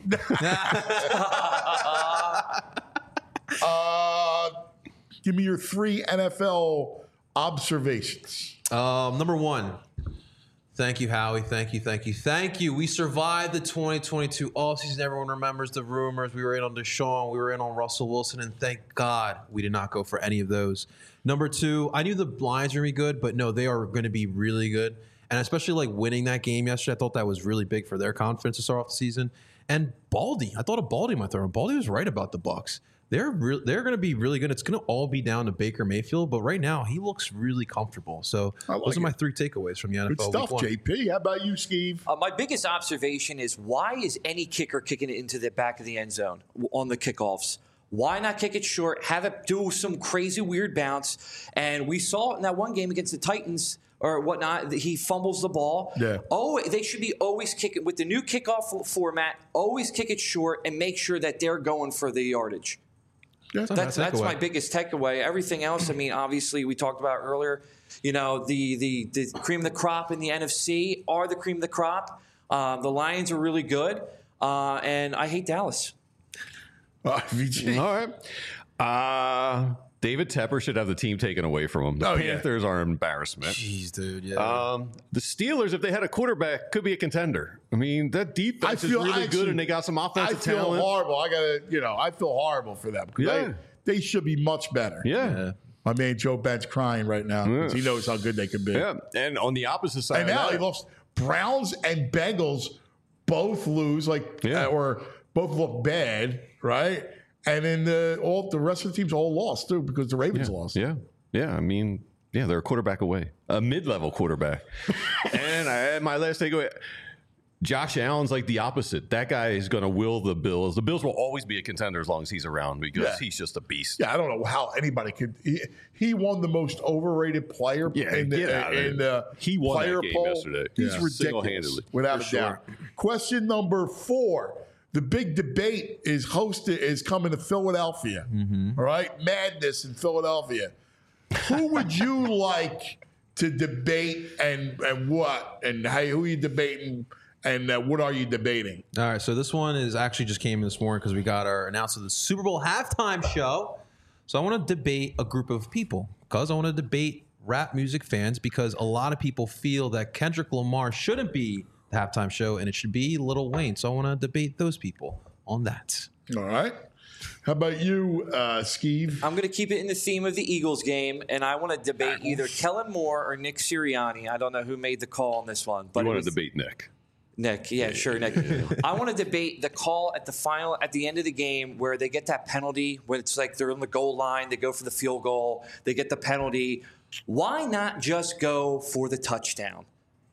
Uh, give me your three N F L observations. Um, number one, thank you, Howie. Thank you, thank you, thank you. We survived the twenty twenty-two offseason. Everyone remembers the rumors. We were in on Deshaun. We were in on Russell Wilson. And thank God we did not go for any of those. Number two, I knew the Lions were going to be good, but no, they are going to be really good. And especially like winning that game yesterday, I thought that was really big for their confidence to start off the season. And Baldy, I thought of Baldy in my third. Baldy was right about the Bucs. They're re- they're going to be really good. It's going to all be down to Baker Mayfield, but right now he looks really comfortable. So like those are it. my three takeaways from the N F L. Good stuff, week one. J P. How about you, Steve? Uh, my biggest observation is why is any kicker kicking it into the back of the end zone on the kickoffs? Why not kick it short, have it do some crazy weird bounce? And we saw in that one game against the Titans or whatnot, that he fumbles the ball. Yeah. Oh, they should be always kicking with the new kickoff format. Always kick it short and make sure that they're going for the yardage. Yeah. That's that's takeaway. my biggest takeaway. Everything else, I mean, obviously we talked about earlier. You know, the the the cream of the crop in the N F C are the cream of the crop. Uh, the Lions are really good, uh, and I hate Dallas. Uh, V G. All right. Uh, David Tepper should have the team taken away from him. The Oh, yeah. Panthers are an embarrassment. Jeez, dude. Yeah. Um, the Steelers, if they had a quarterback, could be a contender. I mean, that defense I feel is really actually- good, and they got some I offensive feel talent. horrible. I gotta, you know, I feel horrible for them because Yeah. they, they should be much better. Yeah. yeah. My man Joe Ben's crying right now because he knows how good they could be. Yeah. And on the opposite side, And of now that, he lost. Browns and Bengals both lose, like, Yeah. uh, or both look bad, right? And then the all the rest of the teams all lost too because the Ravens yeah. lost. Yeah. Yeah. I mean, yeah, they're a quarterback away, a mid-level quarterback. And I, my last takeaway, Josh Allen's like the opposite. That guy is going to will the Bills. The Bills will always be a contender as long as he's around because Yeah. he's just a beast. Yeah, I don't know how anybody could. He, he won the most overrated player Yeah, in the, get out of in it. the He won that player game poll. yesterday. He's Yeah. ridiculous, Single-handedly. without For a doubt. Question number four: the big debate is hosted is coming to Philadelphia. Mm-hmm. All right, madness in Philadelphia. Who would you like to debate, and and what, and hey, who are you debating, and uh, what are you debating? All right, so this one is actually just came in this morning because we got our announcement of the Super Bowl halftime show. So I want to debate a group of people because I want to debate rap music fans because a lot of people feel that Kendrick Lamar shouldn't be the halftime show and it should be Lil Wayne. So I want to debate those people on that. All right. How about you, uh, Steve? I'm going to keep it in the theme of the Eagles game, and I want to debate either Kellen Moore or Nick Sirianni. I don't know who made the call on this one, but You it want was- to debate Nick. Nick, yeah, sure, Nick. I want to debate the call at the final, at the end of the game, where they get that penalty, when it's like they're on the goal line, they go for the field goal, they get the penalty. Why not just go for the touchdown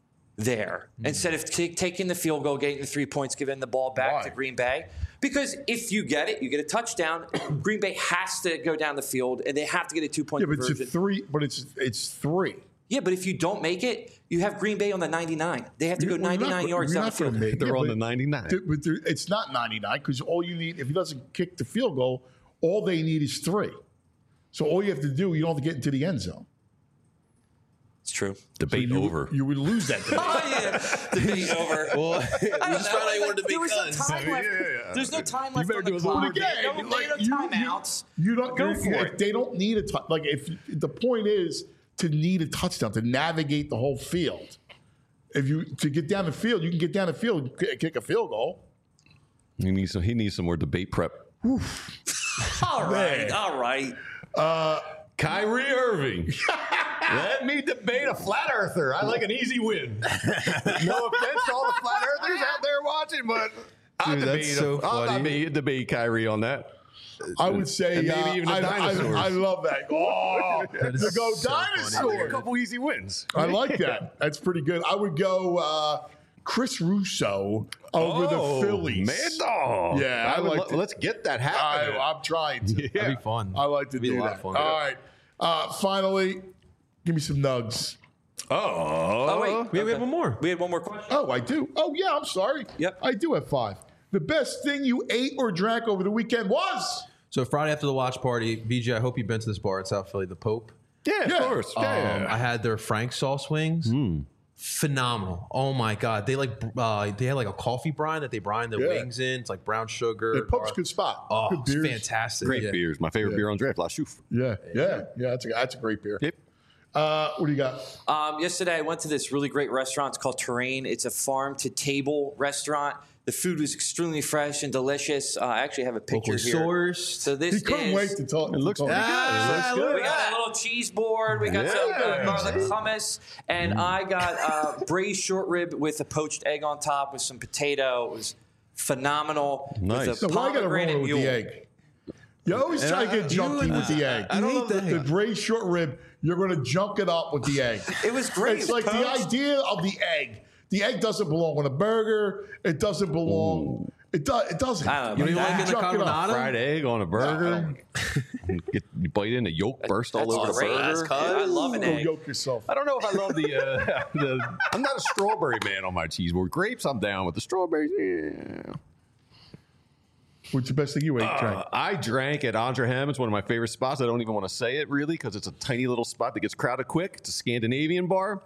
there Mm. instead of t- taking the field goal, getting the three points, giving the ball back Why? to Green Bay? Because if you get it, you get a touchdown. Green Bay has to go down the field, and they have to get a two-point Yeah, but it's a conversion. three. But it's it's three. Yeah, but if you don't make it, you have Green Bay on the ninety-nine. They have to go You're not ninety-nine gonna- yards you're down the not gonna field. make- They're yeah, on but- the ninety-nine. Th- But there, it's not ninety-nine because all you need, if he doesn't kick the field goal, all they need is three. So all you have to do, you don't have to get into the end zone. It's true. Debate So you, over. You would lose that debate. Oh, yeah. Debate over. Well, we I don't just know. found out you Like, wanted to there make was no guns. time left. Yeah, yeah. There's no time You left better on the do a little clock. But again, No, like, there are no you, timeouts. You, you don't Go you're- for if it. They don't need a tou- like if the point is to need a touchdown to navigate the whole field. If you to get down the field, you can get down the field and kick- kick a field goal. He needs some. He needs some more debate prep. All right. Man. All right. Kyrie Irving. Let me debate a flat earther. I like an easy win. No offense to all the flat earthers out there watching, but I'll Dude, debate. that's so a, I'll funny. debate, debate Kyrie on that. I would say, And maybe uh, even the I, dinosaurs. I, I love that. Oh, That is to go so funny. I like a dinosaur. couple easy wins. I like that. That's pretty good. I would go uh, Chris Russo over Oh, the Phillies. Mad dog. Yeah, I would like lo- to- let's get that I, happening. I'm trying to. Yeah. That'd be fun. I like to It'd be do a lot that. of fun. All right. Uh, finally, give me some nugs. oh, Oh, wait. We, we have one more. We had one more question. Oh, I do. Oh, yeah. I'm sorry. Yep. I do have five. The best thing you ate or drank over the weekend was. So Friday after the watch party, B J, I hope you've been to this bar in South Philly, the Pope. yeah, of Yeah. course. Yeah. Um, I had their Frank sauce wings. Phenomenal. Oh my God. They like uh, they had like a coffee brine that they brine their Yeah. wings in. It's like brown sugar. The Pope's gar- good spot. Oh, good it's beers. fantastic. Great Yeah. beers. My favorite beer on draft. La Chouffe. Yeah, yeah, yeah. That's a that's a great beer. Yep. Uh, what do you got? Um, yesterday, I went to this really great restaurant. It's called Terrain. It's a farm-to-table restaurant. The food was extremely fresh and delicious. Uh, I actually have a picture Locally here. sourced. So this He couldn't is. wait to talk. It looks to talk. pretty good. It looks Ah, good. We got a little cheese board. We got some Yeah. uh, garlic hummus, and I got uh, braised short rib with a poached egg on top with some potato. It was phenomenal. Nice. With So a why got to pomegranate roll with mule. the egg? You always try to get junky with the egg. I don't love the, the the braised short rib. You're going to junk it up with the egg. It was great. It's It like was the poached. idea of the egg. The egg doesn't belong on a burger. It doesn't belong. It does. It doesn't. I don't know You don't about even like that. it in the Junk it up. carbonara? Fried egg on a burger. Get, you bite in, the yolk burst all That's over the great. burger. Yeah, I love an Go egg. yoke yourself. I don't know if I love the, uh, the. I'm not a strawberry man on my cheese board. Grapes, I'm down with. The strawberries, yeah. What's the best thing you ate, Frank? Uh, I drank at Andre Ham. It's one of my favorite spots. I don't even want to say it really because it's a tiny little spot that gets crowded quick. It's a Scandinavian bar.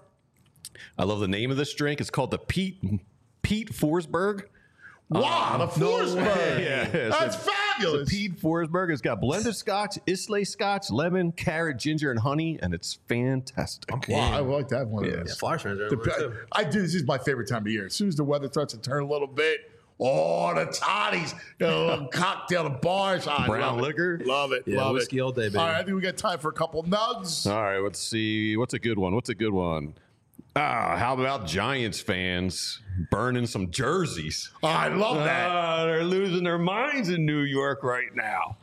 I love the name of this drink. It's called the Pete Pete Forsberg. Wow, the Forsberg. Yeah, it's That's a- fabulous. The Pete Forsberg. It's got blended scotch, Islay scotch, lemon, carrot, ginger, and honey, and it's fantastic. Wow, I like that one. Of Yeah. those. Yeah, Flyers fans are The- everywhere, too. I do. This is my favorite time of year. As soon as the weather starts to turn a little bit, oh, the toddies, you know, a little cocktail, the bars, I Brown love it. liquor. Love it. Yeah, love whiskey it. all day, baby. All right, I think we got time for a couple nugs. All right, let's see. What's a good one? What's a good one? Ah, how about Giants fans burning some jerseys? I love that. Ah, they're losing their minds in New York right now.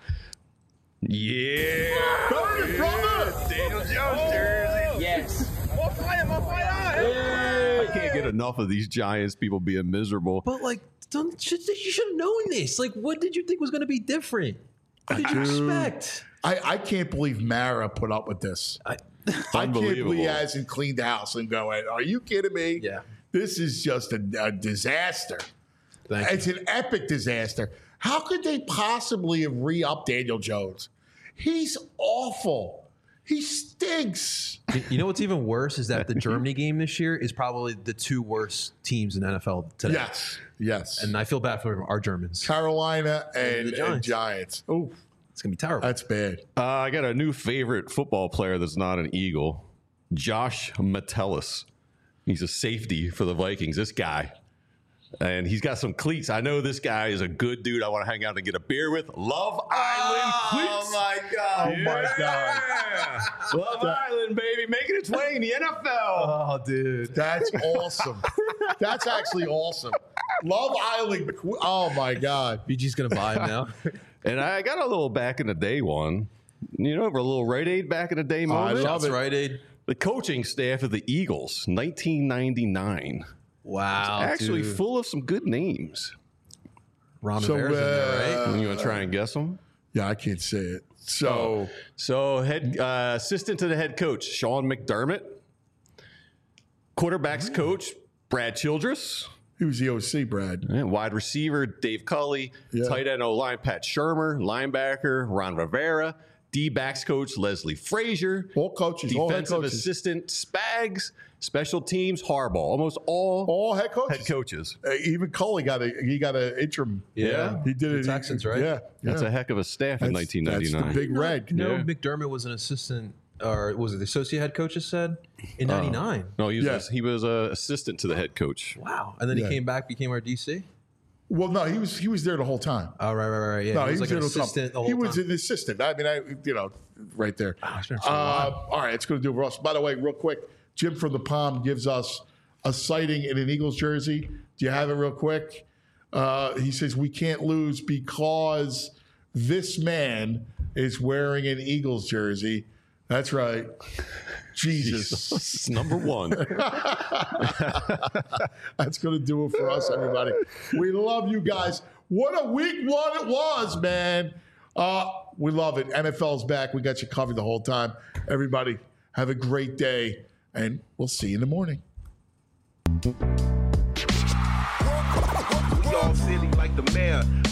Yeah. Burn it, brother. Daniel Jones jersey. Yes. I can't get enough of these Giants people being miserable. But like, don't, should, you should have known this. Like, what did you think was going to be different? What did you expect? I, I can't believe Mara put up with this. I, I can't Unbelievable. believe he hasn't cleaned the house and going, are you kidding me? Yeah. This is just a, a disaster. Thank you. It's an epic disaster. How could they possibly have re-upped Daniel Jones? He's awful. He stinks. You- You know what's even worse is that the Germany game this year is probably the two worst teams in N F L today. Yes. Yes. And I feel bad for our Germans. Carolina and, the Giants. and Giants. Oh, It's going to be terrible. that's bad. Uh, I got a new favorite football player that's not an Eagle, Josh Metellus. He's a safety for the Vikings. This guy. And he's got some cleats. I know this guy is a good dude. I want to hang out and get a beer with. Love Island cleats. my God. Oh, my God. Yeah. Love Island, baby, making its way in the N F L. Oh, dude. That's awesome. That's actually awesome. Love Island. Oh, my God. B G's going to buy him now. And I got a little back in the day one. You know, for a little Rite Aid back in the day moment. love Shots it. Rite Aid. The coaching staff of the Eagles, nineteen ninety-nine. Wow. Actually dude. full of some good names. Ron So, Rivera's in there, right? uh, You want to try and guess them? Yeah, I can't say it. So, So, head uh, assistant to the head coach, Sean McDermott. Quarterbacks coach, Brad Childress. he was the O C, Brad. And wide receiver, Dave Culley. Yeah. Tight end O-line, Pat Shermer. Linebacker, Ron Rivera. D-backs coach Leslie Frazier. All coaches, all head Defensive coaches. assistant Spags. Special teams Harbaugh. Almost all all head coaches. Head coaches. Uh, even Coley got a he got an interim. Yeah. he did The it. Texans, he, right? Yeah, That's yeah. a heck of a staff in That's- nineteen ninety-nine. That's the big red. No, Yeah. McDermott was an assistant, or was it the associate head coach? Just said in ninety-nine. No, he was Yeah. a, he was a assistant to the head coach. Wow, and then Yeah. he came back, became our D C. Well, no, he was he was there the whole time. Oh, right, right, right. Yeah, No, he was like there an the whole time. assistant the whole He was time. an assistant. I mean, I you know, right there. Oh, sure, Uh, so wow. all right, it's going to do it for us. By the way, real quick, Jim from the Palm gives us a sighting in an Eagles jersey. Do you have it real quick? Uh, he says we can't lose because this man is wearing an Eagles jersey. That's right. Jesus. It's number one. That's going to do it for us, everybody. We love you guys. What a week one it was, man. Uh, we love it. N F L's back. We got you covered the whole time. Everybody, have a great day, and we'll see you in the morning. We all silly like the mayor.